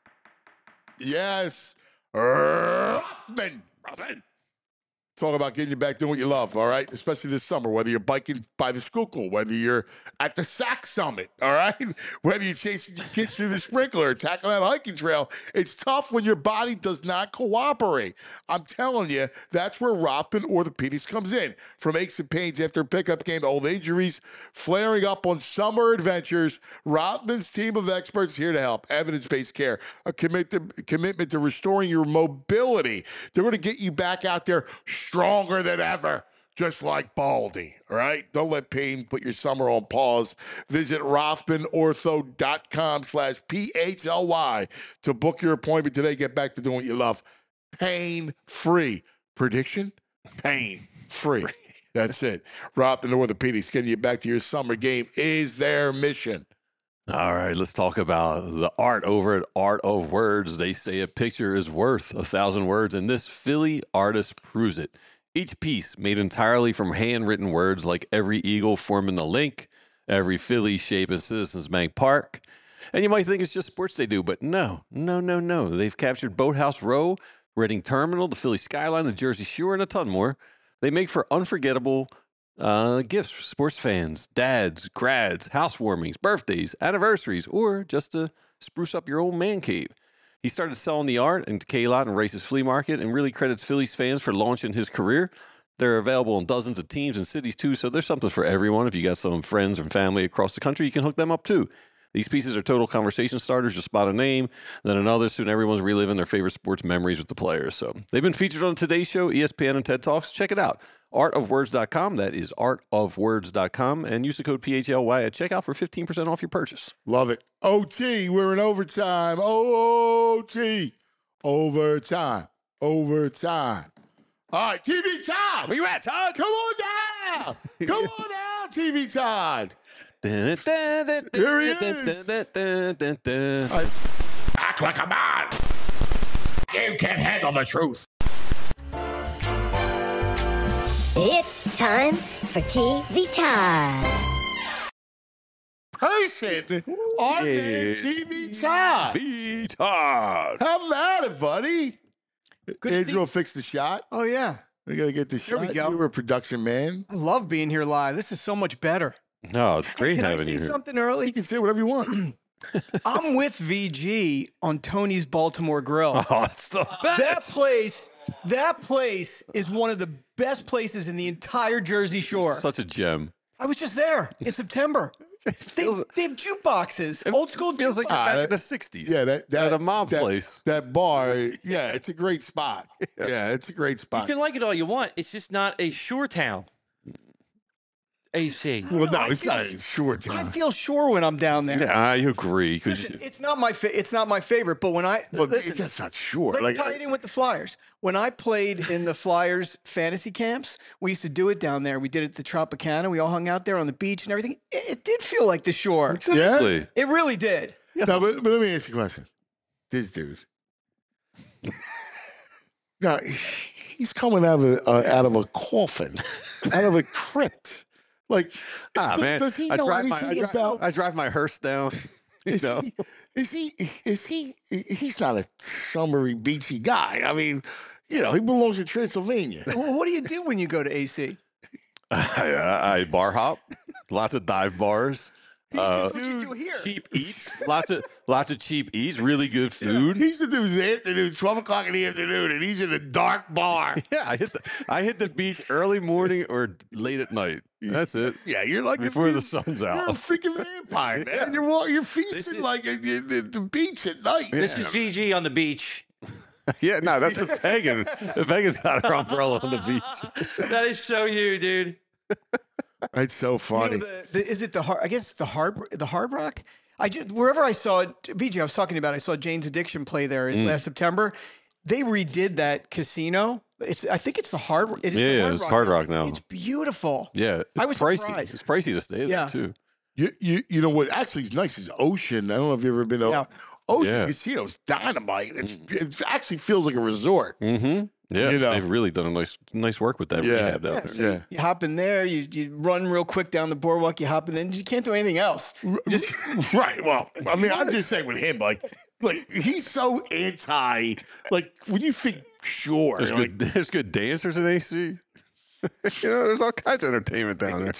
Yes. Rothman. Rothman. Talk about getting you back doing what you love, all right? Especially this summer, whether you're biking by the Schuylkill, whether you're at the Sack Summit, all right? Whether you're chasing your kids through the sprinkler or tackling that hiking trail. It's tough when your body does not cooperate. I'm telling you, that's where Rothman Orthopedics comes in. From aches and pains after a pickup game to old injuries, flaring up on summer adventures, Rothman's team of experts is here to help. Evidence-based care, a commit to, commitment to restoring your mobility. They're going to get you back out there stronger than ever, just like Baldy, all right? Don't let pain put your summer on pause. Visit rothmanortho.com slash P-H-L-Y to book your appointment today. Get back to doing what you love. Pain-free. Prediction? Pain-free. That's it. Rothman Orthopedics, getting you back to your summer game is their mission. All right, let's talk about the art over at Art of Words. They say a picture is worth a thousand words, and this Philly artist proves it. Each piece made entirely from handwritten words like every eagle forming the link, every Philly shape in Citizens Bank Park, And you might think it's just sports they do, but no, no, no, no. They've captured Boathouse Row, Reading Terminal, the Philly Skyline, the Jersey Shore, and a ton more. They make for unforgettable uh, gifts for sports fans, dads, grads, housewarmings, birthdays, anniversaries, or just to spruce up your old man cave. He started selling the art in K-Lot and Rice's Flea Market and really credits Phillies fans for launching his career. They're available in dozens of teams and cities, too, so there's something for everyone. If you got some friends and family across the country, you can hook them up, too. These pieces are total conversation starters. Just spot a name, then another. Soon everyone's reliving their favorite sports memories with the players. So they've been featured on Today Show, E S P N, and TED Talks. Check it out. art of words dot com. That is art of words dot com. And use the code P H L Y at checkout for fifteen percent off your purchase. Love it. O T, we're in overtime. O T. Overtime. Overtime. All right, T V Todd. Where you at, Todd? Come on down. Come on down, T V Todd. Here he is. Act like a man. You can't handle the truth. It's time for T V Todd. Person. Our man, T V Todd. B Todd. How about it, buddy? Good to Andrew see- will fix the shot. Oh, yeah. We got to get the Here shot. we go. You were a production man. I love being here live. This is so much better. No, it's great Can I having say you here. something early? You can say whatever you want. I'm with V G on Tony's Baltimore Grill. Oh, it's the best. That place, that place is one of the best places in the entire Jersey Shore. Such a gem. I was just there in September. They, they have jukeboxes, old school Feels like jukebox. back Ah, in the sixties. Yeah, that, that At a mom that, place. That bar, yeah, it's a great spot. Yeah, it's a great You spot. can like it all you want. It's just not a shore town. A C. Well, no, I it's feel- not a short I time. feel sure when I'm down there. Yeah, I agree. 'Cause Listen, you- it's not my fa- it's not my favorite, but when I Well, listen, that's not sure. let's Like, tie it in with the Flyers. When I played in the Flyers fantasy camps, we used to do it down there. We did it at the Tropicana. We all hung out there on the beach and everything. It, it did feel like the shore. exactly. It really did. no, but, but let me ask you a question. This dude. Now, he's coming out of a, uh, out of a coffin, out of a crypt. Like, Ah, does, man. does he I know drive my I anything drive, about? I drive my hearse down. You Is know. he, is he? Is he? He's not a summery, beachy guy. I mean, you know, he belongs in Transylvania. Well, what do you do when you go to A C? I, I bar hop. Lots of dive bars. Uh, That's what you do here. cheap eats. Lots of lots of cheap eats. Really good food. He used to do his afternoon, twelve o'clock in the afternoon, and he's in a dark bar. Yeah, I hit the I hit the beach early morning or late at night. That's it. Yeah, you're like Before a, the sun's You're a out. freaking vampire, man. You're walking, you're feasting is- like at the, the, the beach at night. This is V G on the beach. Yeah, no, that's a pagan. The pagan's got her umbrella on the beach. That is so you, dude. It's so You know, funny. the, the, is it the hard? I guess it's the hard the Hard Rock. I just wherever I saw it, V J, I was talking about. I saw Jane's Addiction play there in Mm. last September. They redid that casino. It's I think it's the Hard. It is Yeah, the yeah, Hard it's Rock Hard Rock now. It's beautiful. Yeah, it's I was pricey. surprised. It's pricey to stay Yeah. there too. You, you you know what actually is nice is Ocean. I don't know if you've ever been to Yeah. Ocean Yeah. Casino's dynamite. It's, it actually feels like a resort. Mm-hmm. Yeah, You know. they've really done a nice nice work with that Yeah. rehab down Yeah, there. so Yeah. You hop in there. You you run real quick down the boardwalk. You hop in, then you can't do anything else. You just Right. Well, I mean, I'm just saying with him, like, like he's so anti. Like when you think sure, There's like, good there's good dancers in A C. You know, there's all kinds of entertainment down there.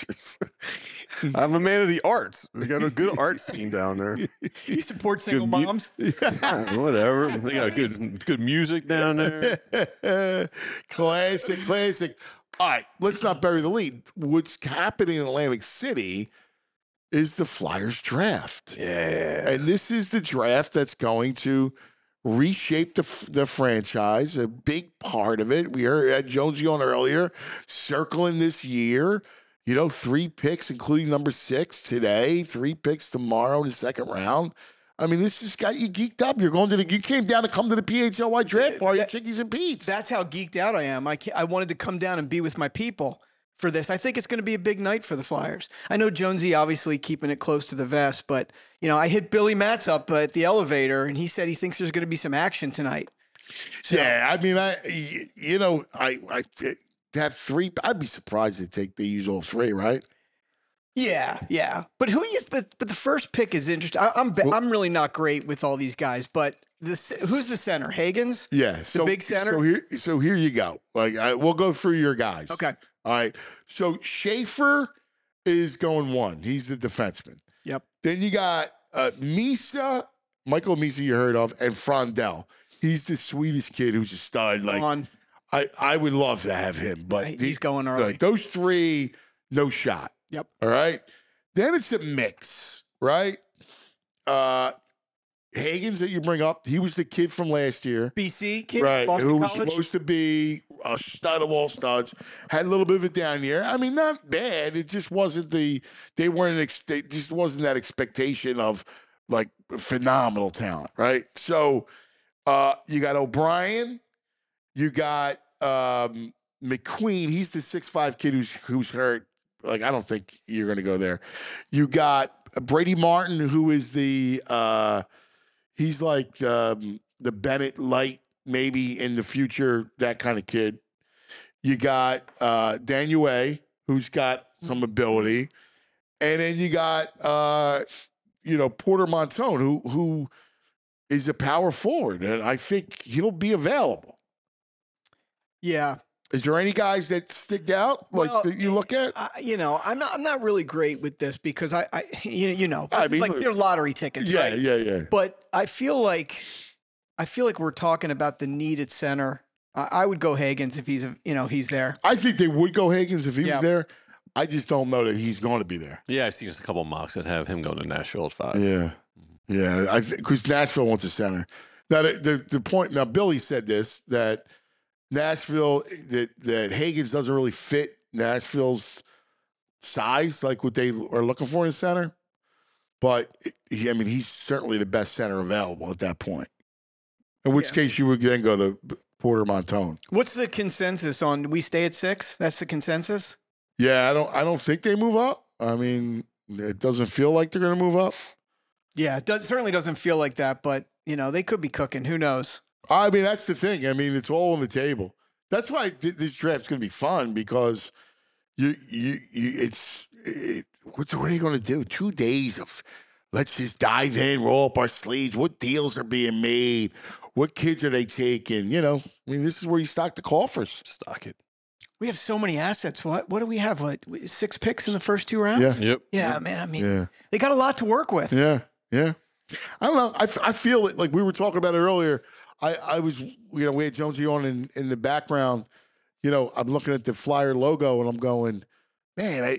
I'm a man of the arts. We got a good art scene down there. you support single mu- moms. Whatever. They got good good music down there. classic, classic. All right, let's not bury the lead. What's happening in Atlantic City is the Flyers draft. Yeah. And this is the draft that's going to reshape the, f- the franchise, a big part of it. We heard had Jonesy on earlier, circling this year. You know, three picks, including number six today, three picks tomorrow in the second round. I mean, this has got you geeked up. You're going to the, you came down to come to the P H L Y draft party at Chickies and Pete's. That's how geeked out I am. I, can't, I wanted to come down and be with my people for this. I think it's going to be a big night for the Flyers. I know Jonesy obviously keeping it close to the vest, but you know, I hit Billy Matz up at the elevator, and he said he thinks there's going to be some action tonight. So, Yeah, I mean, I y- you know, I I to have three. I'd be surprised to take they use all three, right? Yeah, yeah. But who you? But, but the first pick is interesting. I, I'm be- I'm really not great with all these guys, but the c- who's the center? Hagens. Yeah, the so big center. So here, so here you go. Like I, we'll go through your guys. Okay. All right. So Schaefer is going one. He's the defenseman. Yep. Then you got uh, Misa, Michael Misa, you heard of, and Frondell. He's the sweetest kid who's a stud. Like on. I, I would love to have him, but He's these- going early. Like those three, no shot. Yep. All right. Then it's a mix, right? Uh Hagens that you bring up, he was the kid from last year. B C kid, Right, Boston who was College. supposed to be a stud of all studs, had a little bit of a down year. I mean, not bad. It just wasn't the they weren't ex- they just wasn't that expectation of like phenomenal talent, right? So uh you got O'Brien, you got um McQueen. He's the six five kid who's who's hurt. Like I don't think you're going to go there. You got Brady Martin, who is the uh he's like um, the Bennett Light, maybe in the future, that kind of kid. You got uh, Daniel A, who's got some ability, and then you got uh, you know Porter Montone, who who is a power forward, and I think he'll be available. Yeah. Is there any guys that stick out like Well, that you look at? I, you know, I'm not. I'm not really great with this because I, I you, you know, I this is mean, like look- they're lottery tickets, Yeah, right? yeah, yeah. But I feel like, I feel like we're talking about the need at center. I, I would go Hagens if he's, you know, he's there. I think they would go Hagens if he Yeah. was there. I just don't know that he's going to be there. Yeah, I see just a couple of mocks that have him going to Nashville at five. Yeah, yeah. I because Nashville wants a center. Now the, the the point. Now Billy said this that Nashville that that Hagens doesn't really fit Nashville's size, like what they are looking for in a center. But he, I mean, he's certainly the best center available at that point. In which Yeah. case, you would then go to Porter Montone. What's the consensus on? Do we stay at six? That's the consensus. Yeah, I don't. I don't think they move up. I mean, it doesn't feel like they're going to move up. Yeah, it does, certainly doesn't feel like that, but you know they could be cooking. Who knows? I mean, that's the thing. I mean, it's all on the table. That's why th- this draft's going to be fun because you, you, you it's, it, what's, what are you going to do? Two days of let's just dive in, roll up our sleeves. What deals are being made? What kids are they taking? You know, I mean, this is where you stock the coffers. Stock it. We have so many assets. What what do we have? What six picks in the first two rounds? Yeah. Yep. Yeah, man. I mean, Yeah. they got a lot to work with. Yeah. Yeah. I don't know. I, f- I feel it like we were talking about it earlier. I, I was, you know, we had Jonesy on in, in the background. You know, I'm looking at the Flyer logo and I'm going, man, I,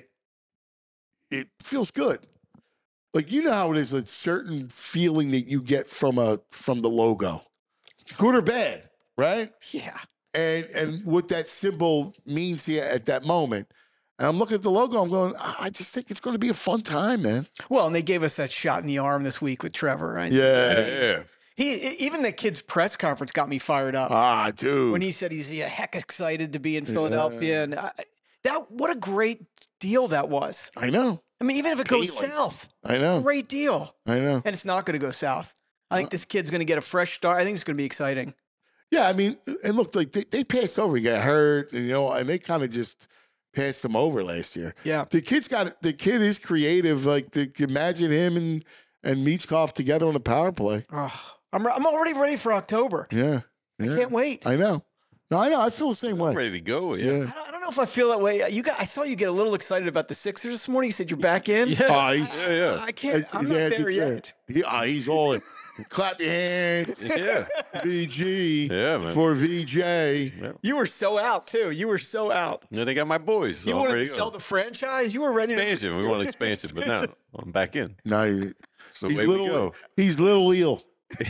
it feels good. Like, you know how it is, a certain feeling that you get from a from the logo, good or bad, right? Yeah. And and what that symbol means here at that moment. And I'm looking at the logo. I'm going, I just think it's going to be a fun time, man. Well, and they gave us that shot in the arm this week with Trevor, right? Yeah. Yeah. He even the kid's press conference got me fired up Ah, dude. when he said he's yeah, heck excited to be in Philadelphia, and I, that what a great deal that was. I know. I mean, even if it goes Appealing. south, I know. great deal. I know. And it's not going to go south. I think this kid's going to get a fresh start. I think it's going to be exciting. Yeah, I mean, and look, like they, they passed over. He got hurt, and you know, and they kind of just passed him over last year. Yeah. The kid's got the kid is creative. Like, to imagine him and and Michkov together on the power play. Oh, I'm I'm already ready for October. Yeah, yeah. Can't wait. I know. No, I know. I feel the same way. I'm ready to go. Yeah. Yeah. I don't, I don't know if I feel that way. You got. I saw you get a little excited about the Sixers this morning. You said you're back in. Yeah. Oh, he's, Yeah, yeah. I can't. it's- I'm he's not had there the yet. chance. He, oh, he's all in. Clap your hands. Yeah. V G Yeah, man. for V J. You were so out too. You were so out. Yeah, they got my boys. So You I'm wanted ready to go. sell the franchise. You were ready to. expansion. We want expansion, but now I'm back in. No, he- So he's away we little. go. He's little eel.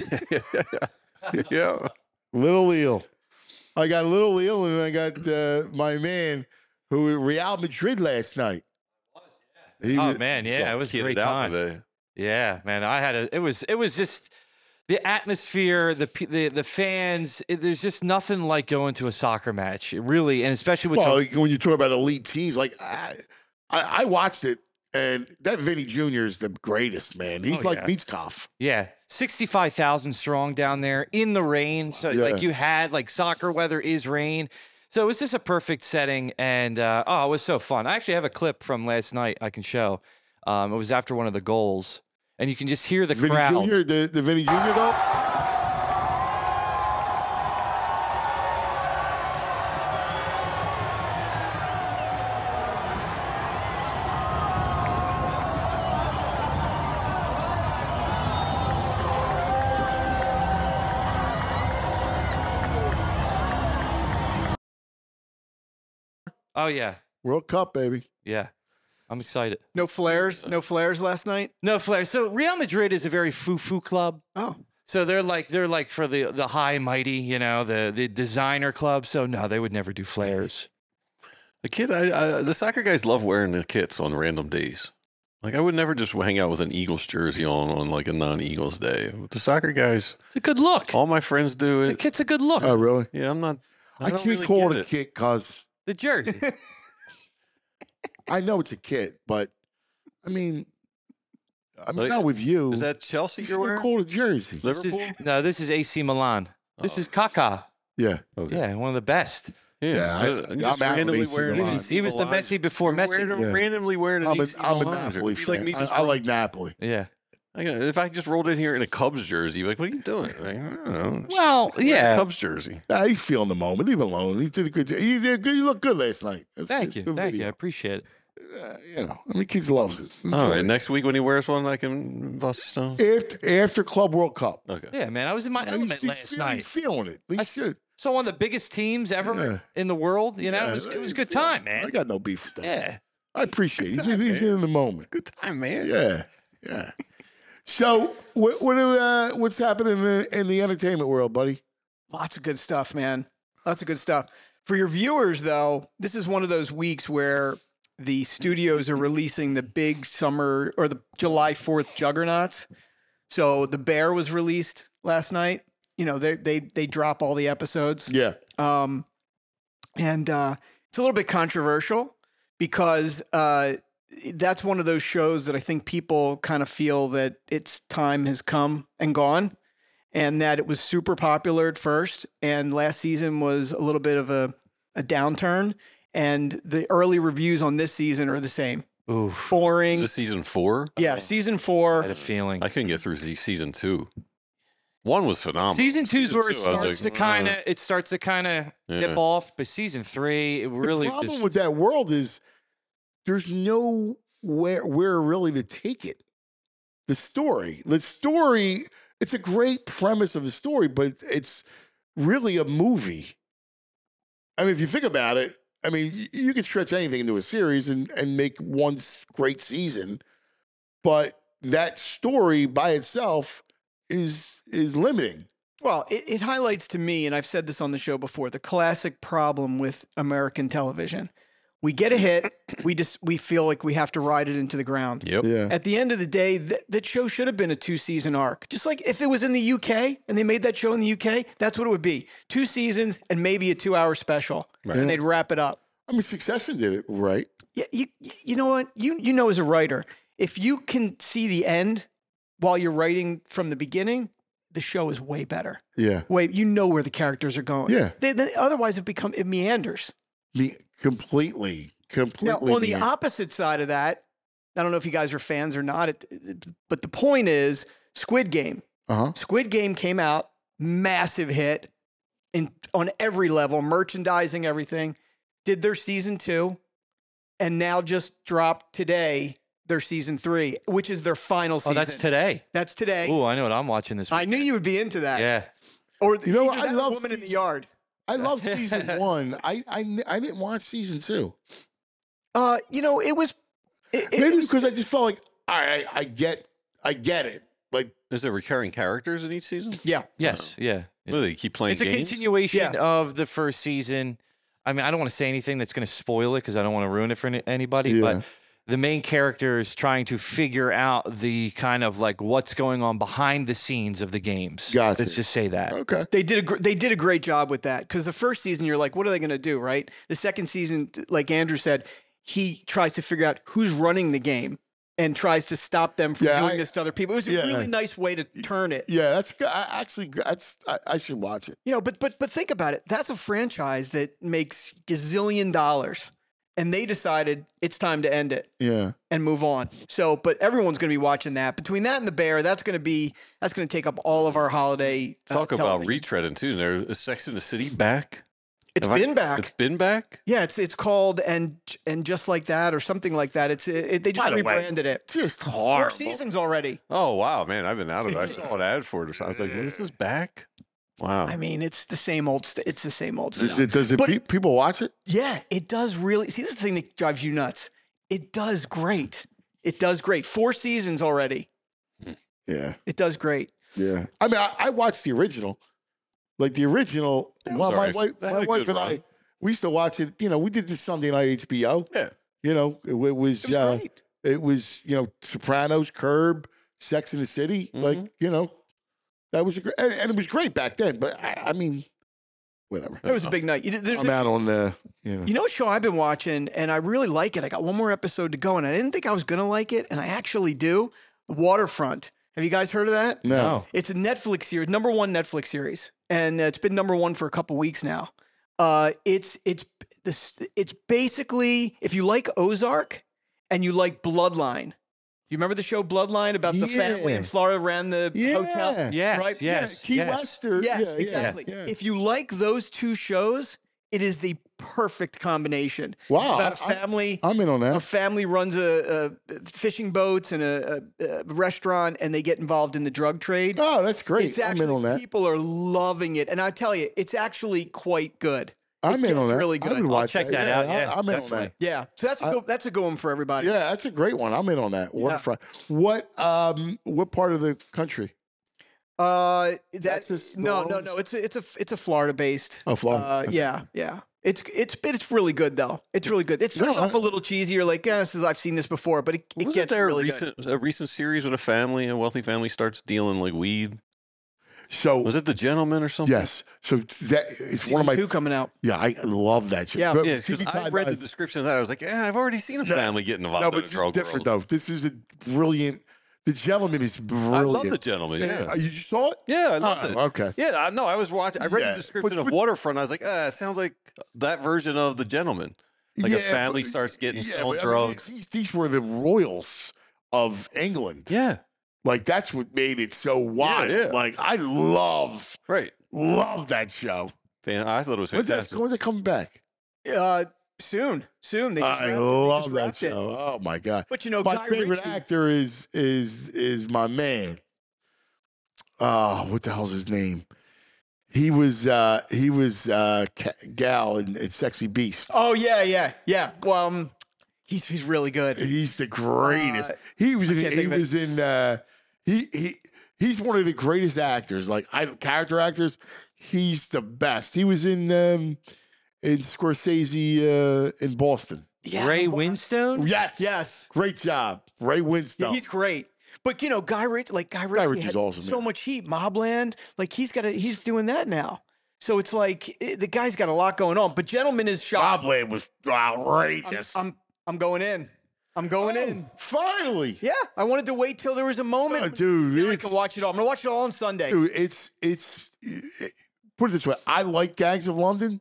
Yeah. Little eel. I got Little eel, and I got uh, my man who Real Madrid last night. He Oh was- man, yeah, it was a Kitted great out time. today. Yeah, man, I had a. It was. It was just the atmosphere, the pe- the the fans. It, there's just nothing like going to a soccer match, it really, and especially with well, the, like, when you talk about elite teams, like I, I, I watched it, and that Vinny Junior is the greatest, man. He's Oh, like yeah. Michkov. yeah, sixty-five thousand strong down there in the rain. So Yeah. like you had like soccer weather is rain. So it was just a perfect setting, and uh, oh, it was so fun. I actually have a clip from last night I can show. Um, it was after one of the goals, and you can just hear the Vinny crowd. Junior, the, the Vinny Junior goal? Oh yeah, World Cup, baby. yeah. I'm excited. No flares, no flares last night. No flares. So Real Madrid is a very foo-foo club. Oh, So they're like they're like for the the high and mighty, you know, the the designer club. So no, they would never do flares. The kids, I, I, the soccer guys love wearing the kits on random days. Like I would never just hang out with an Eagles jersey on on like a non-Eagles day. But the soccer guys, It's a good look. all my friends do The it. kit's a good look. Oh, really? Yeah, I'm not. I, I, don't can't really call get it a kit because The jersey. I know it's a kit, but I mean, I'm Like, not with you. Is that Chelsea you're You're wearing? call it a jersey. This is- Liverpool? no, this is A C Milan. This Oh. is Kaká. Yeah. Okay. Yeah, one of the best. Yeah, Yeah, I- I, I'm just out with randomly A C wearing Milan. an A C He was the Milan. Messi before You're Messi. wearing- Yeah. randomly wearing an I'm a, A C I'm a Milan Napoli jersey. fan. Like me just I, I like Napoli. Yeah. I got- if I just rolled in here in a Cubs jersey, like, what are you doing? Like, I don't know. Just Well, wear a yeah. Cubs jersey. Nah, he's feeling the moment. Leave him alone. He did a good job. He did good. You look good last night. That's Thank good. you. Good Thank you. I video. appreciate it. Uh, you know, I mean, kids loves it. All Enjoy right, it. next week when he wears one, I can bust his stone. After, after Club World Cup. Okay. Yeah, man. I was in my He's, element he's last feel- night. he's feeling it. He I- should. So one of the biggest teams ever Yeah. in the world. You know, Yeah, it was it was a he's good feeling time, it. man. I got no beef with that. Yeah. I appreciate it. He's, he's in the moment. Good time, man. Yeah, yeah. So, what, what do, uh, what's happening in the, in the entertainment world, buddy? lots of good stuff, man. Lots of good stuff. For your viewers, though, this is one of those weeks where the studios are releasing the big summer or the July fourth juggernauts. So The Bear was released last night. You know, they they they drop all the episodes. Yeah. Um, and uh, it's a little bit controversial because uh, that's one of those shows that I think people kind of feel that its time has come and gone, and that it was super popular at first, and last season was a little bit of a, a downturn, and the early reviews on this season are the same. Oof. Boring. Is this season four? Yeah, season I four. had a feeling. I couldn't get through se- season two. One was phenomenal. Season two's where it two, I was starts like, to kind of uh, it starts to kind of dip Yeah. off, but season three it really the problem just, with that world is there's no where where really to take it. The story, the story, it's a great premise of the story, but it's, it's really a movie. I mean, if you think about it, I mean, you, you can stretch anything into a series and and make one s- great season, but that story by itself is is limiting. Well, it, it highlights to me, and I've said this on the show before, the classic problem with American television. We get a hit, we just we feel like we have to ride it into the ground. Yep. Yeah. At the end of the day, th- that show should have been a two season arc. Just like if it was in the U K and they made that show in the U K, that's what it would be. Two seasons and maybe a two hour special. Right. And they'd wrap it up. I mean, Succession did it right. Yeah, you you know what? You you know as a writer, if you can see the end while you're writing from the beginning, the show is way better. Yeah. Way you know where the characters are going. Yeah. They, they, otherwise, it become it meanders. Me completely, completely. Now, on the mean- opposite side of that, I don't know if you guys are fans or not, it, it- but the point is Squid Game. Uh-huh. Squid Game came out, massive hit in on every level, merchandising, everything. Did their season two, and now just dropped today their season three, which is their final oh season. that's today. That's today. Oh, I know what I'm watching this. I week. knew you would be into that. Yeah. Or You know what? either I that or love Woman in the season- Yard. I love season one. I, I I didn't watch season two. Uh, you know, it was. It, it Maybe was- because I just felt like, all right, I get, I get it. Like, Is there recurring characters in each season? yeah. Yes. Yeah. What do they keep playing It's a games? continuation Yeah. of the first season. I mean, I don't want to say anything that's going to spoil it because I don't want to ruin it for any- anybody. Yeah. But the main character is trying to figure out the kind of like what's going on behind the scenes of the games. Gotcha. Let's just say that. okay, They did a gr- they did a great job with that because the first season you're like, what are they going to do, right? The second season, t- like Andrew said, he tries to figure out who's running the game. and tries to stop them from Yeah, doing I- this to other people. It was yeah. a really nice way to turn it. Yeah, that's good. I, actually, that's I, I should watch it. You know, but but but think about it. That's a franchise that makes gazillion dollars, and they decided it's time to end it Yeah. and move on. So, but everyone's going to be watching that. Between that and the Bear, that's going to be that's going to take up all of our holiday. uh, Talk about television. retreading too. There's Sex in the City back. It's Have I- been back. It's been back. Yeah, it's it's called and and just like that or something like that. It's it, they just By the way, rebranded it. Just Four horrible. seasons already. Oh wow, man! I've been out of it. I saw an ad for it. I was like, well, "This is back." Wow. I mean, it's the same old. St- it's the same old Does stuff. it, does it But- pe- people watch it? Yeah, it does really. See, this is the thing that drives you nuts. It does great. It does great. Four seasons already. Yeah. It does great. Yeah. I mean, I, I watched the original. Like the original. That was Well, my alright. wife, That my had a wife good and run. I, we used to watch it. You know, we did this Sunday night H B O. Yeah. You know, it, it was, It was uh, great. it was, you know, Sopranos, Curb, Sex in the City. Like, you know, that was a great, and, and it was great back then. But I, I mean, whatever. It was a big night. You, there's I'm a- out on the, you know. You know what show I've been watching, and I really like it. I got one more episode to go, and I didn't think I was gonna like it, and I actually do. Waterfront. Have you guys heard of that? No. It's a Netflix series, number one Netflix series, and uh, it's been number one for a couple weeks now. Uh, it's it's this it's basically if you like Ozark and you like Bloodline. You remember the show Bloodline about the family in Yeah. Florida ran the Yeah. hotel? Yes, right? yes, Key yes. West or, Yes, yeah, exactly. Yeah, yeah. If you like those two shows, it is the perfect combination. Wow, It's about a I- family. I'm in on a that. family runs a, a fishing boats and a, a, a restaurant, and they get involved in the drug trade. Oh, that's great. It's I'm in actually on that. people are loving it, and I tell you, it's actually quite good. I'm It in on gets that. really I good. would I'll watch check that. that out, I- yeah, I'm in on definitely. that. Yeah, so that's a good, that's a good one for everybody. Yeah, that's a great one. I'm in on that. Waterfront. What um what part of the country? Uh, that, Texas, New no, no, Orleans? no. It's a, it's a it's a Florida based. Oh, Florida. Uh, Okay. yeah, yeah. It's it's it's really good though. It's really good. It starts No, off a little cheesy. You're like, yeah, this is I've seen this before, but it, it Wasn't gets there really a good. recent a recent series with a family, a wealthy family starts dealing like weed? So Was it The Gentleman or something? yes. So that it's one of my Two coming out. yeah, I love that show. Yeah. But Yeah, T V because I Time, read I- the description of that. I was like, yeah, I've already seen a No, family getting involved No, in but a this is drug different world. though. This is a brilliant. The Gentleman is brilliant. I love The Gentleman. Yeah, You just saw it? yeah, I loved Oh, it. okay. Yeah, I know. I was watching. I read Yeah, the description but- of but- Waterfront. I was like, ah, it sounds like that version of The Gentleman. Like a Yeah, family but- starts getting yeah, selling but, I mean, drugs. these, these were the royals of England. Yeah, Like that's what made it so wild. yeah. Like I love, right. love that show. Fan- I thought it was When's that, fantastic. when's it coming back? Uh, soon, soon. They just I wrapped it. They love just that wrapped it. show. Oh my god! But you know, My Guy favorite Ritchie- actor is is is my man. Oh, what the hell's his name? He was uh he was uh Ca- Gal in, in Sexy Beast. Oh yeah, yeah, yeah. Well, um, he's he's really good. He's the greatest. Uh, he was in, can't he think of it. was in uh he he he's one of the greatest actors. Like I character actors, he's the best. He was in um in Scorsese uh in Boston. Yeah, Ray well, Winstone? Yes. Yes, Great job. Ray yeah, Winstone. he's great. But you know, Guy Ritchie, like Guy Ritchie, Ritchie's had awesome, so yeah. much heat. Mobland, like he's got a, he's doing that now. So it's like eh, the guy's got a lot going on. But Gentleman is shot. Robland was I'm, outrageous. I'm I'm going in. I'm going Oh, in. Finally. Yeah, I wanted to wait till there was a moment. Oh, dude, Now I it's- can watch it all. I'm gonna watch it all on Sunday. Dude, it's it's it- put it this way. I like Gangs of London.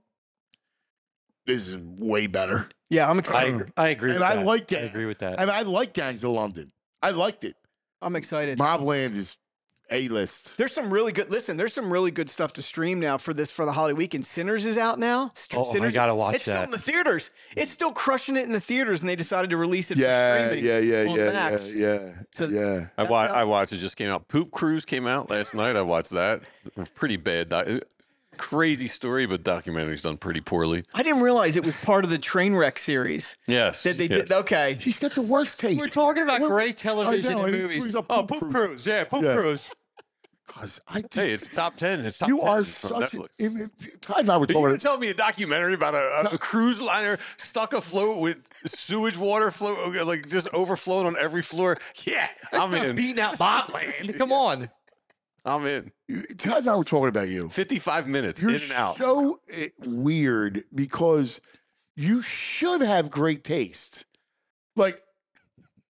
This is way better. Yeah, I'm I excited. agree, I agree And with I that. like I it. agree with that. And I like Gangs of London. I liked it. I'm excited. Mobland is A list. There's some really good. Listen, there's some really good stuff to stream now for this for the holiday weekend. Sinners is out now. St- Oh, I Sinners, gotta watch it's still that. in the theaters. It's still crushing it in the theaters, and they decided to release it Yeah, for streaming. yeah, yeah, on yeah, yeah, Max. yeah, So- yeah. I, That's wa- how- I watched it. Just came out. Poop Cruise came out last night. I watched that. Pretty bad. Doc- crazy story, but documentary's done pretty poorly. I didn't realize it was part of the Trainwreck series Yes. that they yes. did. Okay, She's got the worst taste. We're talking about What- great television I know, and and movies. he's a Oh, Poop Poop Cruise. Cruise. Yeah, Poop Yeah. Cruise. Cause I just, Hey, it's top ten. It's top you ten. are It's on such. Netflix. In, in, Ty and I were Are you talking. going to tell me a documentary about a, a, a cruise liner stuck afloat with sewage water flow, like just overflowing on every floor? Yeah, I'm in. Beating out Botland. Come on. I'm in. Ty and I were talking about you. fifty-five minutes You're in and out. so eh, weird because you should have great taste. Like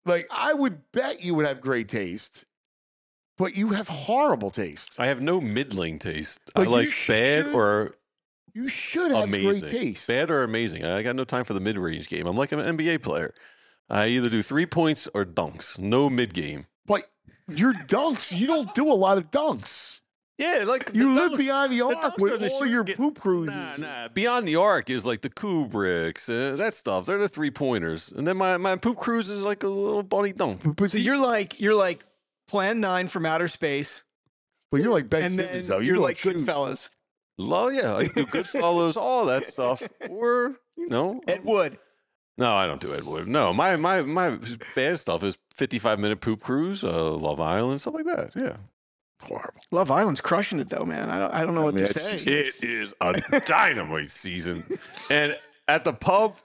Like, I would bet you would have great taste, but you have horrible taste. I have no middling taste. But I you like bad should- or You should have amazing. great taste. Bad or amazing. I got no time for the mid-range game. I'm like an N B A player. I either do three points or dunks. No mid-game. But your dunks, you don't do a lot of dunks. Yeah, like You the live dunks- beyond the arc dunks are with the all shit your get- poop cruises. Nah, nah. Beyond the arc is like the Kubricks, uh, that stuff. They're the three pointers, and then my, my poop cruise is like a little bunny dunk. But So you're like you're like Plan Nine from outer space, But you're like Ben and then Simmons, though. you're don't like shoot. Goodfellas. Well, yeah, I do Goodfellas, all that stuff. Or you know, Ed Wood. no, I don't do Ed Wood. No, my my my bad stuff is fifty-five minute poop cruise, uh, Love Island, stuff like that. Yeah. Horrible. Love Island's crushing it though, man. I don't I don't know what mean, to it's- say. It is a dynamite season. And at the pub,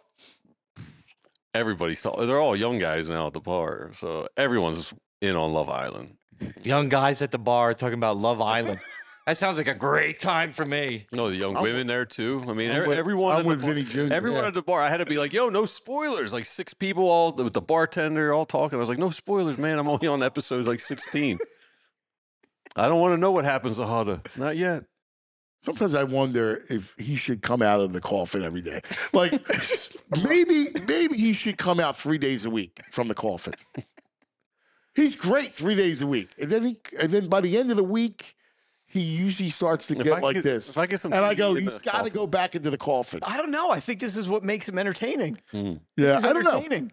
everybody's talking. They're all young guys now at the bar. So everyone's in on Love Island. Young guys at the bar talking about Love Island. That sounds like a great time for me. No, the young I'm women there too. I mean, I'm every- with- everyone. I'm at the with bar- Vinny Junior Everyone yeah. at the bar. I had to be like, "Yo, no spoilers!" Like six people all with the bartender all talking. I was like, "No spoilers, man. I'm only on episodes like sixteen. I don't want to know what happens to Huda. Not yet." Sometimes I wonder if he should come out of the coffin every day. Like, maybe maybe he should come out three days a week from the coffin. He's great three days a week, and then he, and then by the end of the week, he usually starts to If get I like get- this. if I get some and I T V go, in he's the got to coffin." go back into the coffin. I don't know. I think this is what makes him entertaining. Mm. Yeah, He's I don't know. entertaining.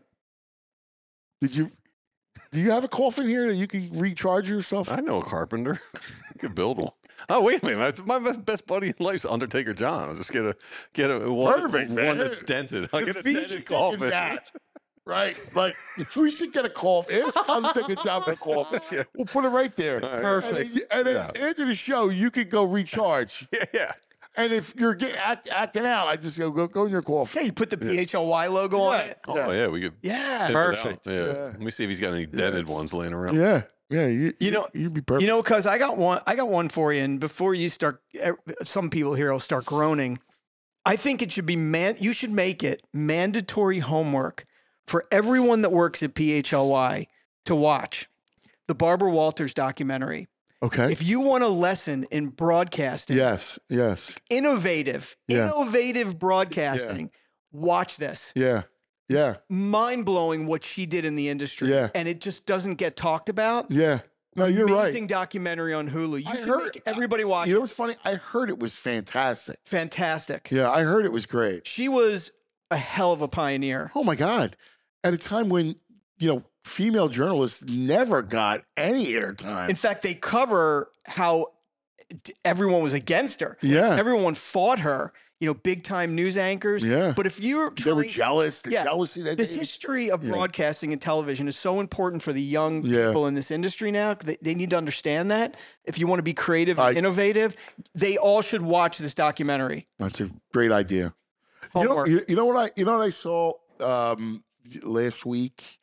Did you? Do you have a coffin here that you can recharge yourself? I know a carpenter. You could build one. Oh wait a minute! That's my best, best buddy in life is Undertaker John. I'll just get a get a one, Perfect, one man. that's dented. I'll get a If he dented should coffin. get that, right? Like, if we should get a coffin. It's time to take a job at coffin. Yeah. We'll put it right there. Perfect. And then, and then Yeah. after the show, you could go recharge. Yeah, yeah. And if you're get, act, acting out, I just go go, go in your coffin. Yeah, you put the P H L Y logo on it. Oh yeah, we could. Yeah. tip it Perfect. out. Yeah. Yeah. Let me see if he's got any dented ones laying around. Yeah, yeah. You, You know- you'd be perfect. You know, cuz I got one I got one for you, and before you start eh, some people here will start groaning. I think it should be man you should make it mandatory homework for everyone that works at P H L Y to watch the Barbara Walters documentary. okay. If you want a lesson in broadcasting, yes, yes, innovative, Yeah. innovative broadcasting, watch this. yeah, yeah, Mind blowing what she did in the industry. Yeah. And it just doesn't get talked about. yeah. No, you're Amazing right. documentary on Hulu. You I should heard- make everybody watch You know it. what's funny? I heard it was fantastic. Fantastic. Yeah, I heard it was great. She was a hell of a pioneer. Oh my God! At a time when you know female journalists never got any airtime. In fact, they cover how t- everyone was against her. Yeah. Everyone fought her, you know, big time news anchors. Yeah. But if you're They were trying- jealous. The Yeah. jealousy that the they- history of Yeah. broadcasting and television is so important for the young Yeah. people in this industry now. They, they need to understand that. If you want to be creative and I- innovative, they all should watch this documentary. That's a great idea. You know, Homework. you, you know what I you know what I saw um, last week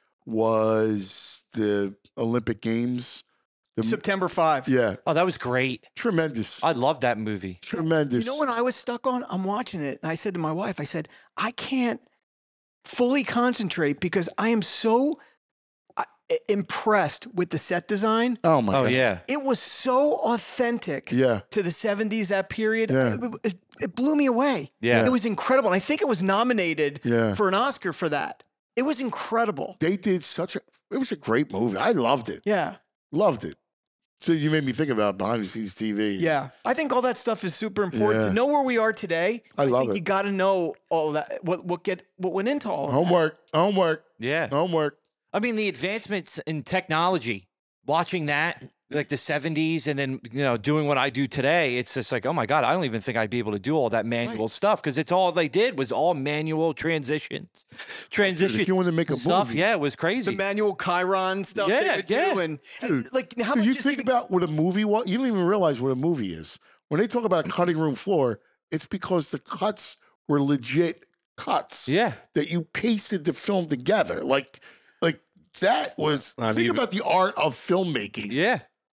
was the Olympic Games. The, September fifth. yeah, Oh, that was great. tremendous, I love that movie. tremendous. You know what I was stuck on? I'm watching it, and I said to my wife, I said, I can't fully concentrate because I am so uh, impressed with the set design. Oh my Oh God! yeah. It was so authentic Yeah, to the seventies, that period. Yeah. It, it- it blew me away. Yeah. It was incredible. And I think it was nominated yeah. for an Oscar for that. It was incredible. They did such a. It was a great movie. I loved it. Yeah. Loved it. So you made me think about behind the scenes T V. Yeah. I think all that stuff is super important. Yeah. To know where we are today, I love think it. you got to know all that, what, what, get, what went into all of that. Homework. Homework. Yeah. Homework. I mean, the advancements in technology, watching that, like the seventies, and then, you know, doing what I do today, it's just like, oh my God, I don't even think I'd be able to do all that manual stuff because it's all they did was all manual transitions. Transition. If you want to make a stuff, movie, yeah, it was crazy. The manual Chiron stuff Yeah, they would yeah. do. And, Dude, and, like, how Dude, much you is think even- about what a movie was. You don't even realize what a movie is. When they talk about a cutting room floor, it's because the cuts were legit cuts. Yeah. That you pasted the film together. Like, like that was. Not think even- about the art of filmmaking. yeah.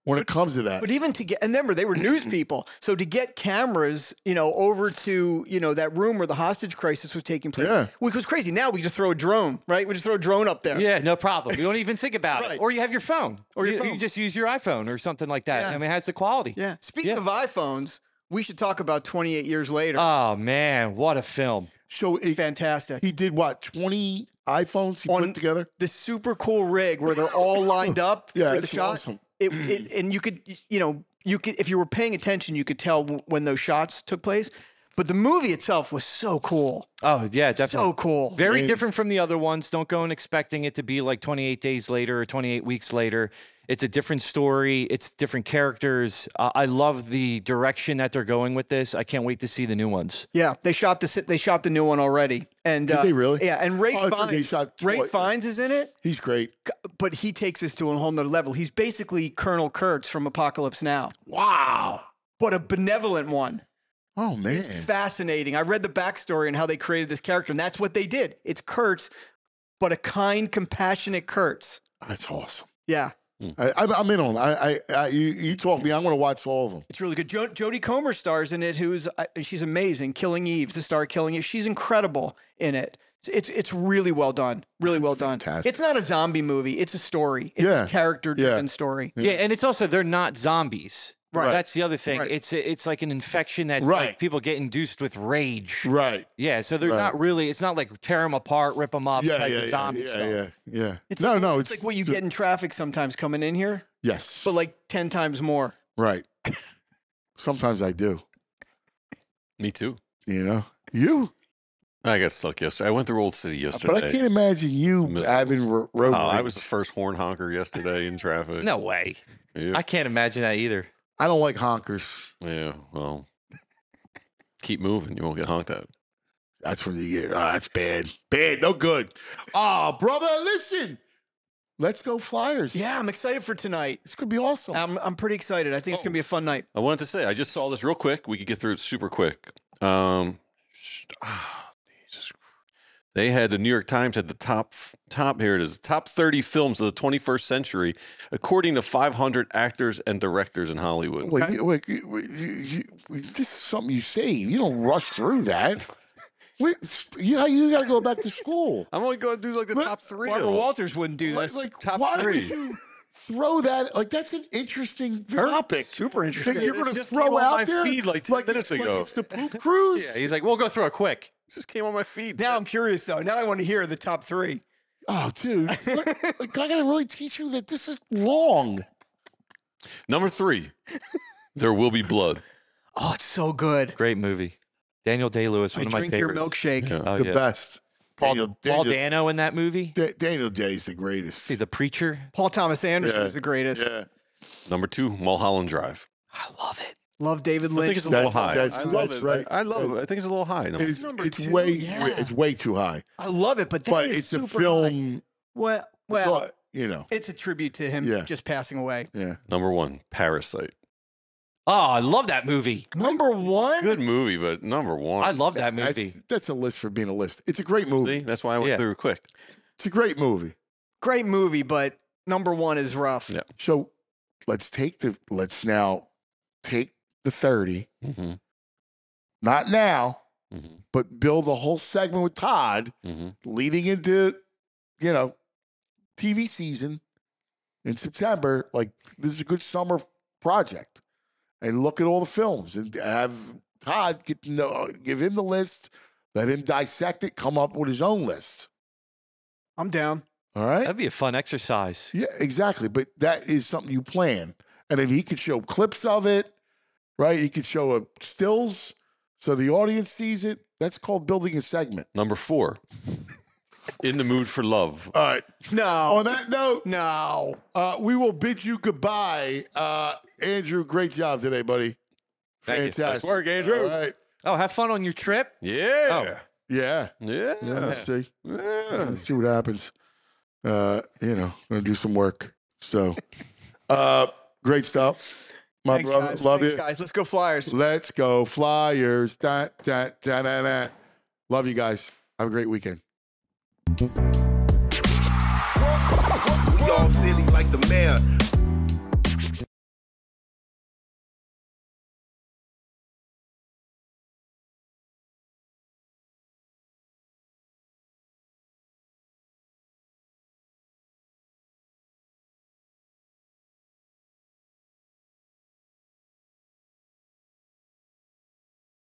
when it comes to that. But even to get, and remember, they were news people. So to get cameras, you know, over to, you know, that room where the hostage crisis was taking place, Yeah. which was crazy. Now we just throw a drone, right? We just throw a drone up there. Yeah, no problem. You don't even think about Right. it. Or you have your phone. Or your you, phone. you just use your iPhone or something like that. Yeah. I mean, it has the quality. Yeah. Speaking Yeah. of iPhones, we should talk about twenty-eight years later. Oh, man. What a film. So it, Fantastic. he did what, twenty iPhones he On put together? The super cool rig where they're all lined up Yeah, for the it's shot. awesome. It, it, and you could, you know, you could, if you were paying attention, you could tell w- when those shots took place. But the movie itself was so cool. Oh, yeah, definitely. So cool. Very And- different from the other ones. Don't go in expecting it to be like twenty-eight days later or twenty-eight weeks later. It's a different story. It's different characters. Uh, I love the direction that they're going with this. I can't wait to see the new ones. Yeah, they shot the si- they shot the new one already. And Did uh, they really? Yeah, and Ray Oh, I thought they Fiennes. shot Ray twice. Fiennes is in it, He's great. but he takes this to a whole nother level. He's basically Colonel Kurtz from Apocalypse Now, Wow. but a benevolent one. Oh, man. It's fascinating. I read the backstory and how they created this character, and that's what they did. It's Kurtz, but a kind, compassionate Kurtz. That's awesome. Yeah, I, I'm, I'm in on it. I, I, I, you, you talk me. I'm going to watch all of them. it's really good. Jo- Jodie Comer stars in it, who's uh, she's amazing. Killing Eve, the star of Killing Eve. She's incredible in it. It's it's, it's really well done. Really well done. Fantastic. It's not a zombie movie. It's a story. It's Yeah. a character-driven Yeah. story. Yeah, and it's also they're not zombies. Right. That's the other thing. Right. It's it's like an infection that Right. like, people get induced with rage. Right. Yeah, so they're Right. not really. It's not like tear them apart, rip them up Yeah, type yeah, of yeah, zombie yeah, stuff. yeah, yeah. It's no, like, no. It's, like what you get in traffic sometimes coming in here, Yes. but like ten times more. Right. Sometimes I do. Me too. You know? You? I got stuck yesterday. I went through Old City yesterday. But I can't imagine you Mi- having ro- road Oh, I rage. was the first horn honker yesterday in traffic. No way. Yeah. I can't imagine that either. I don't like honkers. Yeah, well, keep moving. You won't get honked at. That's when you get, oh, that's bad. Bad, no good. Oh, brother, listen. Let's go Flyers. Yeah, I'm excited for tonight. It's going to be awesome. I'm I'm pretty excited. I think it's gonna be a fun night. I wanted to say, I just saw this real quick. We could get through it super quick. Um, sh- ah, Jesus. They had the New York Times had the top top here it is top thirty films of the twenty-first century according to five hundred actors and directors in Hollywood. Wait, you- wait, you- wait, you- you- this is something you save. You don't rush through that. Wait, you, you got to go back to school. I'm only going to do like the But top three. Barbara of them. Walters wouldn't do Like, this. like Top why three. would you throw that? Like, that's an interesting topic. Super That interesting. you're It going to just throw came on out my there feed like ten minutes it's, ago. Like it's the poop cruise. Yeah, he's like, we'll go through it quick. It just came on my feed. Now I'm curious though. Now I want to hear the top three. Oh, dude. Like, like, I got to really teach you that this is wrong. Number three, There Will Be Blood. Oh, it's so good. Great movie. Daniel Day-Lewis, I one of my drink your favorites. milkshake. Yeah. Oh, the yeah. best. Paul, Daniel, Paul Daniel, Dano in that movie. Da- Daniel Day's the greatest. See The Preacher. Paul Thomas Anderson Yeah. is the greatest. Yeah. Number two, Mulholland Drive. I love it. Love David I Lynch. think it's a little That's- high. that's- I love that's it. right. I love it. I think it's a little high. Number It's, number it's two, way yeah. it's way too high. I love it, but that But is it's a super film. high. Well, well, but, you know. it's a tribute to him Yeah. just passing away. Yeah. Number one, Parasite. Oh, I love that movie. Number one. Good movie, but number one. I love that That's, movie. that's a list for being a list. It's a great movie. See, that's why I went Yeah. through it quick. It's a great movie. Great movie, but number one is rough. Yeah. So let's take the let's now take the thirty. Mm-hmm. Not now, Mm-hmm. but build a whole segment with Todd Mm-hmm. leading into, you know, T V season in September. Like, this is a good summer project. And look at all the films and have Todd get to know, give him the list, let him dissect it, come up with his own list. I'm down. All right? That'd be a fun exercise. Yeah, exactly. But that is something you plan. And then he could show clips of it, right? He could show a stills so the audience sees it. That's called building a segment. Number four, In the Mood for Love. All right. No. On that note, No. uh, we will bid you goodbye. Uh, Andrew, great job today, buddy. Thank you. Fantastic. Nice work, Andrew. All right. Oh, have fun on your trip. Yeah. Yeah. Yeah. Yeah. Let's see. Yeah. Let's see what happens. Uh, you know, gonna do some work. So, uh, great stuff. My Thanks, brother, guys. love Thanks, you. guys. Let's go Flyers. Let's go Flyers. Da, da, da, da, da. Love you guys. Have a great weekend. We all silly like the mayor.